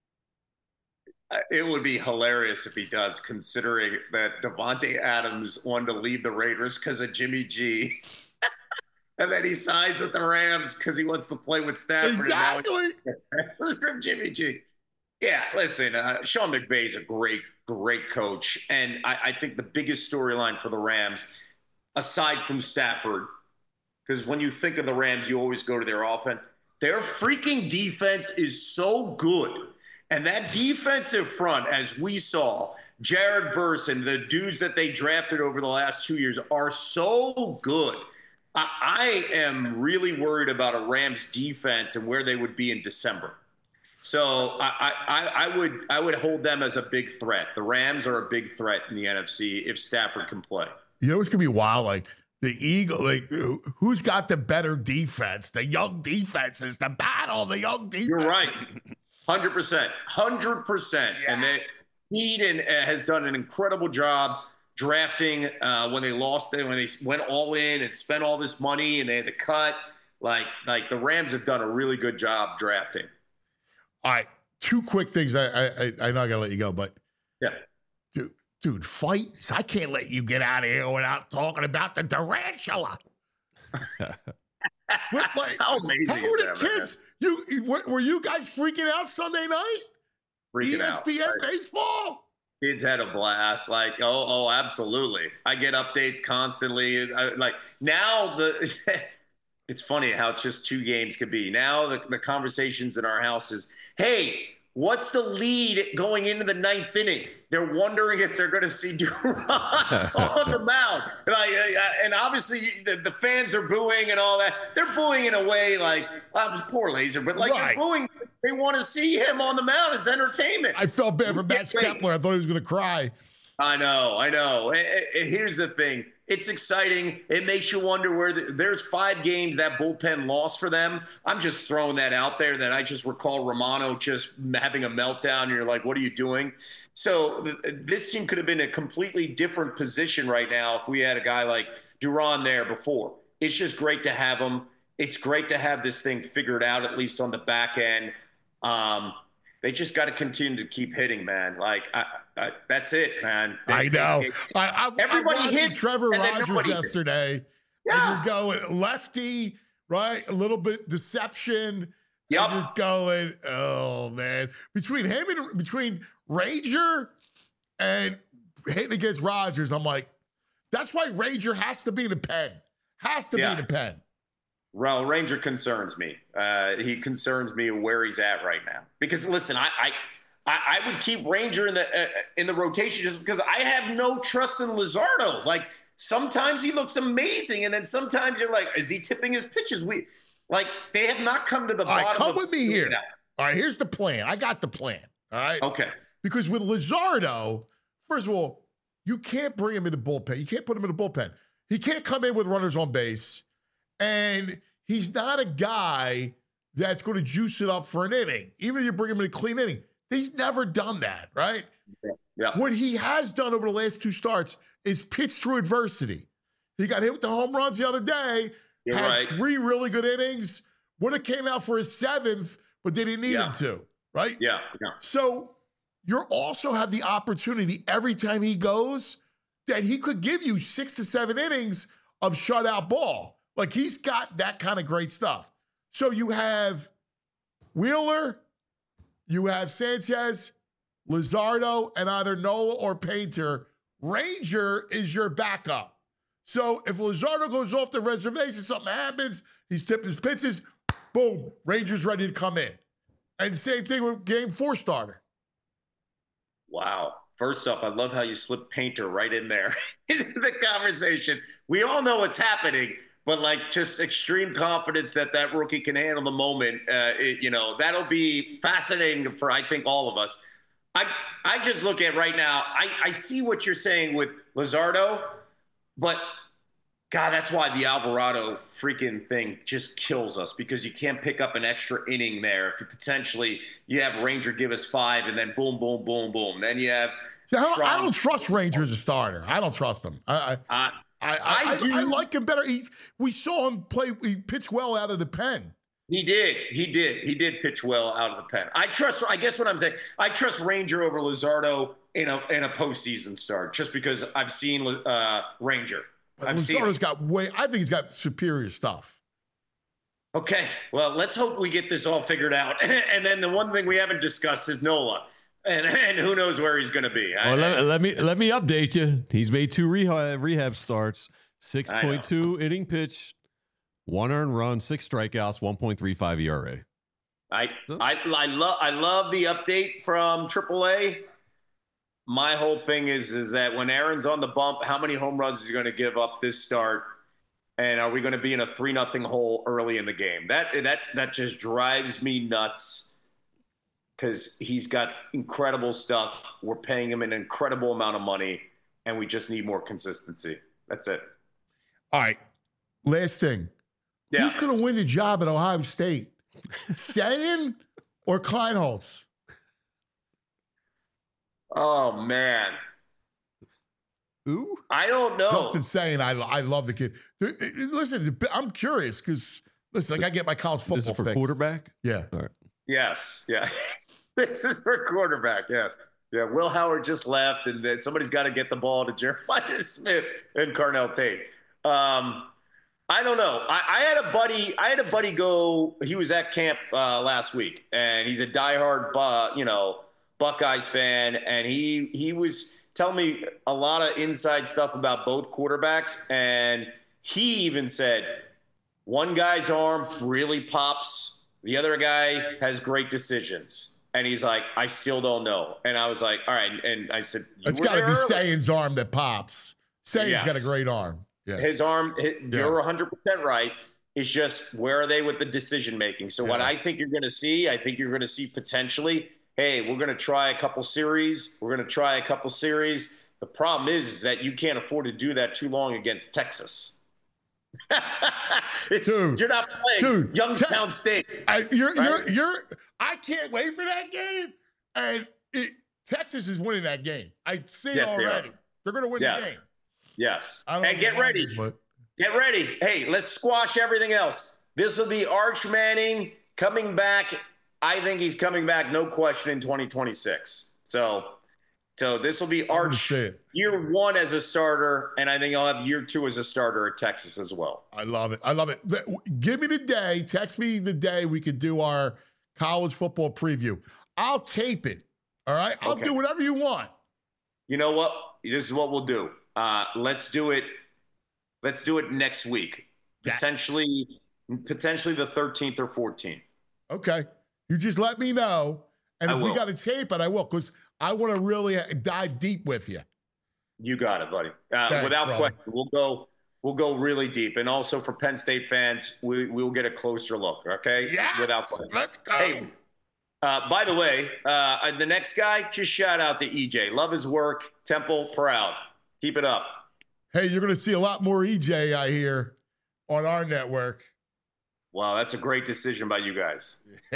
Speaker 7: Uh, It would be hilarious if he does, considering that Devontae Adams wanted to leave the Raiders because of Jimmy G. and then he signs with the Rams because he wants to play with Stafford.
Speaker 2: Exactly.
Speaker 7: This is from Jimmy G. Yeah, listen, uh, Sean McVay is a great, great coach. And I, I think the biggest storyline for the Rams, aside from Stafford, because when you think of the Rams, you always go to their offense. Their freaking defense is so good. And that defensive front, as we saw, Jared Verse and the dudes that they drafted over the last two years are so good. I, I am really worried about a Rams defense and where they would be in December. So I, I, I would I would hold them as a big threat. The Rams are a big threat in the N F C if Stafford can play.
Speaker 2: You know, it's going to be wild. Like, the Eagle, like, who's got the better defense? The young defenses, the battle, the young defense.
Speaker 7: You're right. one hundred percent. one hundred percent. Yeah. And they, Eden has done an incredible job drafting uh, when they lost it, when they went all in and spent all this money and they had to cut. Like, like the Rams have done a really good job drafting.
Speaker 2: All right, two quick things. I I, I know I got to let you go, but
Speaker 7: yeah.
Speaker 2: Dude, dude, fight. I can't let you get out of here without talking about the tarantula. What, like,
Speaker 7: how amazing
Speaker 2: how
Speaker 7: is
Speaker 2: were
Speaker 7: that,
Speaker 2: the kids?
Speaker 7: Man?
Speaker 2: You were, were you guys freaking out Sunday night?
Speaker 7: Freaking
Speaker 2: E S P N
Speaker 7: out. Right.
Speaker 2: baseball.
Speaker 7: Kids had a blast. Like, oh, oh, absolutely. I get updates constantly. I, like now, the it's funny how it's just two games could be. Now the, the conversations in our house is, hey, what's the lead going into the ninth inning? They're wondering if they're going to see Duran on the mound. Like, and obviously the, the fans are booing and all that. They're booing in a way like, well, poor Laser, but like
Speaker 2: Right.
Speaker 7: they're booing. They want to see him on the mound as entertainment.
Speaker 2: I felt bad for Max
Speaker 7: Wait.
Speaker 2: Kepler. I thought he was going to cry.
Speaker 7: I know, I know. And- and here's the thing. It's exciting. It makes you wonder where the, there's five games that bullpen lost for them. I'm just throwing that out there that I just recall Romano just having a meltdown. And you're like, what are you doing? So th- this team could have been a completely different position right now if we had a guy like Duran there before. It's just great to have him. It's great to have this thing figured out, at least on the back end. Um, they just got to continue to keep hitting, man. Like, I, I, that's it, man. They,
Speaker 2: I know.
Speaker 7: they-
Speaker 2: I, I,
Speaker 7: Everybody
Speaker 2: I watched
Speaker 7: hit,
Speaker 2: Trevor
Speaker 7: and then
Speaker 2: Rogers
Speaker 7: nobody hit.
Speaker 2: yesterday.
Speaker 7: Yeah.
Speaker 2: And you're going lefty, right? A little bit deception.
Speaker 7: Yep.
Speaker 2: And you're going, oh, man. Between him and between Ranger and hitting against Rogers, I'm like, that's why Ranger has to be in the pen. Has to
Speaker 7: Yeah.
Speaker 2: be in the pen.
Speaker 7: Well, Ranger concerns me. Uh, he concerns me where he's at right now. Because listen, I I, I I would keep Ranger in the uh, in the rotation just because I have no trust in Luzardo. Like sometimes he looks amazing, and then sometimes you're like, is he tipping his pitches? We like they have not come to the
Speaker 2: All
Speaker 7: bottom.
Speaker 2: right, come
Speaker 7: of
Speaker 2: with me here.
Speaker 7: that.
Speaker 2: All right, here's the plan. I got the plan. All right.
Speaker 7: Okay.
Speaker 2: Because with Luzardo, first of all, you can't bring him in the bullpen. You can't put him in the bullpen. He can't come in with runners on base. And he's not a guy that's going to juice it up for an inning. Even if you bring him in a clean inning. He's never done that, right?
Speaker 7: Yeah.
Speaker 2: What he has done over the last two starts is pitch through adversity. He got hit with the home runs the other day,
Speaker 7: You're
Speaker 2: had
Speaker 7: right.
Speaker 2: three really good innings, would have came out for his seventh, but they didn't need
Speaker 7: Yeah.
Speaker 2: him to, right?
Speaker 7: Yeah. Yeah.
Speaker 2: So you also have the opportunity every time he goes that he could give you six to seven innings of shutout ball. Like he's got that kind of great stuff. So you have Wheeler, you have Sanchez, Luzardo, and either Nola or Painter. Ranger is your backup. So if Luzardo goes off the reservation, something happens, he's tipping his pitches, boom, Ranger's ready to come in. And same thing with game four starter.
Speaker 7: Wow. First off, I love how you slipped Painter right in there into the conversation. We all know what's happening, but like just extreme confidence that that rookie can handle the moment. Uh, it, you know, that'll be fascinating for, I think, all of us. I I just look at right now, I, I see what you're saying with Luzardo, but God, that's why the Alvarado freaking thing just kills us because you can't pick up an extra inning there. If you potentially you have Ranger give us five and then boom, boom, boom, boom. Then you have
Speaker 2: See, I, don't, I
Speaker 7: Strong-
Speaker 2: don't trust Ranger as a starter. I don't trust him. I I,
Speaker 7: uh,
Speaker 2: I, I,
Speaker 7: I
Speaker 2: I,
Speaker 7: do.
Speaker 2: I like him better. He's, we saw him play. He pitched well out of the pen.
Speaker 7: He did. He did. He did pitch well out of the pen. I trust. I guess what I'm saying, I trust Ranger over Luzardo in a in a postseason start, just because I've seen uh, Ranger. I've seen
Speaker 2: Luzardo's
Speaker 7: him.
Speaker 2: got way. I think he's got superior stuff.
Speaker 7: Okay, well, let's hope we get this all figured out. And then the one thing we haven't discussed is Nola, and and who knows where he's going to be. I,
Speaker 3: Well, let, let me let me update you. He's made two rehab, rehab starts, six
Speaker 7: I know.
Speaker 3: point two inning pitch, one earned run, six strikeouts, one point three five E R A.
Speaker 7: I I I love I love the update from triple A. My whole thing is is that when Aaron's on the bump, how many home runs is he going to give up this start? And are we going to be in a three nothing hole early in the game? That that that just drives me nuts because he's got incredible stuff. We're paying him an incredible amount of money, and we just need more consistency. That's it.
Speaker 2: All right. Last thing.
Speaker 7: Yeah.
Speaker 2: Who's going to win the job at Ohio State? Sayin or Kleinholz?
Speaker 7: Oh man.
Speaker 3: Ooh.
Speaker 7: I don't know.
Speaker 2: Justin saying I, I love the kid. Listen, I'm curious because listen, like I get my college football
Speaker 3: This is for
Speaker 2: fix.
Speaker 3: quarterback?
Speaker 2: Yeah.
Speaker 3: All right.
Speaker 7: Yes. Yeah. This is for quarterback. Yes. Yeah. Will Howard just left, and then somebody's got to get the ball to Jeremiah Smith and Carnell Tate. Um, I don't know. I, I had a buddy. I had a buddy go. He was at camp uh, last week, and he's a diehard, uh, you know, Buckeyes fan, and he he was telling me a lot of inside stuff about both quarterbacks, and he even said one guy's arm really pops, the other guy has great decisions, and he's like, I still don't know. And I was like, all right, and I said, you
Speaker 2: It's
Speaker 7: were
Speaker 2: got to
Speaker 7: there
Speaker 2: be
Speaker 7: early.
Speaker 2: Sayin's arm that pops. Sayin's
Speaker 7: Yes.
Speaker 2: got a great arm. Yeah.
Speaker 7: His arm, his,
Speaker 2: Yeah.
Speaker 7: you're one hundred percent right. It's just where are they with the decision making? So what
Speaker 2: Yeah.
Speaker 7: I think you're going to see, I think you're going to see potentially, hey, we're going to try a couple series. We're going to try a couple series. The problem is, is that you can't afford to do that too long against Texas. it's
Speaker 2: Dude,
Speaker 7: you're not playing
Speaker 2: dude,
Speaker 7: Youngstown
Speaker 2: Te-
Speaker 7: State.
Speaker 2: I, you're,
Speaker 7: Right?
Speaker 2: you're, you're, I can't wait for that game. And it, Texas is winning that game. I see
Speaker 7: Yes, they are.
Speaker 2: already. They're going to win
Speaker 7: Yes.
Speaker 2: the game.
Speaker 7: Yes.
Speaker 2: I don't
Speaker 7: And
Speaker 2: know
Speaker 7: get
Speaker 2: why,
Speaker 7: ready.
Speaker 2: but
Speaker 7: Get ready. Hey, let's squash everything else. This will be Arch Manning coming back. I think he's coming back, no question, in twenty twenty-six. So, so this will be
Speaker 2: gonna
Speaker 7: Arch
Speaker 2: say it.
Speaker 7: year one as a starter, and I think I'll have year two as a starter at Texas as well.
Speaker 2: I love it. I love it. Th- Give me the day. Text me the day we could do our college football preview. I'll tape it. All right. I'll
Speaker 7: Okay.
Speaker 2: do whatever you want.
Speaker 7: You know what? This is what we'll do. Uh, let's do it. Let's do it next week.
Speaker 2: Yes.
Speaker 7: Potentially, potentially the thirteenth or fourteenth.
Speaker 2: Okay. You just let me know. And
Speaker 7: I
Speaker 2: if we
Speaker 7: will.
Speaker 2: got to tape it, I will, because I want to really uh, dive deep with you.
Speaker 7: You got it, buddy. Uh,
Speaker 2: Thanks,
Speaker 7: without
Speaker 2: brother.
Speaker 7: question, we'll go. We'll go really deep, and also for Penn State fans, we we'll get a closer look. Okay,
Speaker 2: Yes.
Speaker 7: without question.
Speaker 2: Let's go.
Speaker 7: Hey, uh, by the way, uh, the next guy, just shout out to E J. Love his work. Temple, proud. Keep it up.
Speaker 2: Hey, you're going to see a lot more E J, I hear, on our network.
Speaker 7: Wow, that's a great decision by you guys.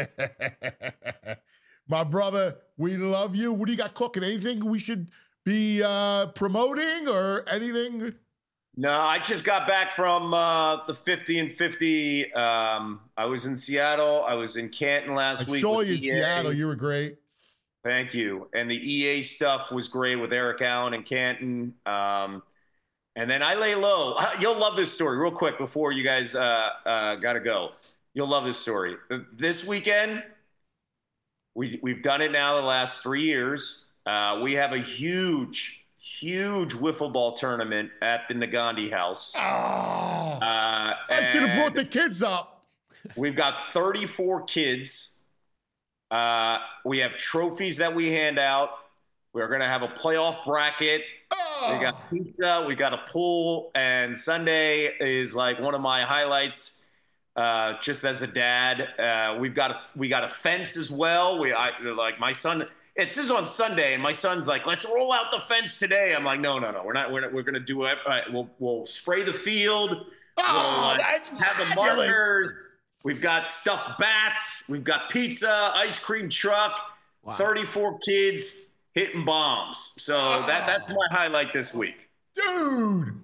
Speaker 2: My brother, we love you. What do you got cooking? Anything we should be uh, promoting or anything?
Speaker 7: No, I just got back from uh, the fifty and fifty. Um, I was in Seattle. I was in Canton last
Speaker 2: I
Speaker 7: week.
Speaker 2: saw
Speaker 7: with
Speaker 2: you in
Speaker 7: E A.
Speaker 2: Seattle. You were great.
Speaker 7: Thank you. And the E A stuff was great with Eric Allen and Canton. Um, and then I lay low. You'll love this story real quick before you guys uh, uh, got to go. You'll love this story. This weekend, we, we've done it now the last three years. Uh, we have a huge, huge wiffle ball tournament at the Nagandi House.
Speaker 2: Oh,
Speaker 7: Uh,
Speaker 2: I should have brought
Speaker 7: and-
Speaker 2: the kids up.
Speaker 7: We've got thirty-four kids. Uh, we have trophies that we hand out. We're going to have a playoff bracket.
Speaker 2: Oh,
Speaker 7: We got pizza. We got a pool. And Sunday is like one of my highlights. Uh, just as a dad, uh, we've got a we got a fence as well. We I like my son. It says on Sunday, and my son's like, "Let's roll out the fence today." I'm like, "No, no, no. We're not. We're not, we're going to do it. All right, we'll we'll spray the field.
Speaker 2: Oh,
Speaker 7: we'll, uh,
Speaker 2: that's
Speaker 7: have the
Speaker 2: fabulous.
Speaker 7: markers. We've got stuffed bats. We've got pizza, ice cream truck. thirty-four kids hitting bombs. So that that's my highlight this week.
Speaker 2: dude.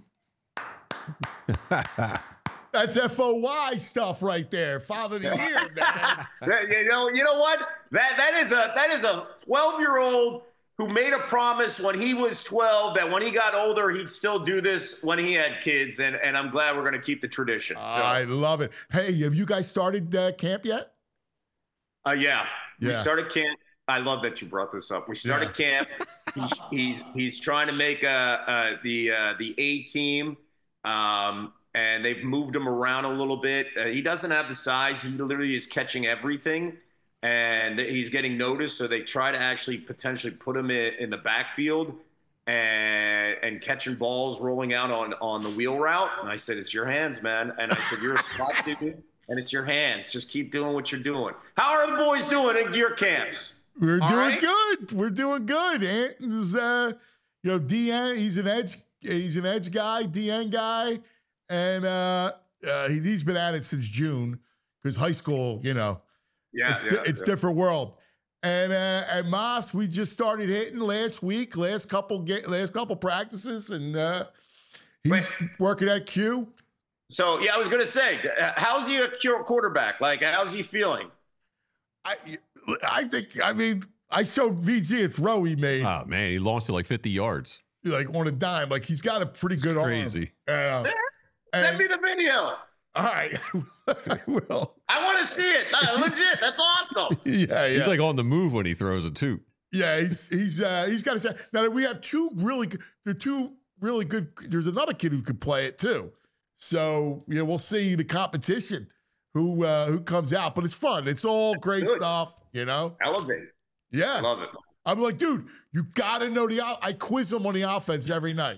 Speaker 2: That's F O Y stuff right there. Father of the year, man.
Speaker 7: That- you know, you know what? That that is a that is a twelve year old who made a promise when he was twelve that when he got older, he'd still do this when he had kids. And, and I'm glad we're going to keep the tradition. So,
Speaker 2: I love it. Hey, have you guys started uh, camp yet?
Speaker 7: uh, yeah, we
Speaker 2: Yeah.
Speaker 7: started camp. I love that you brought this up. We started camp. He's, he's, he's trying to make uh, uh, the, uh, the A team. Um, and they've moved him around a little bit. Uh, he doesn't have the size. He literally is catching everything. And he's getting noticed, so they try to actually potentially put him in, in the backfield and and catching balls rolling out on, on the wheel route. And I said, it's your hands, man. And I said, you're a spot dude, and it's your hands. Just keep doing what you're doing. How are the boys doing at your camps?
Speaker 2: We're
Speaker 7: All
Speaker 2: doing
Speaker 7: right?
Speaker 2: good. We're doing good. Anton's, uh, you know, D N. He's an edge. He's an edge guy, D N guy, and uh, uh, he, he's been at it since June because high school, you know.
Speaker 7: Yeah,
Speaker 2: it's,
Speaker 7: yeah,
Speaker 2: di- it's
Speaker 7: yeah.
Speaker 2: different world. And uh, at Moss, we just started hitting last week, last couple ga- last couple practices, and uh, he's
Speaker 7: Wait.
Speaker 2: working at Q.
Speaker 7: So, yeah, I was going to say, uh, how's he a cure quarterback? Like, how's he feeling?
Speaker 2: I I think I mean I showed V G a throw he made
Speaker 3: Oh man, he launched it like fifty yards.
Speaker 2: like on a dime. Like he's got a pretty good
Speaker 3: crazy.
Speaker 2: arm. Uh,
Speaker 7: Send
Speaker 2: and-
Speaker 7: me the video.
Speaker 2: all right, I will.
Speaker 7: I want to see it. Uh, legit. That's awesome.
Speaker 2: Yeah, yeah.
Speaker 3: He's like on the move when he throws it too.
Speaker 2: Yeah, he's he's uh, he's got to. Now we have two really good. There are two really good. There's another kid who could play it too. So you know, we'll see the competition who uh, who comes out. But it's fun. It's all great
Speaker 7: Good.
Speaker 2: stuff. You know.
Speaker 7: Elevate.
Speaker 2: Yeah.
Speaker 7: Love it.
Speaker 2: I'm like, dude, you got to know the. o- I quiz them on the offense every night.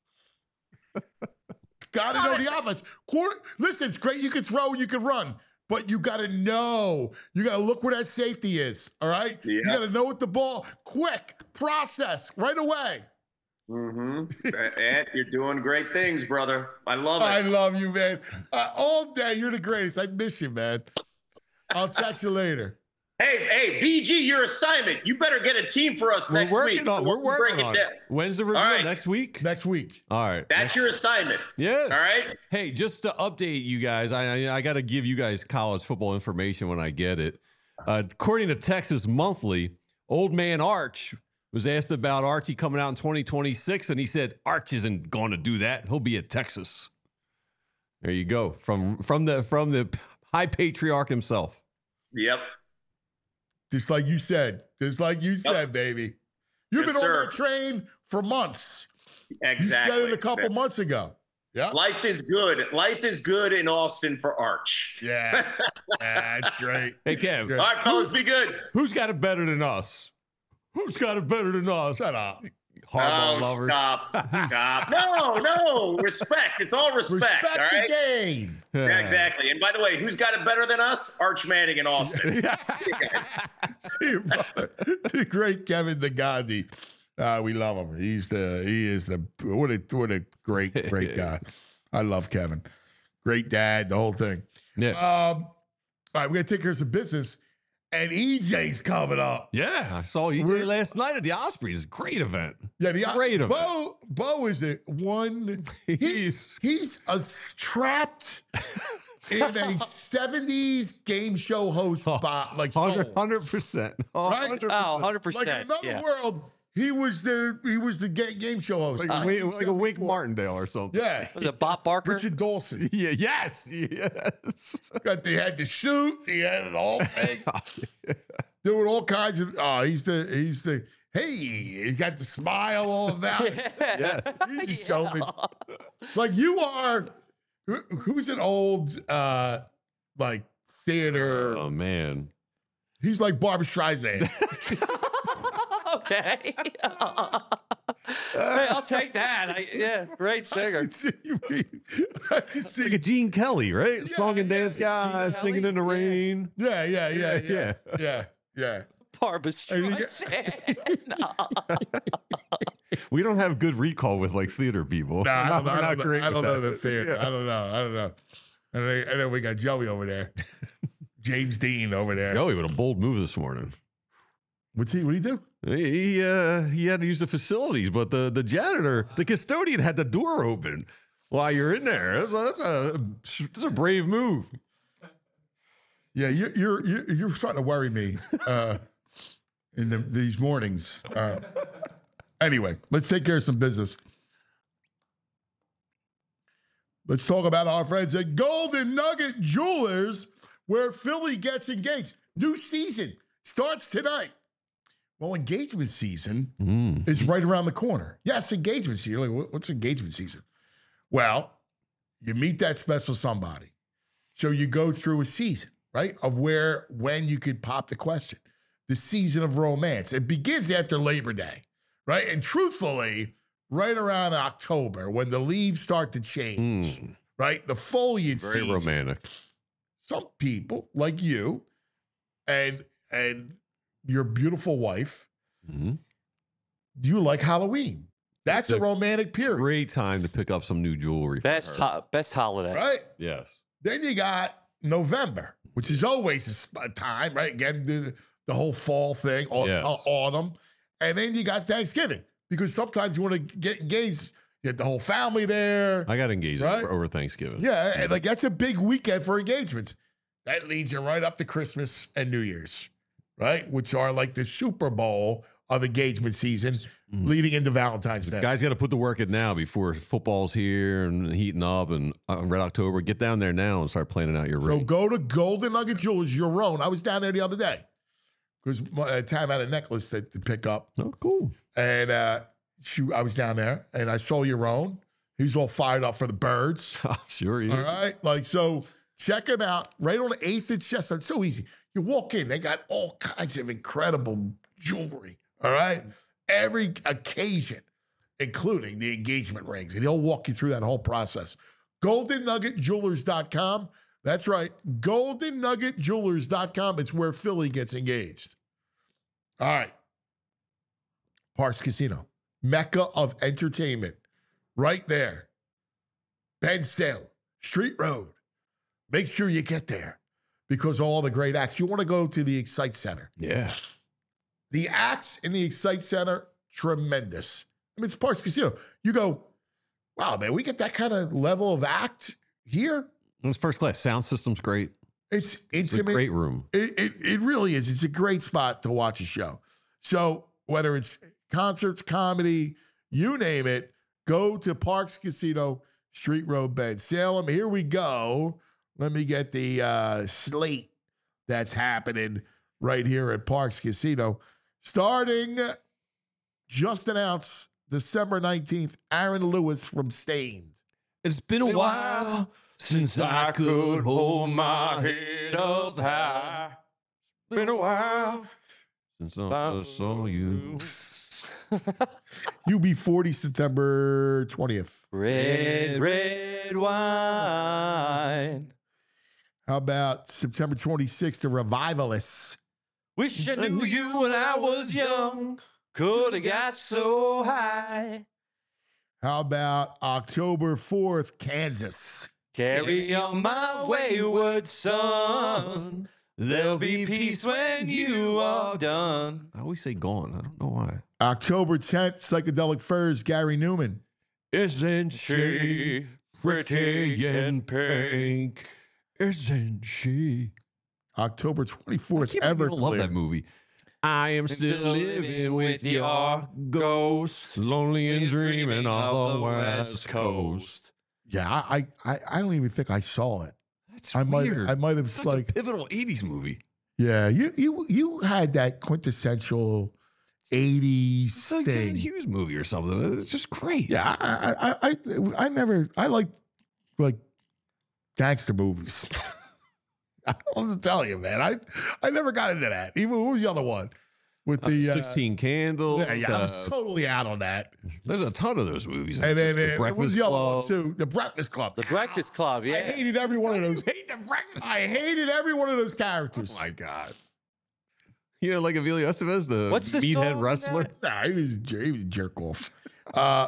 Speaker 2: Got to know the offense. Quarter, listen, it's great. You can throw, you can run, but you got to know. You got to look where that safety is. All right. You
Speaker 7: Yeah.
Speaker 2: got to know what the ball. Quick process right away.
Speaker 7: Mm-hmm. Ant, you're doing great things, brother. I love
Speaker 2: I
Speaker 7: it.
Speaker 2: love you, man. Uh, all day, you're the greatest. I miss you, man. I'll text you later.
Speaker 7: Hey, hey, B G, your assignment. You better get a team for us
Speaker 3: We're
Speaker 7: next
Speaker 3: working
Speaker 7: week.
Speaker 3: on.
Speaker 7: so
Speaker 3: We're
Speaker 7: we'll break
Speaker 3: working
Speaker 7: it
Speaker 3: on.
Speaker 7: down.
Speaker 3: It. When's the review?
Speaker 7: All right.
Speaker 3: Next week.
Speaker 2: Next week.
Speaker 3: All right.
Speaker 7: That's your assignment.
Speaker 3: Yeah.
Speaker 7: All right.
Speaker 3: Hey, just to update you guys, I I, I got to give you guys college football information when I get it. Uh, according to Texas Monthly, Old Man Arch was asked about Archie coming out in twenty twenty-six, and he said Arch isn't going to do that. He'll be at Texas. There you go, from from the from the high patriarch himself.
Speaker 7: Yep.
Speaker 2: Just like you said. Just like you said, baby. You've
Speaker 7: Yes,
Speaker 2: been
Speaker 7: sir.
Speaker 2: on that train for months.
Speaker 7: Exactly.
Speaker 2: You said it a couple months ago. Yeah.
Speaker 7: Life is good. Life is good in Austin for Arch.
Speaker 2: Yeah. That's great.
Speaker 3: Hey, Kev,
Speaker 2: Good.
Speaker 7: All right, fellas, be good.
Speaker 3: who's got it better than us? Who's got it better than us?
Speaker 2: Shut up.
Speaker 3: Hardball
Speaker 7: oh,
Speaker 3: lovers.
Speaker 7: stop. Stop. No, no. Respect. It's all respect.
Speaker 2: Respect
Speaker 7: all right.
Speaker 2: the game.
Speaker 7: Yeah, exactly. And by the way, who's got it better than us? Arch Manning in Austin.
Speaker 2: See you, brother. The great Kevin Nagandi. Uh, we love him. He's the he is the what a what a great great guy. I love Kevin. Great dad. The whole thing.
Speaker 3: Yeah.
Speaker 2: Um, all right, we're gonna take care of some business, and E J's coming up.
Speaker 3: Yeah, I saw E J
Speaker 2: We're-
Speaker 3: last night at the Ospreys. Great event.
Speaker 2: Yeah, the
Speaker 3: Great of it.
Speaker 2: Bo Bo is the one. He,
Speaker 3: He's-
Speaker 2: he's a trapped in a seventies game show host spot, like soul.
Speaker 3: Hundred percent.
Speaker 2: Right?
Speaker 4: Oh, one hundred
Speaker 2: Like in
Speaker 4: percent.
Speaker 2: another
Speaker 4: Yeah.
Speaker 2: world, he was the he was the ga- game show host.
Speaker 3: Like, a Wink, like a Wink Martindale or something.
Speaker 2: Yeah,
Speaker 4: Was it Bob Barker?
Speaker 2: Richard Dawson.
Speaker 3: Yeah. Yes. Yes.
Speaker 2: Got they had the shoot. He had the whole thing. Doing all kinds of. Oh, he's the he's the. Hey, he's got the smile all about it.
Speaker 3: Yeah.
Speaker 2: He's just showing. Like you are. who- Who's an old uh like theater?
Speaker 3: Oh man.
Speaker 2: He's like Barbra Streisand.
Speaker 4: Okay. Hey, I'll take that. I, yeah, great
Speaker 2: I
Speaker 4: singer.
Speaker 2: can see you being- I can see.
Speaker 3: Like a Gene Kelly, right? Song and dance guy,
Speaker 4: Gene
Speaker 3: singing
Speaker 4: Kelly?
Speaker 3: in the
Speaker 4: Yeah.
Speaker 3: rain.
Speaker 2: Yeah, yeah, yeah, yeah,
Speaker 3: Yeah.
Speaker 2: yeah, yeah.
Speaker 4: Barbara
Speaker 2: you get-
Speaker 4: Streisand.
Speaker 3: We don't have good recall with like theater people.
Speaker 2: No, I don't, know,
Speaker 3: We're
Speaker 2: I
Speaker 3: not
Speaker 2: don't, know,
Speaker 3: great
Speaker 2: I don't
Speaker 3: with
Speaker 2: know
Speaker 3: that.
Speaker 2: the theater.
Speaker 3: Yeah.
Speaker 2: I don't know. I don't know. And then, and then we got Joey over there, James Dean over there.
Speaker 3: Joey with a bold move this morning.
Speaker 2: What's he? What do you do?
Speaker 3: He he, uh, he had to use the facilities, but the, the janitor, the custodian, had the door open while you're in there. That's a that's a, that's a brave move.
Speaker 2: Yeah, you, you're you're you're starting to worry me. Uh, in the, these mornings. Uh, anyway, let's take care of some business. Let's talk about our friends at Golden Nugget Jewelers, where Philly gets engaged. New season starts tonight. Well, engagement season
Speaker 3: Mm.
Speaker 2: is right around the corner. Yes, engagement season. You're like, what's engagement season? Well, you meet that special somebody. So you go through a season, right, of where, when you could pop the question. The season of romance. It begins after Labor Day, right? And truthfully, right around October when the leaves start to change,
Speaker 3: Mm.
Speaker 2: right? The foliage
Speaker 3: Very
Speaker 2: season.
Speaker 3: romantic.
Speaker 2: Some people like you and and your beautiful wife,
Speaker 3: Mhm.
Speaker 2: you like Halloween. That's
Speaker 3: It's
Speaker 2: a
Speaker 3: a
Speaker 2: romantic period,
Speaker 3: Great time to pick up some new jewelry. for
Speaker 4: Best
Speaker 3: her.
Speaker 4: ho- best holiday.
Speaker 2: right?
Speaker 3: Yes.
Speaker 2: Then you got November, which is always a sp- a time, right? Again, the, the whole fall thing, au-
Speaker 3: Yes.
Speaker 2: au- autumn. And then you got Thanksgiving, because sometimes you want to get engaged, you get the whole family there.
Speaker 3: I got engaged
Speaker 2: Right?
Speaker 3: over, over Thanksgiving.
Speaker 2: Yeah, and like that's a big weekend for engagements. That leads you right up to Christmas and New Year's, right? Which are like the Super Bowl of engagement season, leading into Valentine's Day.
Speaker 3: Guys got to put the work in now before football's here and heating up and uh, Red October. Get down there now and start planning out your
Speaker 2: So
Speaker 3: ring.
Speaker 2: go to Golden Nugget Jewelers, your own. I was down there the other day because uh, Tam had a necklace that to pick up,
Speaker 3: Oh, cool.
Speaker 2: and uh, she, I was down there and I saw your own. He was all fired up for the birds.
Speaker 3: Sure. You.
Speaker 2: All right. Like, so check them out right on the eighth and Chestnut. It's so easy. You walk in, they got all kinds of incredible jewelry. All right. Every occasion, including the engagement rings. And he'll walk you through that whole process. golden nugget jewelers dot com. That's right. golden nugget jewelers dot com. It's where Philly gets engaged. All right. Parks Casino, Mecca of entertainment. Right there. Ben Salem, Street Road. Make sure you get there because of all the great acts. You want to go to the Excite Center.
Speaker 3: Yeah.
Speaker 2: The acts in the Excite Center, tremendous. I mean, it's Parks Casino. You go, wow, man, we get that kind of level of act here.
Speaker 3: It's first class. Sound system's great.
Speaker 2: It's
Speaker 3: It's a
Speaker 2: intimate.
Speaker 3: great room.
Speaker 2: It, it, it really is. It's a great spot to watch a show. So whether it's concerts, comedy, you name it, go to Parks Casino, Street Road, Ben Salem. Here we go. Let me get the uh, slate that's happening right here at Parks Casino. Starting just announced December nineteenth, Aaron Lewis from Stained.
Speaker 3: It's been a while since I could hold my head up high. Been a while since I first saw you.
Speaker 2: U B forty, September twentieth.
Speaker 4: Red, red wine.
Speaker 2: How about September twenty-sixth, The Revivalists?
Speaker 4: Wish I knew you when I was young. Could have got so high.
Speaker 2: How about October fourth, Kansas?
Speaker 4: Carry on my wayward son. There'll be peace when you are done.
Speaker 3: I always say gone. I don't know why.
Speaker 2: October tenth, Psychedelic Furs, Gary Newman.
Speaker 3: Isn't she pretty in pink? Isn't she?
Speaker 2: October twenty-fourth,
Speaker 3: I can't believe people love
Speaker 2: Everclear.
Speaker 3: that movie. I am still living with your ghost, lonely and dreaming of the West Coast.
Speaker 2: Yeah, I, I I don't even think I saw it.
Speaker 3: That's
Speaker 2: I might
Speaker 3: weird.
Speaker 2: I might have
Speaker 3: Such
Speaker 2: like
Speaker 3: a pivotal eighties movie.
Speaker 2: yeah. You you you had that quintessential eighties
Speaker 3: It's like a Dan
Speaker 2: thing.
Speaker 3: Hughes movie or something. It's just great.
Speaker 2: Yeah, I I I I, I never I like like gangster movies. I don't know what to tell you, man. I I never got into that. Even what was the other one with the uh,
Speaker 3: sixteen Candles.
Speaker 2: Yeah, yeah, I was
Speaker 3: uh,
Speaker 2: totally out on that.
Speaker 3: there's a ton of those movies.
Speaker 2: And then
Speaker 3: The
Speaker 2: uh, what was
Speaker 3: Breakfast
Speaker 2: the other one
Speaker 3: Club.
Speaker 2: too? The Breakfast Club.
Speaker 4: The Breakfast Club,
Speaker 2: I
Speaker 4: yeah.
Speaker 2: hated every one of those.
Speaker 3: hate the Breakfast
Speaker 2: I hated every one of those characters.
Speaker 3: Oh my god. You know, like Emilio Estevez, the
Speaker 4: What's the song
Speaker 3: meathead
Speaker 4: in
Speaker 3: wrestler.
Speaker 4: that?
Speaker 2: Nah, he was, a jer- he was a jerk off. Uh,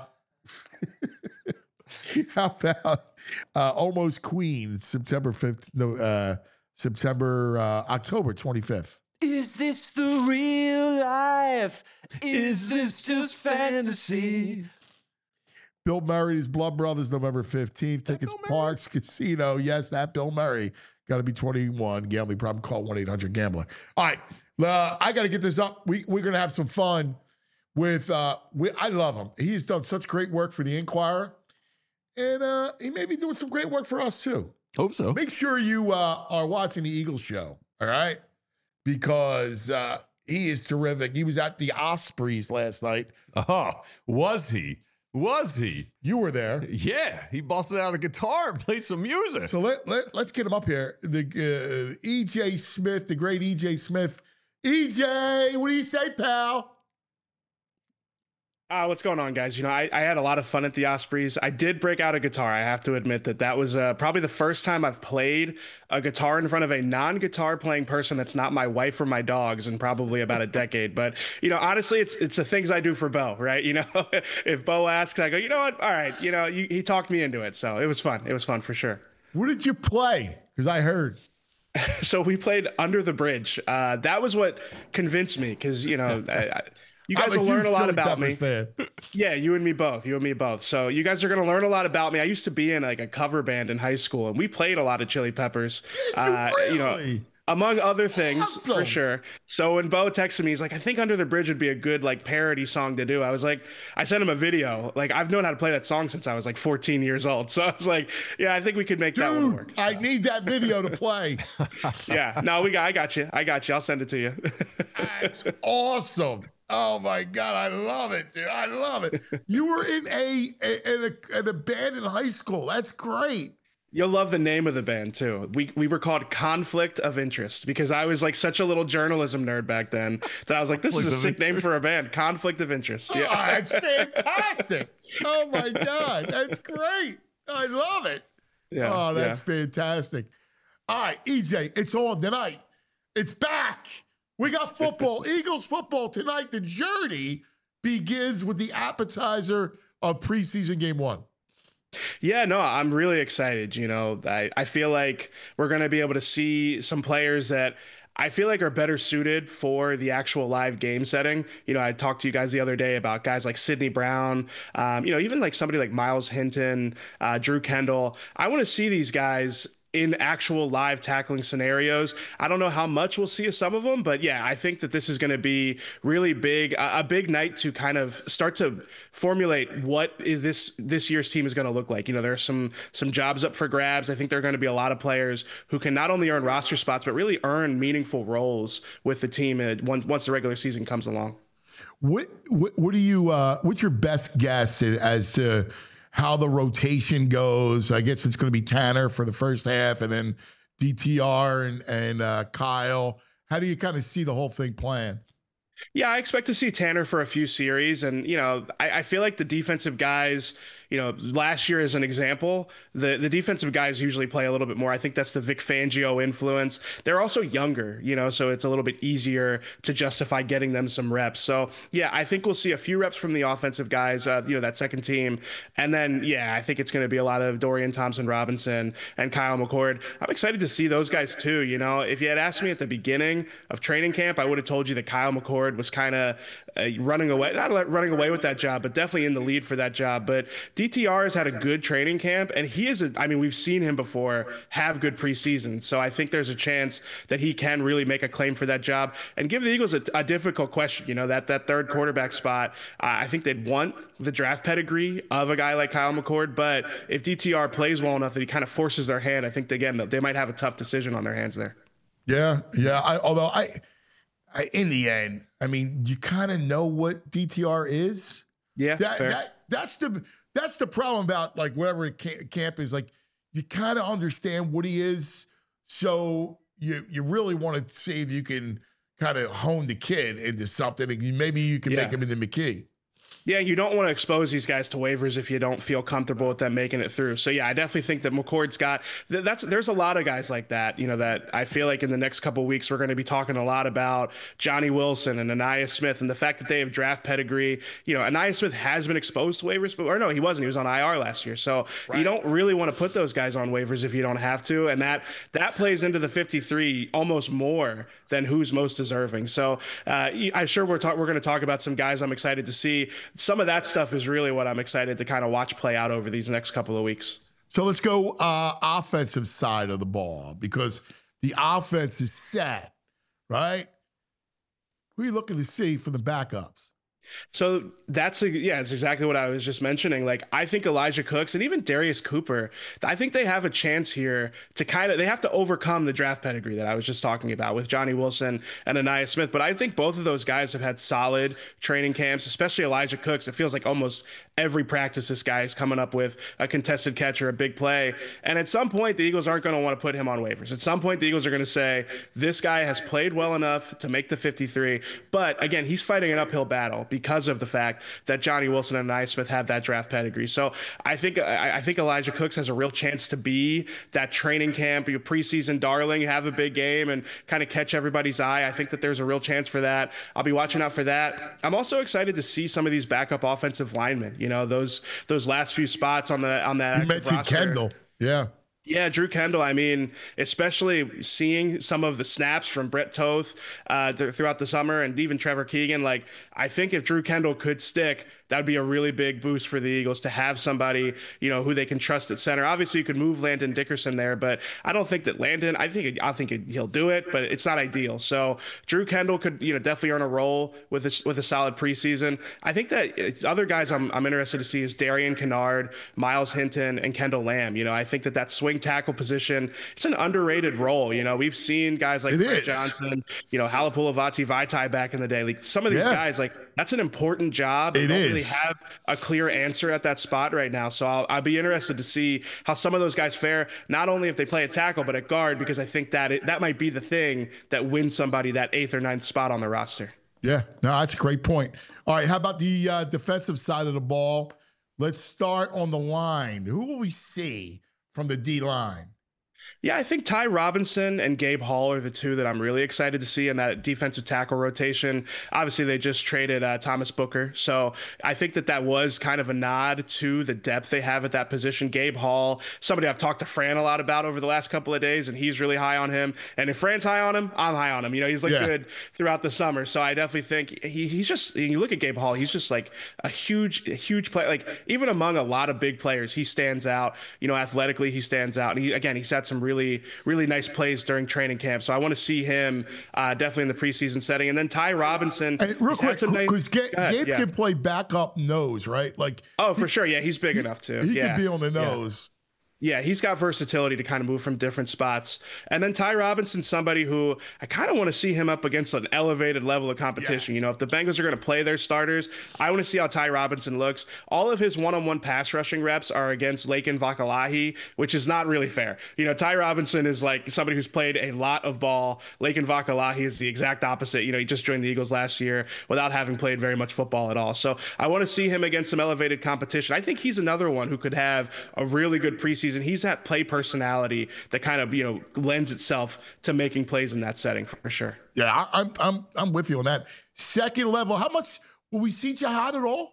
Speaker 2: how about uh, Almost Queen, September fifth, no, uh, September, uh, October twenty-fifth.
Speaker 4: Is this the real life? Is this just fantasy?
Speaker 2: Bill Murray's Blood Brothers, November fifteenth. Tickets, Parks Casino. Yes, that Bill Murray. Got to be twenty-one. Gambling problem, call one eight hundred gambler. All right. Uh, I got to get this up. We, we're going to have some fun with, uh, we, I love him. He's done such great work for the Inquirer. And uh, he may be doing some great work for us, too.
Speaker 3: Hope so.
Speaker 2: Make sure you uh, are watching the Eagles show, all right? Because uh, he is terrific. He was at the Ospreys last night.
Speaker 3: Oh, was he? Was he?
Speaker 2: You were there.
Speaker 3: Yeah, he busted out a guitar and played some music.
Speaker 2: So let, let, let's get him up here. The uh, E J Smith, the great E J Smith. E J, what do you say, pal?
Speaker 8: Uh, what's going on, guys? You know, I, I had a lot of fun at the Ospreys. I did break out a guitar. I have to admit that that was uh, probably the first time I've played a guitar in front of a non-guitar playing person that's not my wife or my dogs in probably about a decade. But, you know, honestly, it's it's the things I do for Bo, right? You know, if Bo asks, I go, you know what? All right. You know, you, he talked me into it. So it was fun. It was fun for sure.
Speaker 2: What did you play? Because I heard.
Speaker 8: So we played Under the Bridge. Uh, that was what convinced me because, you know, I, I, you guys
Speaker 2: I'm a
Speaker 8: will learn
Speaker 2: huge
Speaker 8: a lot
Speaker 2: Philly
Speaker 8: about
Speaker 2: Pepper
Speaker 8: me.
Speaker 2: Fan.
Speaker 8: Yeah, you and me both. You and me both. So you guys are going to learn a lot about me. I used to be in like a cover band in high school, and we played a lot of Chili Peppers.
Speaker 2: Did you
Speaker 8: uh,
Speaker 2: really?
Speaker 8: You know, among other things,
Speaker 2: Awesome.
Speaker 8: for sure. So when Bo texted me, he's like, "I think Under the Bridge would be a good like parody song to do." I was like, I sent him a video. Like I've known how to play that song since I was like fourteen years old. So I was like, "Yeah, I think we could make that one
Speaker 2: Dude,
Speaker 8: work."
Speaker 2: I need that video to play.
Speaker 8: Yeah, no, we got. I got you. I got you. I'll send it to you.
Speaker 2: That's awesome. Oh my God, I love it, dude. I love it. You were in a in a, in a band in high school. That's great.
Speaker 8: You'll love the name of the band too. We we were called Conflict of Interest because I was like such a little journalism nerd back then that I was like, this is a sick name for a band, Conflict of Interest.
Speaker 2: Oh,
Speaker 8: Yeah,
Speaker 2: that's fantastic. Oh my God, that's great. I love it.
Speaker 8: yeah.
Speaker 2: Oh, that's
Speaker 8: yeah.
Speaker 2: fantastic. All right, E J, it's on tonight. It's back. We got football, Eagles football tonight. The journey begins with the appetizer of preseason game one.
Speaker 8: Yeah, no, I'm really excited. You know, I, I feel like we're going to be able to see some players that I feel like are better suited for the actual live game setting. You know, I talked to you guys the other day about guys like Sidney Brown, um, you know, even like somebody like Miles Hinton, uh, Drew Kendall. I want to see these guys in actual live tackling scenarios. I don't know how much we'll see of some of them, but yeah, I think that this is going to be really big, a, a big night to kind of start to formulate what is this this year's team is going to look like. You know, there's some some jobs up for grabs. I think there are going to be a lot of players who can not only earn roster spots, but really earn meaningful roles with the team uh, once once the regular season comes along.
Speaker 2: What what, what do you? Uh, what's your best guess as to how the rotation goes? I guess it's going to be Tanner for the first half, and then D T R and and uh, Kyle. How do you kind of see the whole thing playing?
Speaker 8: Yeah, I expect to see Tanner for a few series. And, you know, I, I feel like the defensive guys, you know, last year as an example, the, the defensive guys usually play a little bit more. I think that's the Vic Fangio influence. They're also younger, you know, so it's a little bit easier to justify getting them some reps. So, yeah, I think we'll see a few reps from the offensive guys, uh, you know, that second team. And then, yeah, I think it's going to be a lot of Dorian Thompson-Robinson and Kyle McCord. I'm excited to see those guys too. You know, if you had asked me at the beginning of training camp, I would have told you that Kyle McCord was kind of uh, running away, not running away with that job, but definitely in the lead for that job. But D T R has had a good training camp, and he is, a, I mean, we've seen him before have good preseason. So I think there's a chance that he can really make a claim for that job and give the Eagles a, a difficult question. You know, that, that third quarterback spot, uh, I think they'd want the draft pedigree of a guy like Kyle McCord. But if D T R plays well enough that he kind of forces their hand, I think, again, they might have a tough decision on their hands there.
Speaker 2: Yeah, yeah. I, although I, I, in the end, I mean, you kind of know what D T R is.
Speaker 8: Yeah,
Speaker 2: that,
Speaker 8: fair.
Speaker 2: that that's the that's the problem about like wherever camp is. Like you kind of understand what he is, so you you really want to see if you can kind of hone the kid into something. And maybe you can
Speaker 8: Yeah.
Speaker 2: make him into McKee.
Speaker 8: Yeah, you don't want to expose these guys to waivers if you don't feel comfortable with them making it through. So yeah, I definitely think that McCord's got that's there's a lot of guys like that, you know, that I feel like in the next couple of weeks we're going to be talking a lot about Johnny Wilson and Anaya Smith and the fact that they have draft pedigree. You know, Anaya Smith has been exposed to waivers, but or no, he wasn't. He was on I R last year. So right. You don't really want to put those guys on waivers if you don't have to, and that that plays into the fifty-three almost more than who's most deserving. So uh, I'm sure we're talk, we're going to talk about some guys I'm excited to see. Some of that stuff is really what I'm excited to kind of watch play out over these next couple of weeks.
Speaker 2: So let's go uh, offensive side of the ball because the offense is set, right? Who are you looking to see for the backups?
Speaker 8: So that's a, yeah, it's exactly what I was just mentioning. Like, I think Elijah Cooks and even Darius Cooper, I think they have a chance here to kind of, they have to overcome the draft pedigree that I was just talking about with Johnny Wilson and Anaya Smith. But I think both of those guys have had solid training camps, especially Elijah Cooks. It feels like almost every practice this guy is coming up with a contested catch or a big play. And at some point, the Eagles aren't going to want to put him on waivers. At some point, the Eagles are going to say, this guy has played well enough to make the fifty-three. But again, he's fighting an uphill battle because of the fact that Johnny Wilson and Anaya Smith have that draft pedigree. So I think I, I think Elijah Cooks has a real chance to be that training camp, your preseason darling, have a big game and kind of catch everybody's eye. I think that there's a real chance for that. I'll be watching out for that. I'm also excited to see some of these backup offensive linemen. You know, those those last few spots on the on that.
Speaker 2: You mentioned
Speaker 8: roster.
Speaker 2: Kendall. Yeah.
Speaker 8: Yeah, Drew Kendall. I mean, especially seeing some of the snaps from Brett Toth uh, th- throughout the summer and even Trevor Keegan. Like, I think if Drew Kendall could stick, that would be a really big boost for the Eagles to have somebody, you know, who they can trust at center. Obviously, you could move Landon Dickerson there, but I don't think that Landon, I think I think he'll do it, but it's not ideal. So Drew Kendall could, you know, definitely earn a role with a, with a solid preseason. I think that it's other guys I'm, I'm interested to see is Darian Kennard, Miles Hinton, and Kendall Lamb. You know, I think that that swing tackle position, it's an underrated role. You know, we've seen guys like Fred Johnson, you know, Halapoulivaati Vaitai back in the day. Like, some of these
Speaker 2: Yeah.
Speaker 8: guys, like, that's an important job.
Speaker 2: It
Speaker 8: don't
Speaker 2: is.
Speaker 8: Really have a clear answer at that spot right now. So I'll, I'll be interested to see how some of those guys fare, not only if they play at tackle, but at guard, because I think that it, that might be the thing that wins somebody that eighth or ninth spot on the roster.
Speaker 2: Yeah, no, that's a great point. All right, how about the uh, defensive side of the ball? Let's start on the line. Who will we see from the D line?
Speaker 8: Yeah, I think Ty Robinson and Gabe Hall are the two that I'm really excited to see in that defensive tackle rotation. Obviously, they just traded uh, Thomas Booker, so I think that that was kind of a nod to the depth they have at that position. Gabe Hall, somebody I've talked to Fran a lot about over the last couple of days, and he's really high on him. And if Fran's high on him, I'm high on him. You know, he's looked
Speaker 2: Yeah.
Speaker 8: good throughout the summer, so I definitely think he, he's just, you look at Gabe Hall, he's just like a huge, a huge player. Like, even among a lot of big players, he stands out. You know, athletically, he stands out. And he, again, he's had some really, really nice plays during training camp. So I want to see him uh, definitely in the preseason setting. And then Ty Robinson.
Speaker 2: Hey, real
Speaker 8: he's had
Speaker 2: quick,
Speaker 8: some nice-
Speaker 2: because Gabe,
Speaker 8: Go ahead,
Speaker 2: Gabe
Speaker 8: yeah.
Speaker 2: can play backup nose, right? Like,
Speaker 8: Oh, for sure. Yeah, he's big enough to.
Speaker 2: he
Speaker 8: yeah.
Speaker 2: can be on the
Speaker 8: Yeah.
Speaker 2: nose.
Speaker 8: Yeah, he's got versatility to kind of move from different spots. And then Ty Robinson's somebody who I kind of want to see him up against an elevated level of competition. You know, if the Bengals are going to play their starters, I want to see how Ty Robinson looks. All of his one-on-one pass rushing reps are against Laken Vakalahi, which is not really fair. You know, Ty Robinson is like somebody who's played a lot of ball. Laken Vakalahi is the exact opposite. You know, he just joined the Eagles last year without having played very much football at all. So I want to see him against some elevated competition. I think he's another one who could have a really good preseason. He's that play personality that kind of, you know, lends itself to making plays in that setting for sure.
Speaker 2: Yeah, I, I'm I'm I'm with you on that. Second level, how much will we see Jihad at all?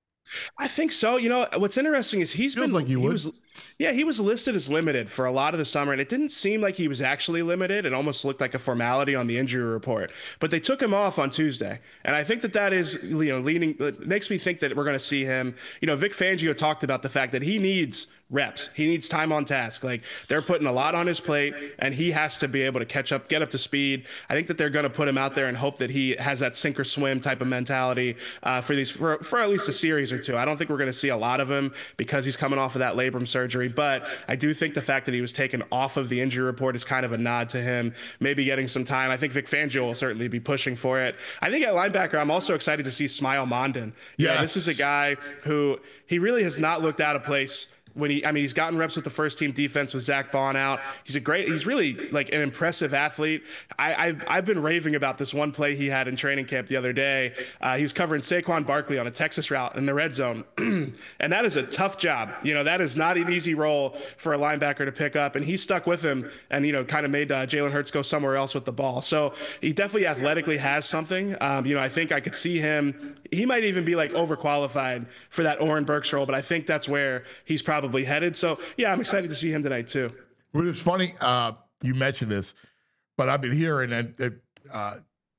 Speaker 8: I think so. You know, what's interesting is he's
Speaker 2: Feels
Speaker 8: been
Speaker 2: like you
Speaker 8: he
Speaker 2: would.
Speaker 8: was yeah, he was listed as limited for a lot of the summer, and it didn't seem like he was actually limited. It almost looked like a formality on the injury report. But they took him off on Tuesday, and I think that that is, you know, leaning it makes me think that we're going to see him. You know, Vic Fangio talked about the fact that he needs reps. He needs time on task. Like, they're putting a lot on his plate, and he has to be able to catch up, get up to speed. I think that they're going to put him out there and hope that he has that sink or swim type of mentality uh, for these for, for at least a series or two. I don't think we're going to see a lot of him because he's coming off of that labrum surgery, but I do think the fact that he was taken off of the injury report is kind of a nod to him maybe getting some time. I think Vic Fangio will certainly be pushing for it. I think at linebacker, I'm also excited to see Smile Mondon. Yeah,
Speaker 2: Yes.
Speaker 8: this is a guy who he really has not looked out of place. When he, I mean, he's gotten reps with the first team defense with Zach Bond out. He's a great, he's really like an impressive athlete. I, I've, I've been raving about this one play he had in training camp the other day. Uh, he was covering Saquon Barkley on a Texas route in the red zone. And that is a tough job. You know, that is not an easy role for a linebacker to pick up. And he stuck with him and, you know, kind of made uh, Jalen Hurts go somewhere else with the ball. So he definitely athletically has something. Um, you know, I think I could see him, he might even be like overqualified for that Oren Burks role, but I think that's where he's probably headed. So yeah, I'm excited to see him tonight too.
Speaker 2: Well, it's funny uh, you mentioned this, but I've been hearing that, that uh,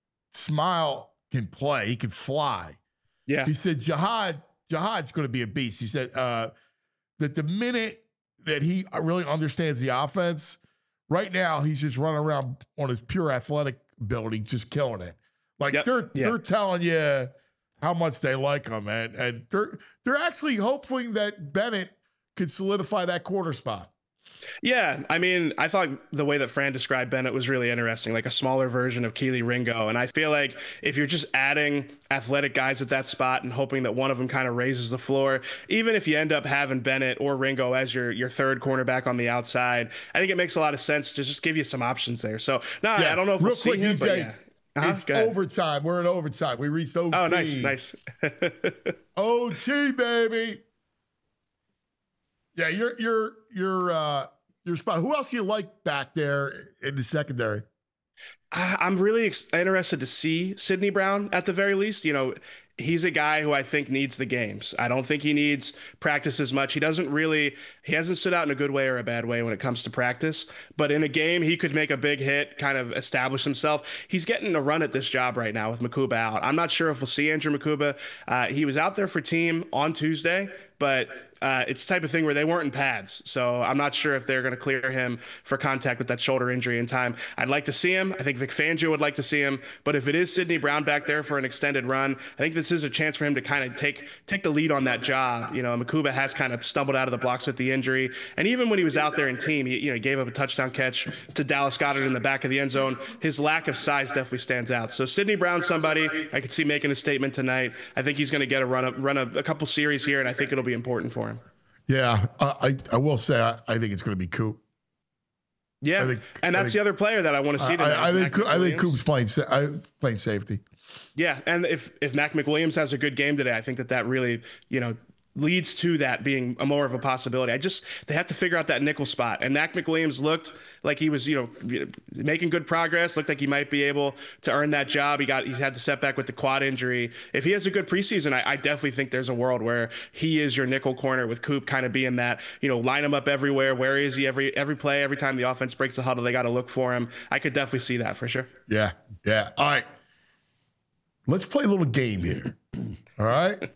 Speaker 2: Smile can play. He can fly.
Speaker 8: Yeah.
Speaker 2: He said Jihad, Jihad's going to be a beast. He said uh, that the minute that he really understands the offense, right now he's just running around on his pure athletic ability, just killing it. Like
Speaker 8: Yep.
Speaker 2: they're
Speaker 8: Yeah.
Speaker 2: they're telling you how much they like him, and and they're they're actually hoping that Bennett could solidify that corner spot.
Speaker 8: Yeah, I mean, I thought the way that Fran described Bennett was really interesting, like a smaller version of Keely Ringo. And I feel like if you're just adding athletic guys at that spot and hoping that one of them kind of raises the floor, even if you end up having Bennett or Ringo as your your third cornerback on the outside, I think it makes a lot of sense to just give you some options there. So, no,
Speaker 2: Yeah,
Speaker 8: I don't know if
Speaker 2: real
Speaker 8: we'll see
Speaker 2: quick,
Speaker 8: him,
Speaker 2: E J,
Speaker 8: but yeah. Uh-huh,
Speaker 2: It's
Speaker 8: go ahead.
Speaker 2: overtime. We're in overtime. We reached O T.
Speaker 8: Oh, nice, nice.
Speaker 2: O T, baby. Yeah, you're you're you're uh your spot. Who else you like back there in the secondary?
Speaker 8: I- I'm really ex- interested to see Sidney Brown at the very least. You know, he's a guy who I think needs the games. I don't think he needs practice as much. He doesn't really, he hasn't stood out in a good way or a bad way when it comes to practice. But in a game, he could make a big hit, kind of establish himself. He's getting a run at this job right now with Makuba out. I'm not sure if we'll see Andrew Makuba. Uh, he was out there for team on Tuesday, but uh, it's the type of thing where they weren't in pads. So I'm not sure if they're going to clear him for contact with that shoulder injury in time. I'd like to see him. I think Vic Fangio would like to see him. But if it is Sidney Brown back there for an extended run, I think this is a chance for him to kind of take take the lead on that job. You know, Makuba has kind of stumbled out of the blocks with the injury. And even when he was out there in team, he you know gave up a touchdown catch to Dallas Goedert in the back of the end zone. His lack of size definitely stands out. So Sidney Brown's somebody I could see making a statement tonight. I think he's going to get a run, up, run a, a couple series here, and I think it'll be important for him.
Speaker 2: Yeah, uh, I I will say I, I think it's going to be Coop.
Speaker 8: Yeah,
Speaker 2: I think-
Speaker 8: and
Speaker 2: I
Speaker 8: that's
Speaker 2: think-
Speaker 8: the other player that I want to see
Speaker 2: I,
Speaker 8: tonight.
Speaker 2: I, I think
Speaker 8: Mac
Speaker 2: I think
Speaker 8: McWilliams.
Speaker 2: Coop's playing sa- I, playing safety.
Speaker 8: Yeah, and if if Mac McWilliams has a good game today, I think that that really you know leads to that being a more of a possibility. I just they have to figure out that nickel spot, and Mac McWilliams looked like he was you know making good progress. Looked like he might be able to earn that job. He got he had the setback with the quad injury. If he has a good preseason, I, I definitely think there's a world where he is your nickel corner with Coop kind of being that you know line him up everywhere. Where is he every every play? Every time the offense breaks the huddle, they got to look for him. I could definitely see that for sure.
Speaker 2: Yeah, yeah. All right, let's play a little game here. All right.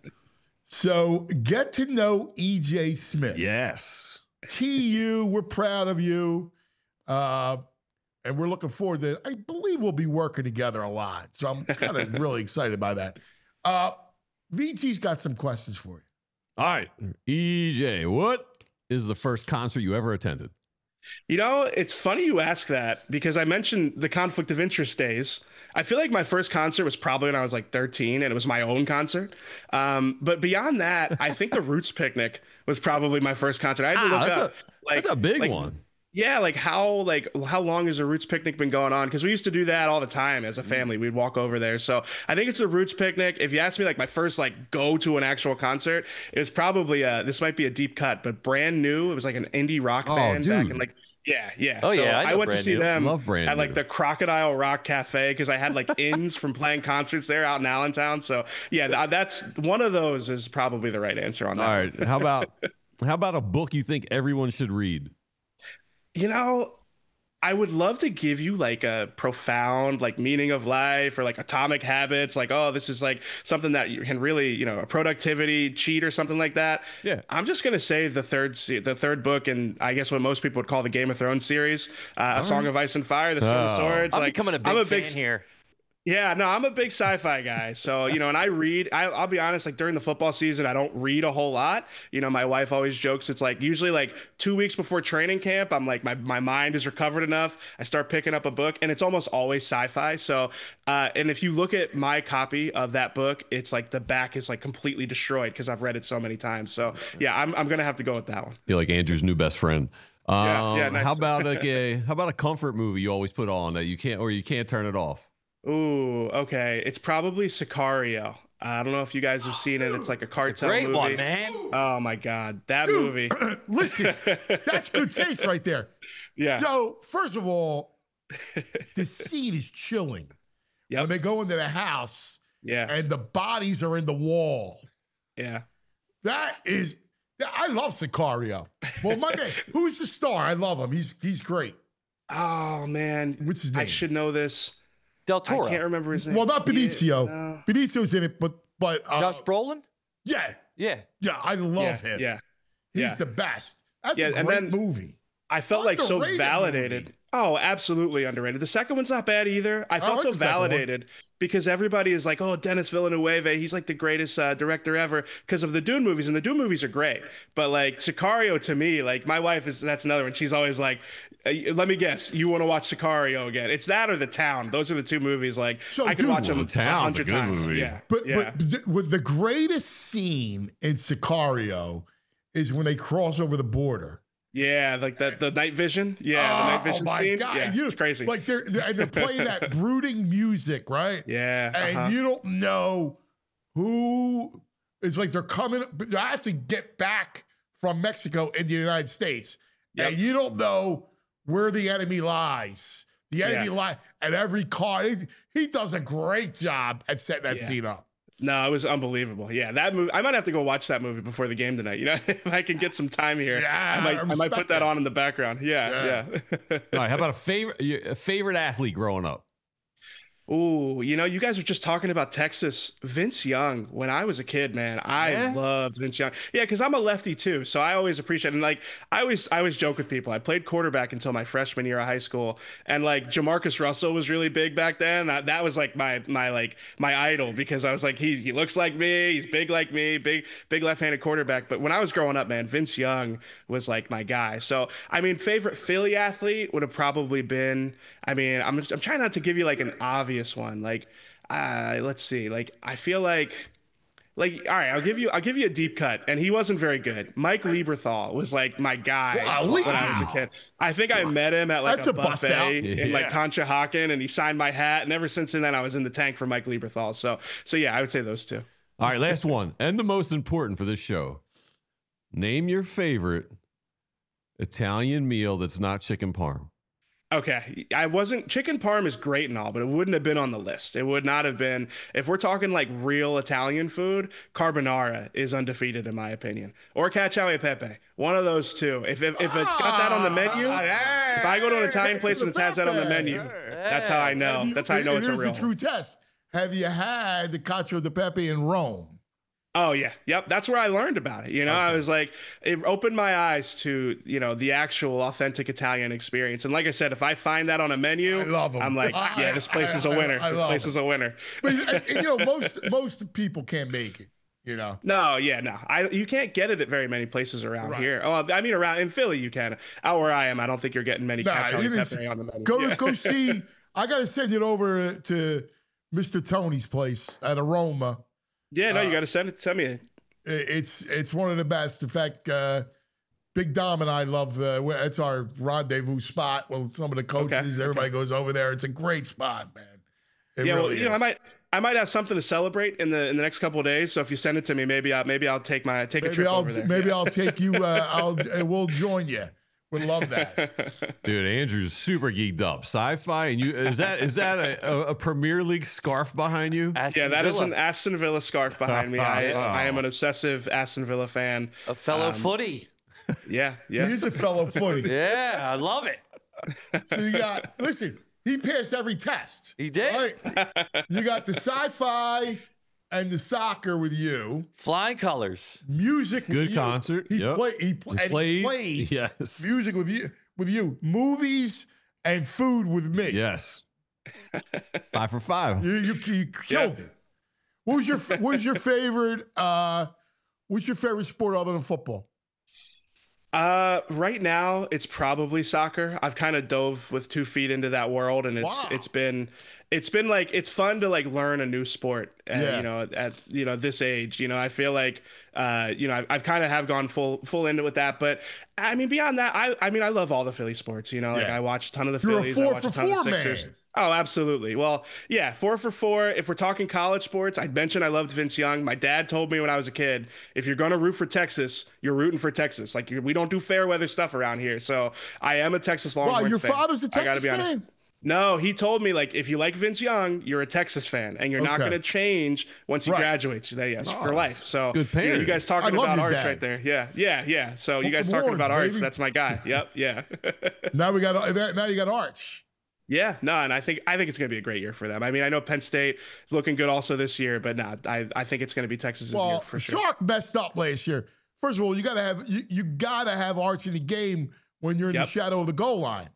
Speaker 2: So get to know E J Smith.
Speaker 3: Yes.
Speaker 2: T U, we're proud of you. Uh, and we're looking forward to it. I believe we'll be working together a lot. So I'm kind of really excited by that. Uh, V G's got some questions for you.
Speaker 3: All right. E J, what is the first concert you ever attended?
Speaker 8: You know, it's funny you ask that because I mentioned the conflict of interest days. I feel like my first concert was probably when I was like thirteen and it was my own concert. Um, but beyond that, I think the Roots Picnic was probably my first concert. I had to
Speaker 3: Ah,
Speaker 8: look
Speaker 3: that's,
Speaker 8: up.
Speaker 3: a,
Speaker 8: like,
Speaker 3: that's a big
Speaker 8: like,
Speaker 3: one.
Speaker 8: Yeah, like how like how long has the Roots Picnic been going on? Because we used to do that all the time as a family. We'd walk over there. So I think it's the Roots Picnic. If you ask me, like my first like go to an actual concert, it was probably uh this might be a deep cut, but Brand New. It was like an indie rock
Speaker 3: Oh,
Speaker 8: band back
Speaker 3: dude.
Speaker 8: in like yeah yeah.
Speaker 4: Oh,
Speaker 8: so
Speaker 4: yeah, I
Speaker 8: I,
Speaker 4: know
Speaker 8: went to
Speaker 4: Brand
Speaker 8: see
Speaker 4: New.
Speaker 8: them
Speaker 3: Love Brand
Speaker 8: at like
Speaker 3: New.
Speaker 8: the Crocodile Rock Cafe because I had like ins from playing concerts there out in Allentown. So yeah, th- that's one of those is probably the right answer on that.
Speaker 3: All right. How about how about a book you think everyone should read?
Speaker 8: You know, I would love to give you like a profound like meaning of life or like Atomic Habits, like, oh, this is like something that you can really, you know, a productivity cheat or something like that.
Speaker 3: Yeah.
Speaker 8: I'm just gonna say the third se- the third book, and I guess what most people would call the Game of Thrones series, uh, A Song of Ice and Fire, The Stone of
Speaker 3: Oh.
Speaker 8: Swords.
Speaker 4: I'm
Speaker 8: like,
Speaker 4: becoming a big
Speaker 8: I'm
Speaker 4: fan here.
Speaker 8: Yeah, no, I'm a big sci-fi guy. So, you know, and I read, I, I'll be honest, like during the football season, I don't read a whole lot. You know, my wife always jokes, it's like usually like two weeks before training camp, I'm like, my, my mind is recovered enough. I start picking up a book and it's almost always sci-fi. So, uh, and if you look at my copy of that book, it's like the back is like completely destroyed because I've read it so many times. So yeah, I'm, I'm going to have to go with that one.
Speaker 3: You're like Andrew's new best friend. Um,
Speaker 8: Yeah, yeah, nice.
Speaker 3: How about like a how about a comfort movie you always put on that you can't or you can't turn it off?
Speaker 8: Ooh, okay. It's probably Sicario. I don't know if you guys have seen it. It's like a cartel
Speaker 4: Great
Speaker 8: movie.
Speaker 4: one, man.
Speaker 8: Oh my God, that
Speaker 2: Dude,
Speaker 8: movie.
Speaker 2: listen, that's good taste right there.
Speaker 8: Yeah.
Speaker 2: So, first of all, the scene is chilling.
Speaker 8: Yep.
Speaker 2: When they go into the house
Speaker 8: Yeah.
Speaker 2: and the bodies are in the wall.
Speaker 8: Yeah.
Speaker 2: That is, I love Sicario. Well, my man, who's the star? I love him. He's he's great.
Speaker 8: Oh man.
Speaker 2: What's his
Speaker 8: I
Speaker 2: name?
Speaker 8: should know this.
Speaker 4: Del Toro.
Speaker 8: I can't remember his name.
Speaker 2: Well, not Benicio.
Speaker 8: Yeah, no.
Speaker 2: Benicio's in it, but but uh,
Speaker 4: Josh Brolin?
Speaker 2: yeah,
Speaker 4: Yeah.
Speaker 2: yeah, I love
Speaker 8: Yeah.
Speaker 2: him.
Speaker 8: Yeah.
Speaker 2: He's
Speaker 8: yeah.
Speaker 2: the best. That's
Speaker 8: Yeah,
Speaker 2: a
Speaker 8: and
Speaker 2: great
Speaker 8: then-
Speaker 2: movie.
Speaker 8: I felt like so
Speaker 2: Underrated
Speaker 8: validated.
Speaker 2: movie.
Speaker 8: Oh, absolutely underrated. The second one's not bad either. I felt
Speaker 2: like
Speaker 8: so
Speaker 2: the second one.
Speaker 8: validated because everybody is like, "Oh, Dennis Villeneuve, he's like the greatest uh, director ever" because of the Dune movies, and the Dune movies are great. But like Sicario, to me, like my wife is that's another one. She's always like, uh, "Let me guess, you want to watch Sicario again?" It's that or The Town. Those are the two movies. Like
Speaker 2: So,
Speaker 8: I could
Speaker 2: dude,
Speaker 8: watch them
Speaker 3: The
Speaker 8: a
Speaker 3: Town's a
Speaker 8: hundred
Speaker 3: good
Speaker 8: times.
Speaker 3: movie.
Speaker 8: Yeah,
Speaker 2: But
Speaker 8: yeah.
Speaker 2: but th- with the greatest scene in Sicario is when they cross over the border.
Speaker 8: Yeah, like the the night vision. Yeah, the night vision
Speaker 2: oh my
Speaker 8: scene.
Speaker 2: God.
Speaker 8: Yeah,
Speaker 2: You-
Speaker 8: it's crazy.
Speaker 2: Like they're, they're and they're playing that brooding music, right?
Speaker 8: yeah,
Speaker 2: And
Speaker 8: uh-huh.
Speaker 2: you don't know who. It's like they're coming. They have to get back from Mexico in the United States,
Speaker 8: Yep.
Speaker 2: and you don't know where the enemy lies. The enemy
Speaker 8: Yeah.
Speaker 2: lies at every car. He, he does a great job at setting that
Speaker 8: Yeah.
Speaker 2: scene up.
Speaker 8: No, it was unbelievable. Yeah, that movie. I might have to go watch that movie before the game tonight. You know, if I can get some time here,
Speaker 2: Yeah,
Speaker 8: I might.
Speaker 2: I
Speaker 8: I, might
Speaker 2: respect
Speaker 8: put that
Speaker 2: that.
Speaker 8: on in the background. Yeah, yeah.
Speaker 3: All right, how about a favorite a favorite athlete growing up?
Speaker 8: Ooh, you know, you guys were just talking about Texas. Vince Young, when I was a kid, man, I
Speaker 3: Yeah?
Speaker 8: loved Vince Young. Yeah, because I'm a lefty too, so I always appreciate and like I always I always joke with people. I played quarterback until my freshman year of high school, and like Jamarcus Russell was really big back then. That, that was like my my like my idol because I was like he he looks like me, he's big like me, big big left-handed quarterback. But when I was growing up, man, Vince Young was like my guy. So I mean, favorite Philly athlete would have probably been. I mean, I'm I'm trying not to give you like an obvious one. Like, uh, let's see. Like, I feel like, like, all right, I'll give you, I'll give you a deep cut. And he wasn't very good. Mike Lieberthal was like my guy
Speaker 2: Wow,
Speaker 8: when I was
Speaker 2: wow.
Speaker 8: a kid. I think I met him at like
Speaker 2: That's
Speaker 8: a
Speaker 2: a bust
Speaker 8: buffet
Speaker 2: out.
Speaker 8: in like
Speaker 3: Yeah.
Speaker 8: Conshohocken, and he signed my hat. And ever since then, I was in the tank for Mike Lieberthal. So, so yeah, I would say those two.
Speaker 3: All right, last one and the most important for this show. Name your favorite Italian meal that's not chicken parm.
Speaker 8: Okay, I wasn't chicken parm is great and all, but it wouldn't have been on the list. It would not have been if we're talking like real Italian food. Carbonara is undefeated in my opinion, or cacio e pepe. One of those two. If if, if it's got that on the menu, if I go to an Italian place and it has that on the menu, that's how I know.
Speaker 2: Have you-
Speaker 8: That's how I know it's a
Speaker 2: here's
Speaker 8: real
Speaker 2: the true
Speaker 8: one.
Speaker 2: test. Have you had the cacio de pepe in Rome?
Speaker 8: Oh yeah, yep. That's where I learned about it. You know, I was like, it opened my eyes to you know the actual authentic Italian experience. And like I said, if I find that on a menu,
Speaker 2: I love 'em.
Speaker 8: I'm like,
Speaker 2: I-
Speaker 8: yeah, this place
Speaker 2: I-
Speaker 8: is a
Speaker 2: I-
Speaker 8: winner.
Speaker 2: I
Speaker 8: This
Speaker 2: love
Speaker 8: place
Speaker 2: 'em.
Speaker 8: is a winner.
Speaker 2: But and, you know, most most people can't make it. You know.
Speaker 8: No, yeah, no. I you can't get it at very many places around
Speaker 2: Right.
Speaker 8: here. Oh, I mean around in Philly you can. Out where I am, I don't think you're getting many
Speaker 2: Nah,
Speaker 8: cacio e
Speaker 2: it is-
Speaker 8: pepe on the menu.
Speaker 2: Go
Speaker 8: Yeah.
Speaker 2: go see. I gotta send it over to Mister Tony's place at Aroma.
Speaker 8: Yeah, no, you
Speaker 2: uh,
Speaker 8: got to send it. Send me it.
Speaker 2: I- It's it's one of the best. In fact, uh, Big Dom and I love. Uh, where- it's our rendezvous spot. Well, some of the coaches,
Speaker 8: Okay,
Speaker 2: everybody goes over there. It's a great spot, man. It
Speaker 8: Yeah, well,
Speaker 2: really
Speaker 8: you know, I
Speaker 2: is.
Speaker 8: might I might have something to celebrate in the in the next couple of days. So if you send it to me, maybe I maybe I'll take my take a
Speaker 2: Maybe
Speaker 8: trip
Speaker 2: I'll
Speaker 8: over there.
Speaker 2: maybe
Speaker 8: Yeah.
Speaker 2: I'll take you. Uh, I'll uh, we'll join you. Would love that.
Speaker 3: Dude, Andrew's super geeked up. Sci-fi, and you is that is that a, a, a Premier League scarf behind you?
Speaker 4: Aston
Speaker 8: Yeah, that is
Speaker 4: Villa,
Speaker 8: an Aston Villa scarf behind me. I I am an obsessive Aston Villa fan.
Speaker 4: a fellow
Speaker 8: um,
Speaker 4: footy.
Speaker 8: Yeah, yeah.
Speaker 2: He is a fellow footy.
Speaker 4: Yeah, I love it.
Speaker 2: So you got listen. He passed every test.
Speaker 4: He did.
Speaker 2: Right? You got the sci-fi and the soccer with you.
Speaker 4: Flying colors.
Speaker 2: Music with
Speaker 3: Good
Speaker 2: you.
Speaker 3: concert.
Speaker 2: He
Speaker 3: Yep.
Speaker 2: play he, pl-
Speaker 3: He
Speaker 2: and
Speaker 3: plays.
Speaker 2: he plays
Speaker 3: Yes.
Speaker 2: music with you with you. Movies and food with me.
Speaker 3: Yes. Five for five.
Speaker 2: You you, you killed it. What was your what was your favorite uh what's your favorite sport other than football?
Speaker 8: Uh, right now it's probably soccer. I've kind of dove with two feet into that world, and it's
Speaker 2: Wow.
Speaker 8: it's been it's been like it's fun to like learn a new sport. Uh,
Speaker 2: Yeah.
Speaker 8: You know, at you know this age, you know, I feel like uh, you know, I've, I've kind of have gone full full into with that. But I mean, beyond that, I I mean, I love all the Philly sports. You know, like
Speaker 2: Yeah.
Speaker 8: I watch a ton of the
Speaker 2: You're a
Speaker 8: Phillies.
Speaker 2: four
Speaker 8: I watch
Speaker 2: for
Speaker 8: a ton
Speaker 2: four
Speaker 8: of the Sixers.
Speaker 2: man.
Speaker 8: Oh, absolutely. Well, yeah, four for four. If we're talking college sports, I mentioned I loved Vince Young. My dad told me when I was a kid, if you're going to root for Texas, you're rooting for Texas. Like you we don't do fair weather stuff around here. So I am a Texas
Speaker 2: Wow,
Speaker 8: Longhorns
Speaker 2: your
Speaker 8: fan.
Speaker 2: father's a
Speaker 8: I gotta
Speaker 2: Texas
Speaker 8: be honest.
Speaker 2: fan.
Speaker 8: No, he told me like if you like Vince Young, you're a Texas fan, and you're not
Speaker 2: Okay.
Speaker 8: going to change once he
Speaker 2: Right.
Speaker 8: graduates. That yes, for life. So
Speaker 3: Good
Speaker 8: you, know, you
Speaker 3: parent.
Speaker 8: guys
Speaker 2: I
Speaker 8: talking
Speaker 2: love
Speaker 8: about
Speaker 2: your
Speaker 8: Arch
Speaker 2: dad.
Speaker 8: right there. Yeah, yeah, yeah. So you
Speaker 2: Hook
Speaker 8: guys
Speaker 2: 'em
Speaker 8: talking
Speaker 2: horns,
Speaker 8: about Arch?
Speaker 2: baby.
Speaker 8: That's my guy. Yep, yeah.
Speaker 2: Now we got now you got Arch.
Speaker 8: Yeah, no, and I think I think it's going to be a great year for them. I mean, I know Penn State is looking good also this year, but no, I I think it's going to be Texas's year
Speaker 2: Well,
Speaker 8: for sure.
Speaker 2: Shark messed up last year. First of all, you gotta have you, you gotta have Arch in the game when you're in
Speaker 8: Yep.
Speaker 2: the shadow of the goal line.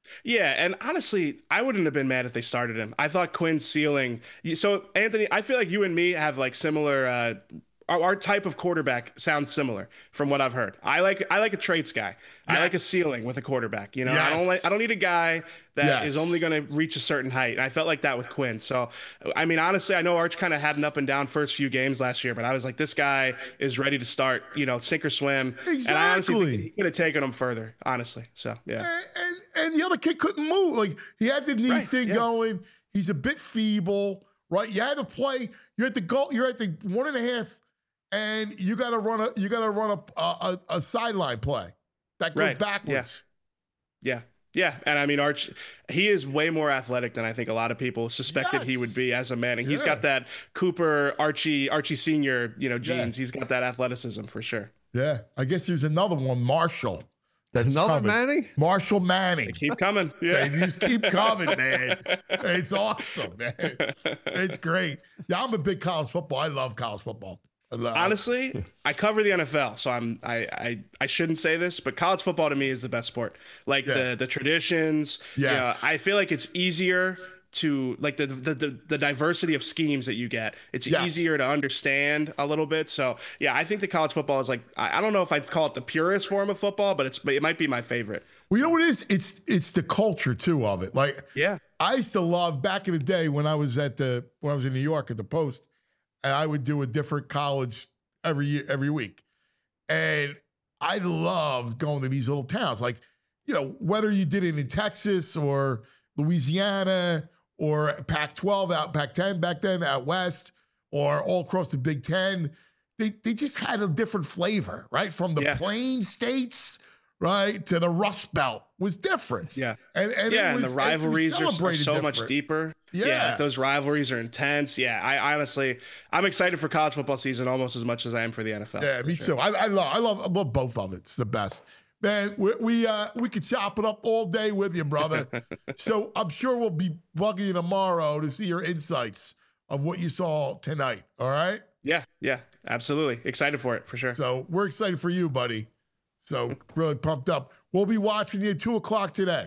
Speaker 8: Yeah, and honestly, I wouldn't have been mad if they started him. I thought Quinn's ceiling. So Anthony, I feel like you and me have like similar. Uh, our, our type of quarterback sounds similar from what I've heard. I like I like a traits guy. I like a ceiling with a quarterback. You know, I don't
Speaker 2: Yes.
Speaker 8: like I don't need a guy that
Speaker 2: Yes.
Speaker 8: is only going to reach a certain height. And I felt like that with Quinn. So, I mean, honestly, I know Arch kind of had an up and down first few games last year, but I was like, this guy is ready to start. You know, sink or swim. And I honestly
Speaker 2: Exactly.
Speaker 8: think he could have taken him further. Honestly, so yeah.
Speaker 2: And, and and the other kid couldn't move. Like he had the knee
Speaker 8: Right,
Speaker 2: thing
Speaker 8: yeah.
Speaker 2: going. He's a bit feeble, right? You had to play. You're at the goal. You're at the one and a half, and you got to run a. You got to run a a, a sideline play that goes
Speaker 8: Right,
Speaker 2: backwards.
Speaker 8: Yeah. Yeah. And I mean, Arch, he is way more athletic than I think a lot of people suspected he would
Speaker 2: Yes.
Speaker 8: be as a man. And he's
Speaker 2: Yeah.
Speaker 8: got that Cooper, Archie, Archie Senior, you know, genes.
Speaker 2: Yeah.
Speaker 8: He's got that athleticism for sure.
Speaker 2: Yeah, I guess there's another one, Marshall. That's
Speaker 3: Another
Speaker 2: coming.
Speaker 3: Manning?
Speaker 2: Marshall Manning.
Speaker 8: Keep coming.
Speaker 2: They
Speaker 8: Yeah.
Speaker 2: just keep coming, man. It's awesome, man. It's great. Yeah, I'm a big college football. I love college football. I love,
Speaker 8: Honestly, I cover the N F L, so I'm I, I I shouldn't say this, but college football to me is the best sport. Like
Speaker 2: Yeah.
Speaker 8: the the traditions. you know,
Speaker 2: Yes.
Speaker 8: I feel like it's easier to like the, the the the diversity of schemes that you get. It's
Speaker 2: Yes.
Speaker 8: easier to understand a little bit. So yeah, I think the college football is like I, I don't know if I'd call it the purest form of football, but it's but it might be my favorite.
Speaker 2: Well, you know what it is? It's it's the culture too of it. Like
Speaker 8: Yeah.
Speaker 2: I used to love back in the day when I was at the when I was in New York at the Post, and I would do a different college every year, every week. And I loved going to these little towns. Like, you know, whether you did it in Texas or Louisiana or Pac twelve out, Pac ten back then out west, or all across the Big Ten, they they just had a different flavor, right? From the
Speaker 8: Yeah.
Speaker 2: plain states, right, to the Rust Belt was different.
Speaker 8: Yeah.
Speaker 2: And, and
Speaker 8: yeah,
Speaker 2: it was,
Speaker 8: and the
Speaker 2: it was
Speaker 8: rivalries are, are
Speaker 2: celebrated
Speaker 8: so much
Speaker 2: different.
Speaker 8: deeper.
Speaker 2: Yeah.
Speaker 8: like those rivalries are intense. Yeah, I honestly, I'm excited for college football season almost as much as I am for the N F L.
Speaker 2: Yeah,
Speaker 8: for
Speaker 2: me
Speaker 8: sure.
Speaker 2: too. I, I love, I love, I love both of it. It's the best, man. We we uh, we could chop it up all day with you, brother. So I'm sure we'll be bugging you tomorrow to see your insights of what you saw tonight. All right.
Speaker 8: Yeah, yeah, absolutely. Excited for it for sure.
Speaker 2: So we're excited for you, buddy. So really pumped up. We'll be watching you at two o'clock today.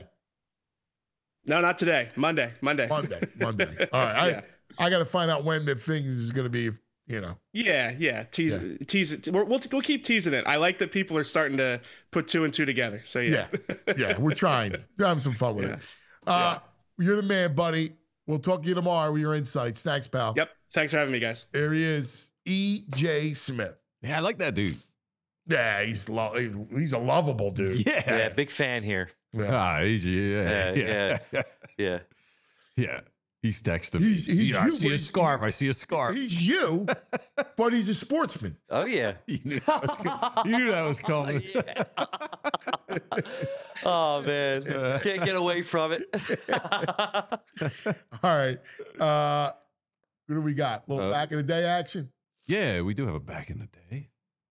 Speaker 8: No, not today. Monday. Monday.
Speaker 2: Monday. Monday. All right.
Speaker 8: Yeah.
Speaker 2: I I got to find out when the thing is going to be. You know.
Speaker 8: Yeah, yeah. Tease,
Speaker 2: Yeah.
Speaker 8: tease it. We're, we'll we'll keep teasing it. I like that people are starting to put two and two together. So yeah.
Speaker 2: Yeah. Yeah. We're trying. We're having some fun with it. Uh, You're the man, buddy. We'll talk to you tomorrow with your insights. Thanks, pal.
Speaker 8: Yep. Thanks for having me, guys.
Speaker 2: There he is, E J Smith.
Speaker 3: Yeah, I like that dude.
Speaker 2: Yeah, he's lo- he's a lovable dude.
Speaker 3: Yeah.
Speaker 4: Yeah, big fan here.
Speaker 3: Ah, he's, yeah,
Speaker 4: Yeah,
Speaker 3: yeah, yeah,
Speaker 4: Yeah.
Speaker 3: yeah. He's texting
Speaker 2: He's-
Speaker 3: me.
Speaker 2: he's
Speaker 3: Yeah, I
Speaker 2: you,
Speaker 3: see a
Speaker 2: he's-
Speaker 3: scarf. I see a scarf.
Speaker 2: He's you, but he's a sportsman.
Speaker 4: Oh yeah.
Speaker 3: You knew that was coming. You knew that was coming.
Speaker 4: Oh man, can't get away from it.
Speaker 2: All right. Uh, what do we got? A little
Speaker 3: Uh,
Speaker 2: back in the day action?
Speaker 3: Yeah, we do have a back in the day.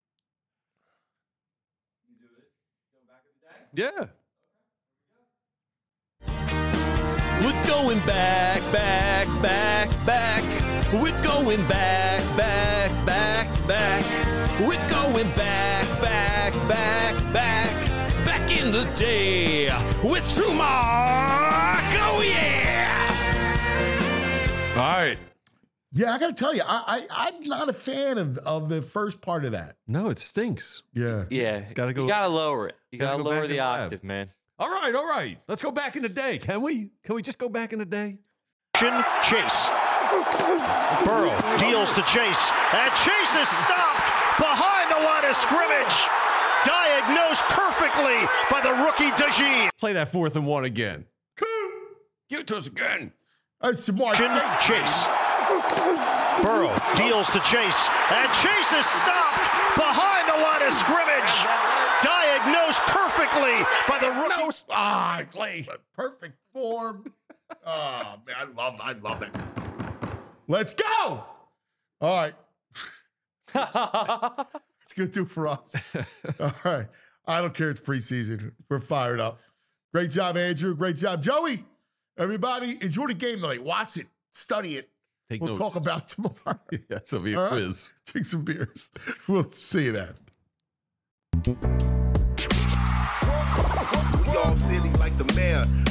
Speaker 3: Yeah.
Speaker 6: We're going back, back, back, back. We're going back, back, back, back. We're going back, back, back, back. Back in the day with True Mark. Oh, yeah.
Speaker 3: All right.
Speaker 2: Yeah, I got to tell you, I, I, I'm not a fan of, of the first part of that.
Speaker 3: No, it stinks.
Speaker 2: Yeah.
Speaker 4: Yeah,
Speaker 3: Gotta go-
Speaker 4: You gotta lower it. You
Speaker 3: gotta
Speaker 4: gotta,
Speaker 3: go
Speaker 4: lower
Speaker 3: back
Speaker 4: the
Speaker 3: in the lab.
Speaker 4: octave, man.
Speaker 3: All right, all right. Let's go back in the day. Can we? Can we just go back in the day?
Speaker 9: Chase. Burrow deals to Chase, and Chase is stopped behind the line of scrimmage. Diagnosed perfectly by the rookie Dajin.
Speaker 3: Play that fourth and one again. Give it to us again.
Speaker 2: That's smart.
Speaker 9: Chase. Burrow deals to Chase, and Chase is stopped behind the line of scrimmage. Diagnosed perfectly by the rookie.
Speaker 2: No, ah, Clay, perfect form. Oh man, I love, I love it. Let's go. All right, it's gonna do for us. All right, I don't care. It's preseason. We're fired up. Great job, Andrew. Great job, Joey. Everybody, enjoy the game tonight. Watch it, study it.
Speaker 3: Take
Speaker 2: We'll
Speaker 3: notes.
Speaker 2: talk about it tomorrow.
Speaker 3: Yeah, this will be a
Speaker 2: All right?
Speaker 3: quiz.
Speaker 2: Drink some beers. We'll see you then.
Speaker 10: We all silly like the mayor.